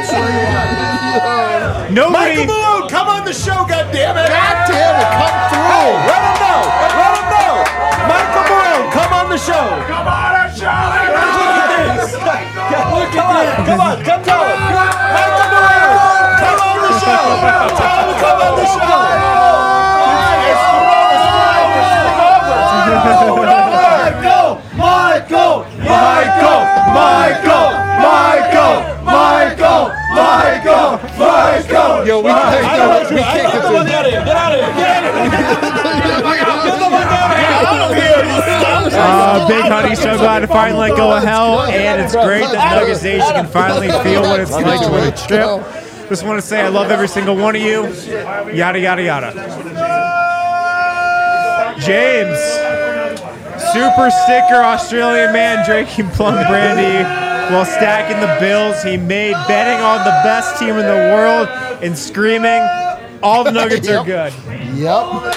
Nobody. Michael Malone, come on the show, goddammit! God damn it, come Hey, through. let him know! Let him know! Michael Malone, come on the show! Come on our show! Look at this! Come on, come tell him! Michael Malone, come on the show! finally let go of hell, and it's great that Nuggets Nation can finally feel what it's like to win a trip. Just want to say I love every single one of you. Yada, yada, yada. James, super sticker Australian man drinking plum brandy while stacking the bills he made, betting on the best team in the world and screaming, all the Nuggets are good. Yep.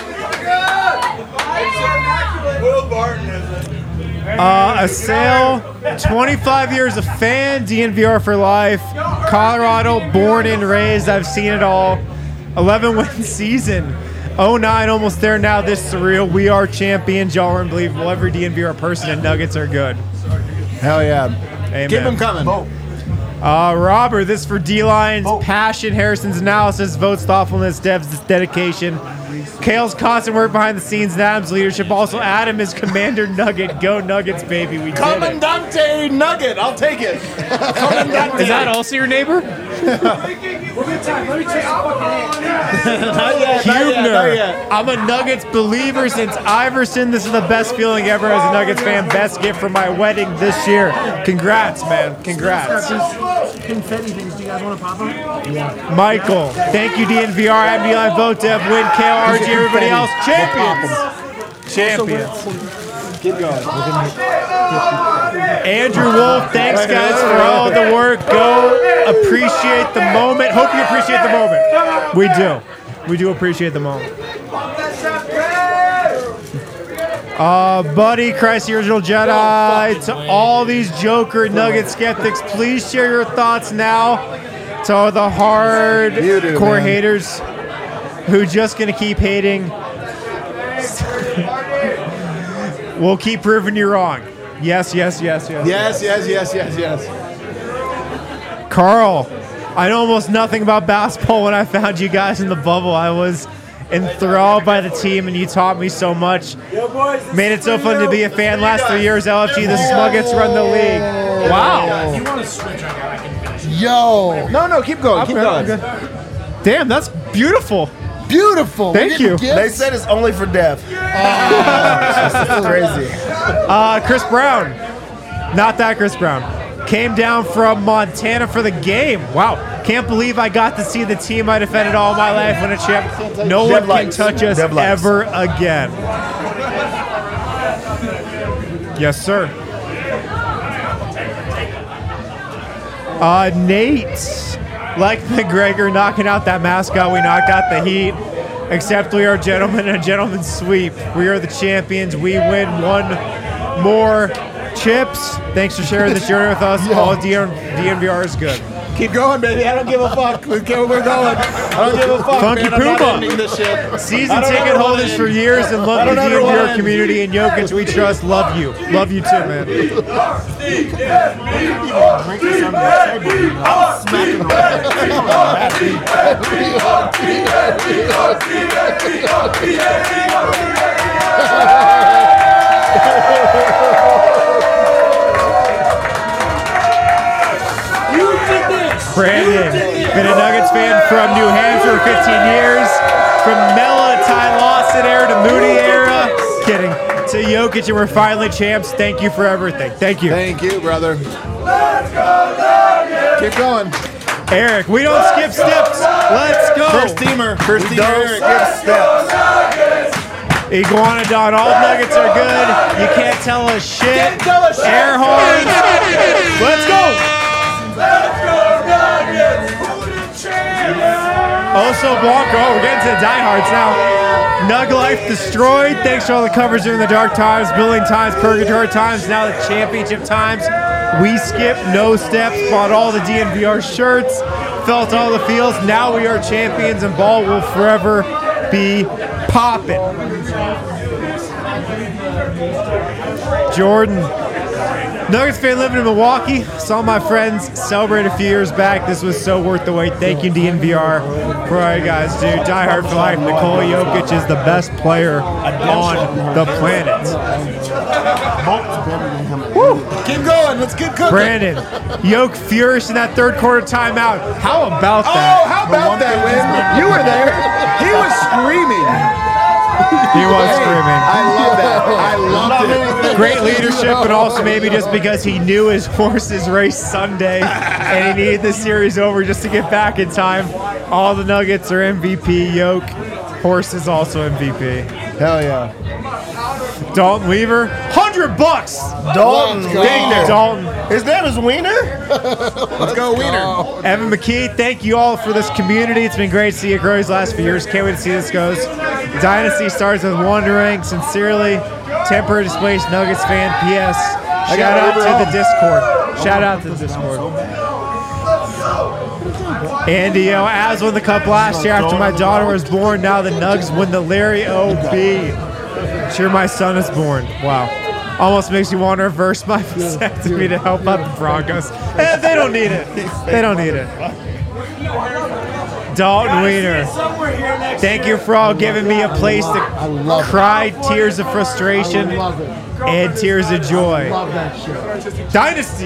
A sale, 25 years a fan, DNVR for life. Colorado, born and raised, I've seen it all. 11-win season. 09, almost there now, this surreal. We are champions, y'all are unbelievable. Every DNVR person and Nuggets are good. Hell yeah. Amen. Keep them coming. Robert, this for D-Line's passion, Harrison's analysis, votes, thoughtfulness, Dev's dedication. Kale's constant work behind the scenes, and Adam's leadership. Also, Adam is Commander Nugget. Go Nuggets, baby. We did it. Commandante Nugget. I'll take it. Is that also your neighbor? Hubner. I'm a Nuggets believer since Iverson. This is the best feeling ever as a Nuggets fan. Best gift for my wedding this year. Congrats, man. Congrats. Confetti things. Do you guys want to pop them? Yeah. Michael, thank you, DNVR. I'm Eli, vote Dev, win, KRG, everybody else. Champions. Champions. Keep going. Andrew Wolf, thanks guys for all the work. Go appreciate the moment. Hope you appreciate the moment. We do. We do appreciate the moment. Buddy, Christ the Original Jedi, to all these Joker Nugget skeptics, please share your thoughts now. To all the hardcore haters who just gonna keep hating. We'll keep proving you wrong. Yes. Yes. Carl, I know almost nothing about basketball. When I found you guys in the bubble, I was enthralled by the team, and you taught me so much. Made it so fun to be a fan. Last 3 years, LFG, the Smuggets run the league. Wow. If you want to switch, I can finish. Yo. No, keep going. Keep going. Damn, that's beautiful. Beautiful. Thank you. They said it's only for Dev. That's crazy. Chris Brown. Not that Chris Brown. Came down from Montana for the game. Wow. Can't believe I got to see the team I defended all my life win a chip. No one can touch us ever again. Yes, sir. Nate. Like McGregor knocking out that mascot, we knocked out the Heat. Except we are gentlemen and a gentleman's sweep. We are the champions. We win one more chips. Thanks for sharing this journey with us. All DNVR is good. Keep going, baby. I don't give a fuck. We're going. I don't give a fuck. Funky man. I'm not Puma. ending this shit. Season ticket holders for years and love the DNVR community and Jokic. We trust. Love you. Love you too, man. Brandon, been a Nuggets fan from New Hampshire for 15 years. From Mela, Ty Lawson era to Moody era. Kidding. To Jokic, and we're finally champs. Thank you for everything. Thank you. Thank you, brother. Keep going. Eric, we don't skip steps. Let's go. First teamer, Eric. Steps. Iguanodon, all Nuggets are good. You can't tell us shit. Air horns. Let's go. Oso Blanco, we're getting to the diehards now. Nug Life destroyed. Thanks for all the covers during the dark times, building times, purgatory times, now the championship times. We skipped no steps, bought all the DNVR shirts, felt all the feels. Now we are champions, and ball will forever be popping. Jordan. Nuggets fan living in Milwaukee. Saw my friends celebrate a few years back. This was so worth the wait. Thank you, DNVR, for all you guys do. Die hard for life. Nikola Jokic is the best player on the planet. Woo. Keep going. Let's keep cooking. Brandon, Jokic furious in that third quarter timeout. How about that? Oh, how about that, Win? You were there. He was screaming. He was screaming. I love that. I loved it. Great leadership, but also maybe just because he knew his horses raced Sunday and he needed the series over just to get back in time. All the Nuggets are MVP. Yoke, horse is also MVP. Hell yeah. Dalton Weaver, $100. Dalton. Thank you, Dalton. His name is Wiener? Let's go, Wiener. Evan McKee, thank you all for this community. It's been great to see it grow these last few years. Can't wait to see this goes. Dynasty starts with wondering. Sincerely, temporary displaced Nuggets fan. P.S. Shout out to the Discord. Shout out to the Discord. Andy, Avs won the cup last year after my daughter was born. Now the Nugs win the Larry O.B. Sure, my son is born. Wow. Almost makes you want to reverse my vasectomy to help out the Broncos. They don't need it. They don't need it. Dalton Wiener, thank you for all giving me a place to cry tears of frustration and tears of joy. Dynasty.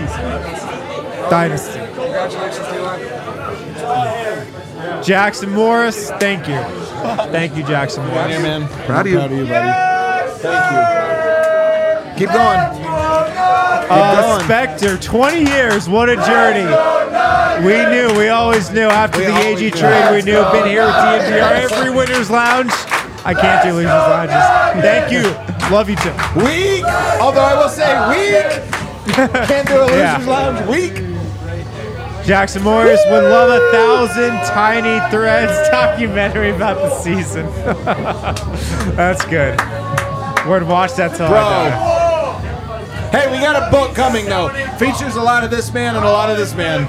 Jackson Morris, thank you. Thank you, Jackson Morris. Yeah, man. Proud of you, buddy. Thank you. Keep going. Spectre, 20 years, what a journey. We always knew after the AG trade, we knew, been here with DNVR, every winner's lounge. I can't do losers lounges. Thank you. Love you too. Weak. Although I will say weak. Can't do a losers lounge. Weak. Jackson Morris would love 1,000 Tiny Threads documentary about the season. That's good. Would watch that till I die. Hey, we got a book coming though. Features a lot of this man and a lot of this man.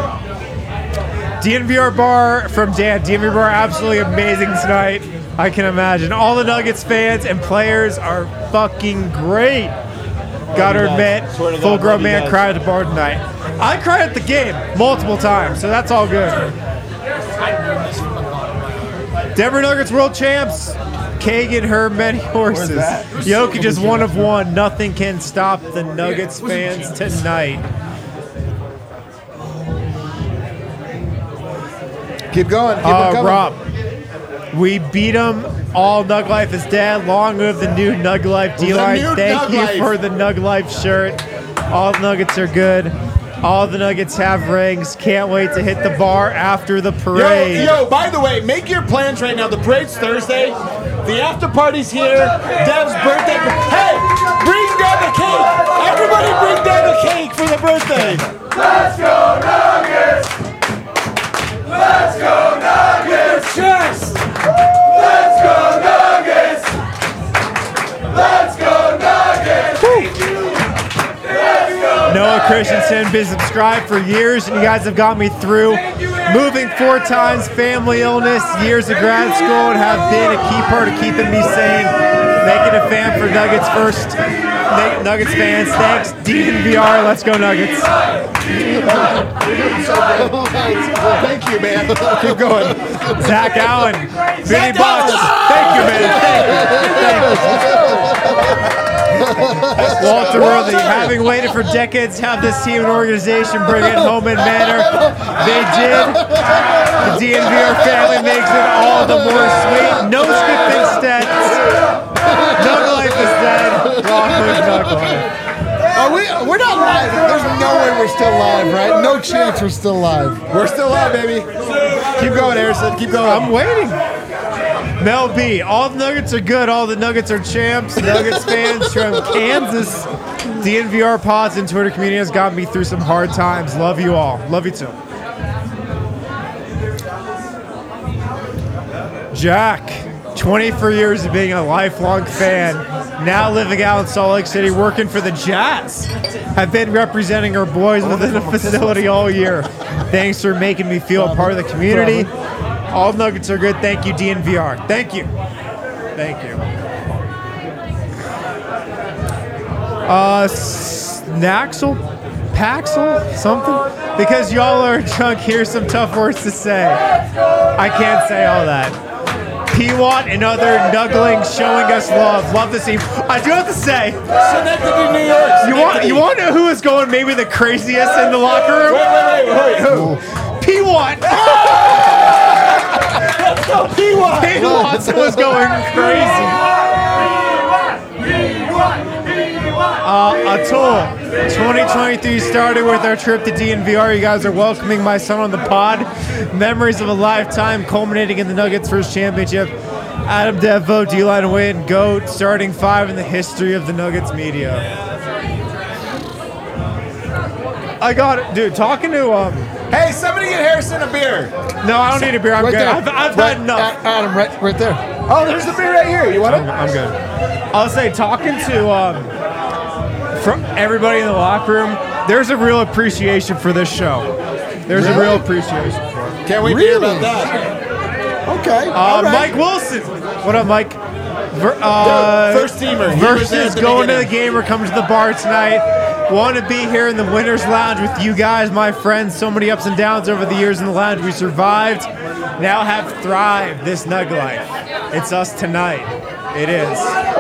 DNVR bar from Dan. DNVR bar absolutely amazing tonight. I can imagine. All the Nuggets fans and players are fucking great. Gotta admit, full grown man cried at the bar tonight. I cried at the game multiple times, so that's all good. Denver Nuggets world champs. Kagan, her many horses. Jokic is one of one. Nothing can stop the Nuggets fans tonight. Keep going. Keep it coming. Rob, we beat them. All Nug Life is dead. Long live the new Nug Life D-Line. Thank you for the Nug Life shirt. All the Nuggets are good. All the Nuggets have rings. Can't wait to hit the bar after the parade. Yo, by the way, make your plans right now. The parade's Thursday. The after party's here. Dev's birthday. Hey, bring down the cake. Everybody bring down the cake for the birthday. Let's go Nuggets! Let's go Nuggets! Chest! Let's go Nuggets! Let's go Nuggets! Noah Christensen, been subscribed for years, and you guys have got me through. Moving 4 times, family illness, years of grad school, and have been a key part of keeping me sane. Making a fan for Nuggets first. Nuggets fans, thanks. DNVR, let's go Nuggets. Thank you, man. Keep going. Zach Allen, 50 bucks. Thank you, man. Thank you. Walter Worthy, having waited for decades to have this team and organization bring it home in manner. They did. The DNVR family makes it all the more sweet. No skipping stats. Nug Life is dead. Long live Nug Life. We're not live. There's no way we're still live, right? No chance we're still live. We're still live, baby. Keep going, Harrison. Keep going. I'm waiting. Mel B, all the Nuggets are good. All the Nuggets are champs. Nuggets fans from Kansas. DNVR pods and Twitter community has gotten me through some hard times. Love you all. Love you too. Jack, 24 years of being a lifelong fan. Now living out in Salt Lake City, working for the Jazz. I've been representing our boys within the facility all year. Thanks for making me feel a part of the community. All Nuggets are good. Thank you, DNVR. Thank you. Thank you. Snaxel? Paxel? Something? Because y'all are drunk, here's some tough words to say. I can't say all that. P-Watt and other Nugglings showing us love. Love to see. I do have to say. Schenectady, New York. You want to know who is going maybe the craziest in the locker room? Wait. Who? P-Watt. Let's go, P1. Pete Watson was going crazy. Atul, 2023 started with our trip to DNVR. You guys are welcoming my son on the pod. Memories of a lifetime culminating in the Nuggets' first championship. Adam Devo, D-line win, GOAT, starting 5 in the history of the Nuggets media. I got it, dude. Talking to Hey, somebody get Harrison a beer. No, I don't need a beer. I'm Right good. there. I've had enough. Adam, right there. Oh, there's the beer right here. You want it? I'm good. I'll say, talking to from everybody in the locker room, there's a real appreciation for this show. There's a real appreciation for it. Can't wait to hear about that. Okay. all right. Mike Wilson. What up, Mike? First teamer. He was there Versus at the going to the beginning. game or coming to the bar tonight. Want to be here in the Winners Lounge with you guys, my friends. So many ups and downs over the years in the lounge. We survived, now have thrived this Nug life. It's us tonight. It is.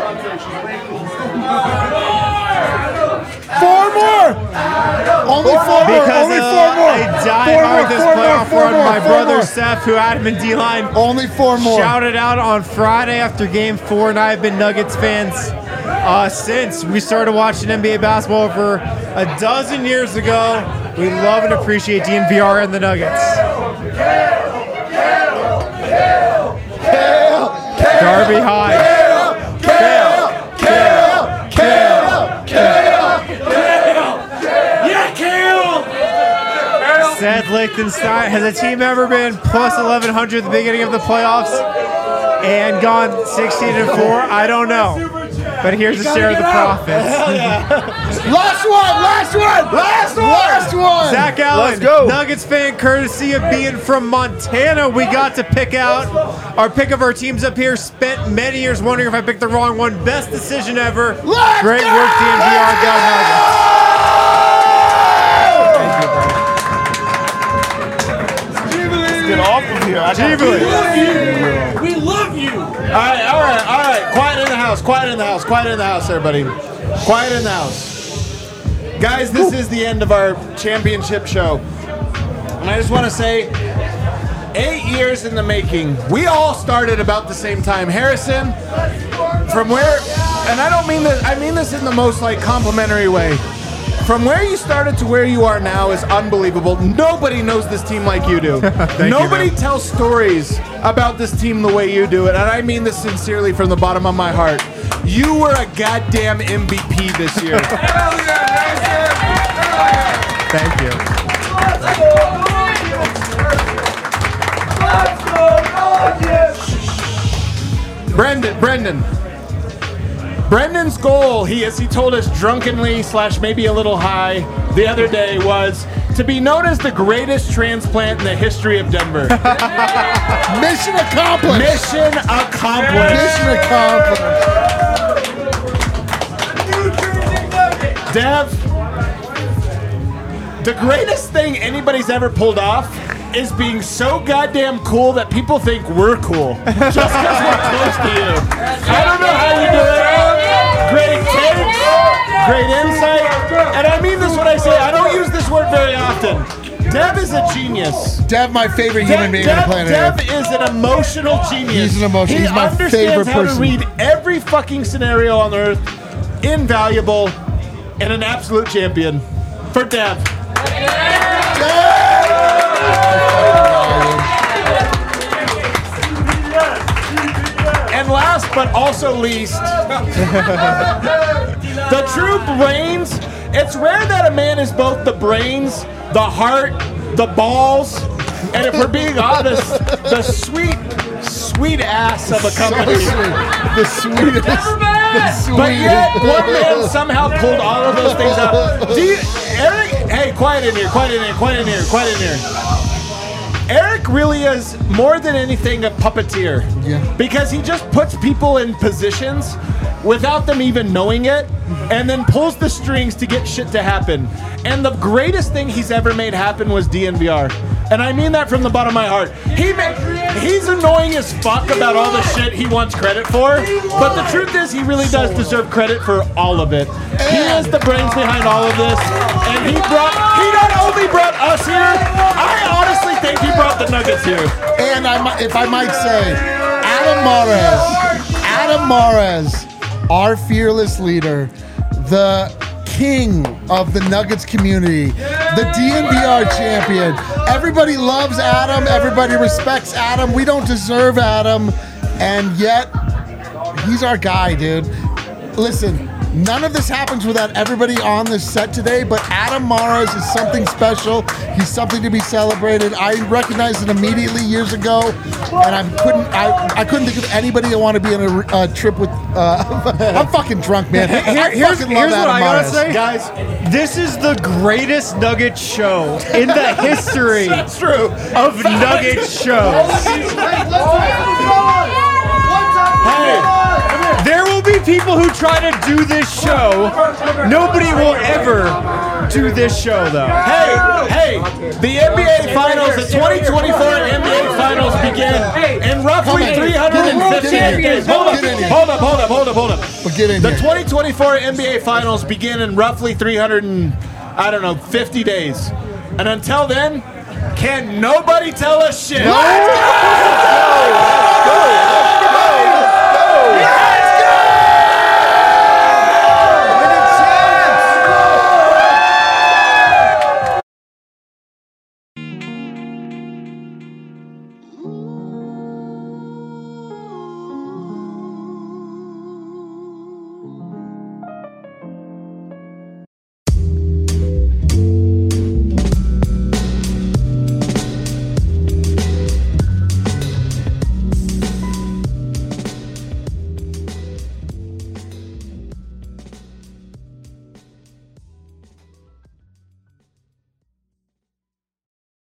4 more. Only 4 more. Because Only 4 more. I died hard this playoff run. My brother Seth, who had him in D-line, Only 4 more. shouted out on Friday after Game 4, and I've been Nuggets fans since we started watching NBA basketball over a dozen years ago. We love and appreciate DNVR and the Nuggets. Darby High. Seth Lichtenstein, has a team ever been plus 1,100 at the beginning of the playoffs and gone 16-4? I don't know. But here's a share of the profits. Last one. Zach Allen, Let's go. Nuggets fan, courtesy of being from Montana. We got to pick out our pick of our teams up here. Spent many years wondering if I picked the wrong one. Best decision ever. Let's Great go! work, DNVR. Go Nuggets. Get off of here. I got Jubilee. We love you. All right. Quiet in the house, everybody. Quiet in the house. Guys, this is the end of our championship show. And I just want to say, 8 years in the making. We all started about the same time. Harrison, from where, and I don't mean this, I mean this in the most complimentary way. From where you started to where you are now is unbelievable. Nobody knows this team like you do. Nobody tells stories about this team the way you do it. And I mean this sincerely from the bottom of my heart. You were a goddamn MVP this year. Thank you. Brendan's goal, as he told us drunkenly / maybe a little high the other day, was to be known as the greatest transplant in the history of Denver. Mission accomplished. Mission accomplished. Mission accomplished. Dev, the greatest thing anybody's ever pulled off is being so goddamn cool that people think we're cool just because we're close to you. I don't know how you do it. Great takes, great insight, and I mean this when I say I don't use this word very often. Dev is a genius. Dev, my favorite human being on the planet Dev Earth. is an emotional genius. He's an emotional. He's my favorite understands how person. to read every fucking scenario on earth. Invaluable and an absolute champion for Dev. And last but also least, the true brains. It's rare that a man is both the brains, the heart, the balls, and if we're being honest, the sweet ass of a company. The sweetest. But yet, one man somehow pulled all of those things out. Eric, hey, quiet in here. Eric really is more than anything a puppeteer. Yeah. Because he just puts people in positions without them even knowing it, and then pulls the strings to get shit to happen. And the greatest thing he's ever made happen was DNVR. And I mean that from the bottom of my heart. He's annoying as fuck about all the shit he wants credit for, but the truth is he really does deserve credit for all of it. He is the brains behind all of this, and he not only brought us here, I honestly think he brought the Nuggets Thanks, Hugh. And if I might say, Adam Mares, our fearless leader, the king of the Nuggets community, the DNVR champion. Everybody loves Adam. Everybody respects Adam. We don't deserve Adam. And yet, he's our guy, dude. Listen, none of this happens without everybody on this set today, but Adam Mares is something special. He's something to be celebrated. I recognized it immediately years ago, and I couldn't think of anybody I want to be on a trip with. I'm fucking drunk, man. Here's what I gotta say, Guys, this is the greatest Nugget show in the history that's true. of Nugget shows. There will be people who try to do this show. Nobody will ever do this show, though. Hey, the NBA Finals, the 2024 NBA Finals begin in roughly 350 days. Hold up. Get in The here. 2024 NBA Finals begin in roughly 50 days. And until then, can nobody tell us shit?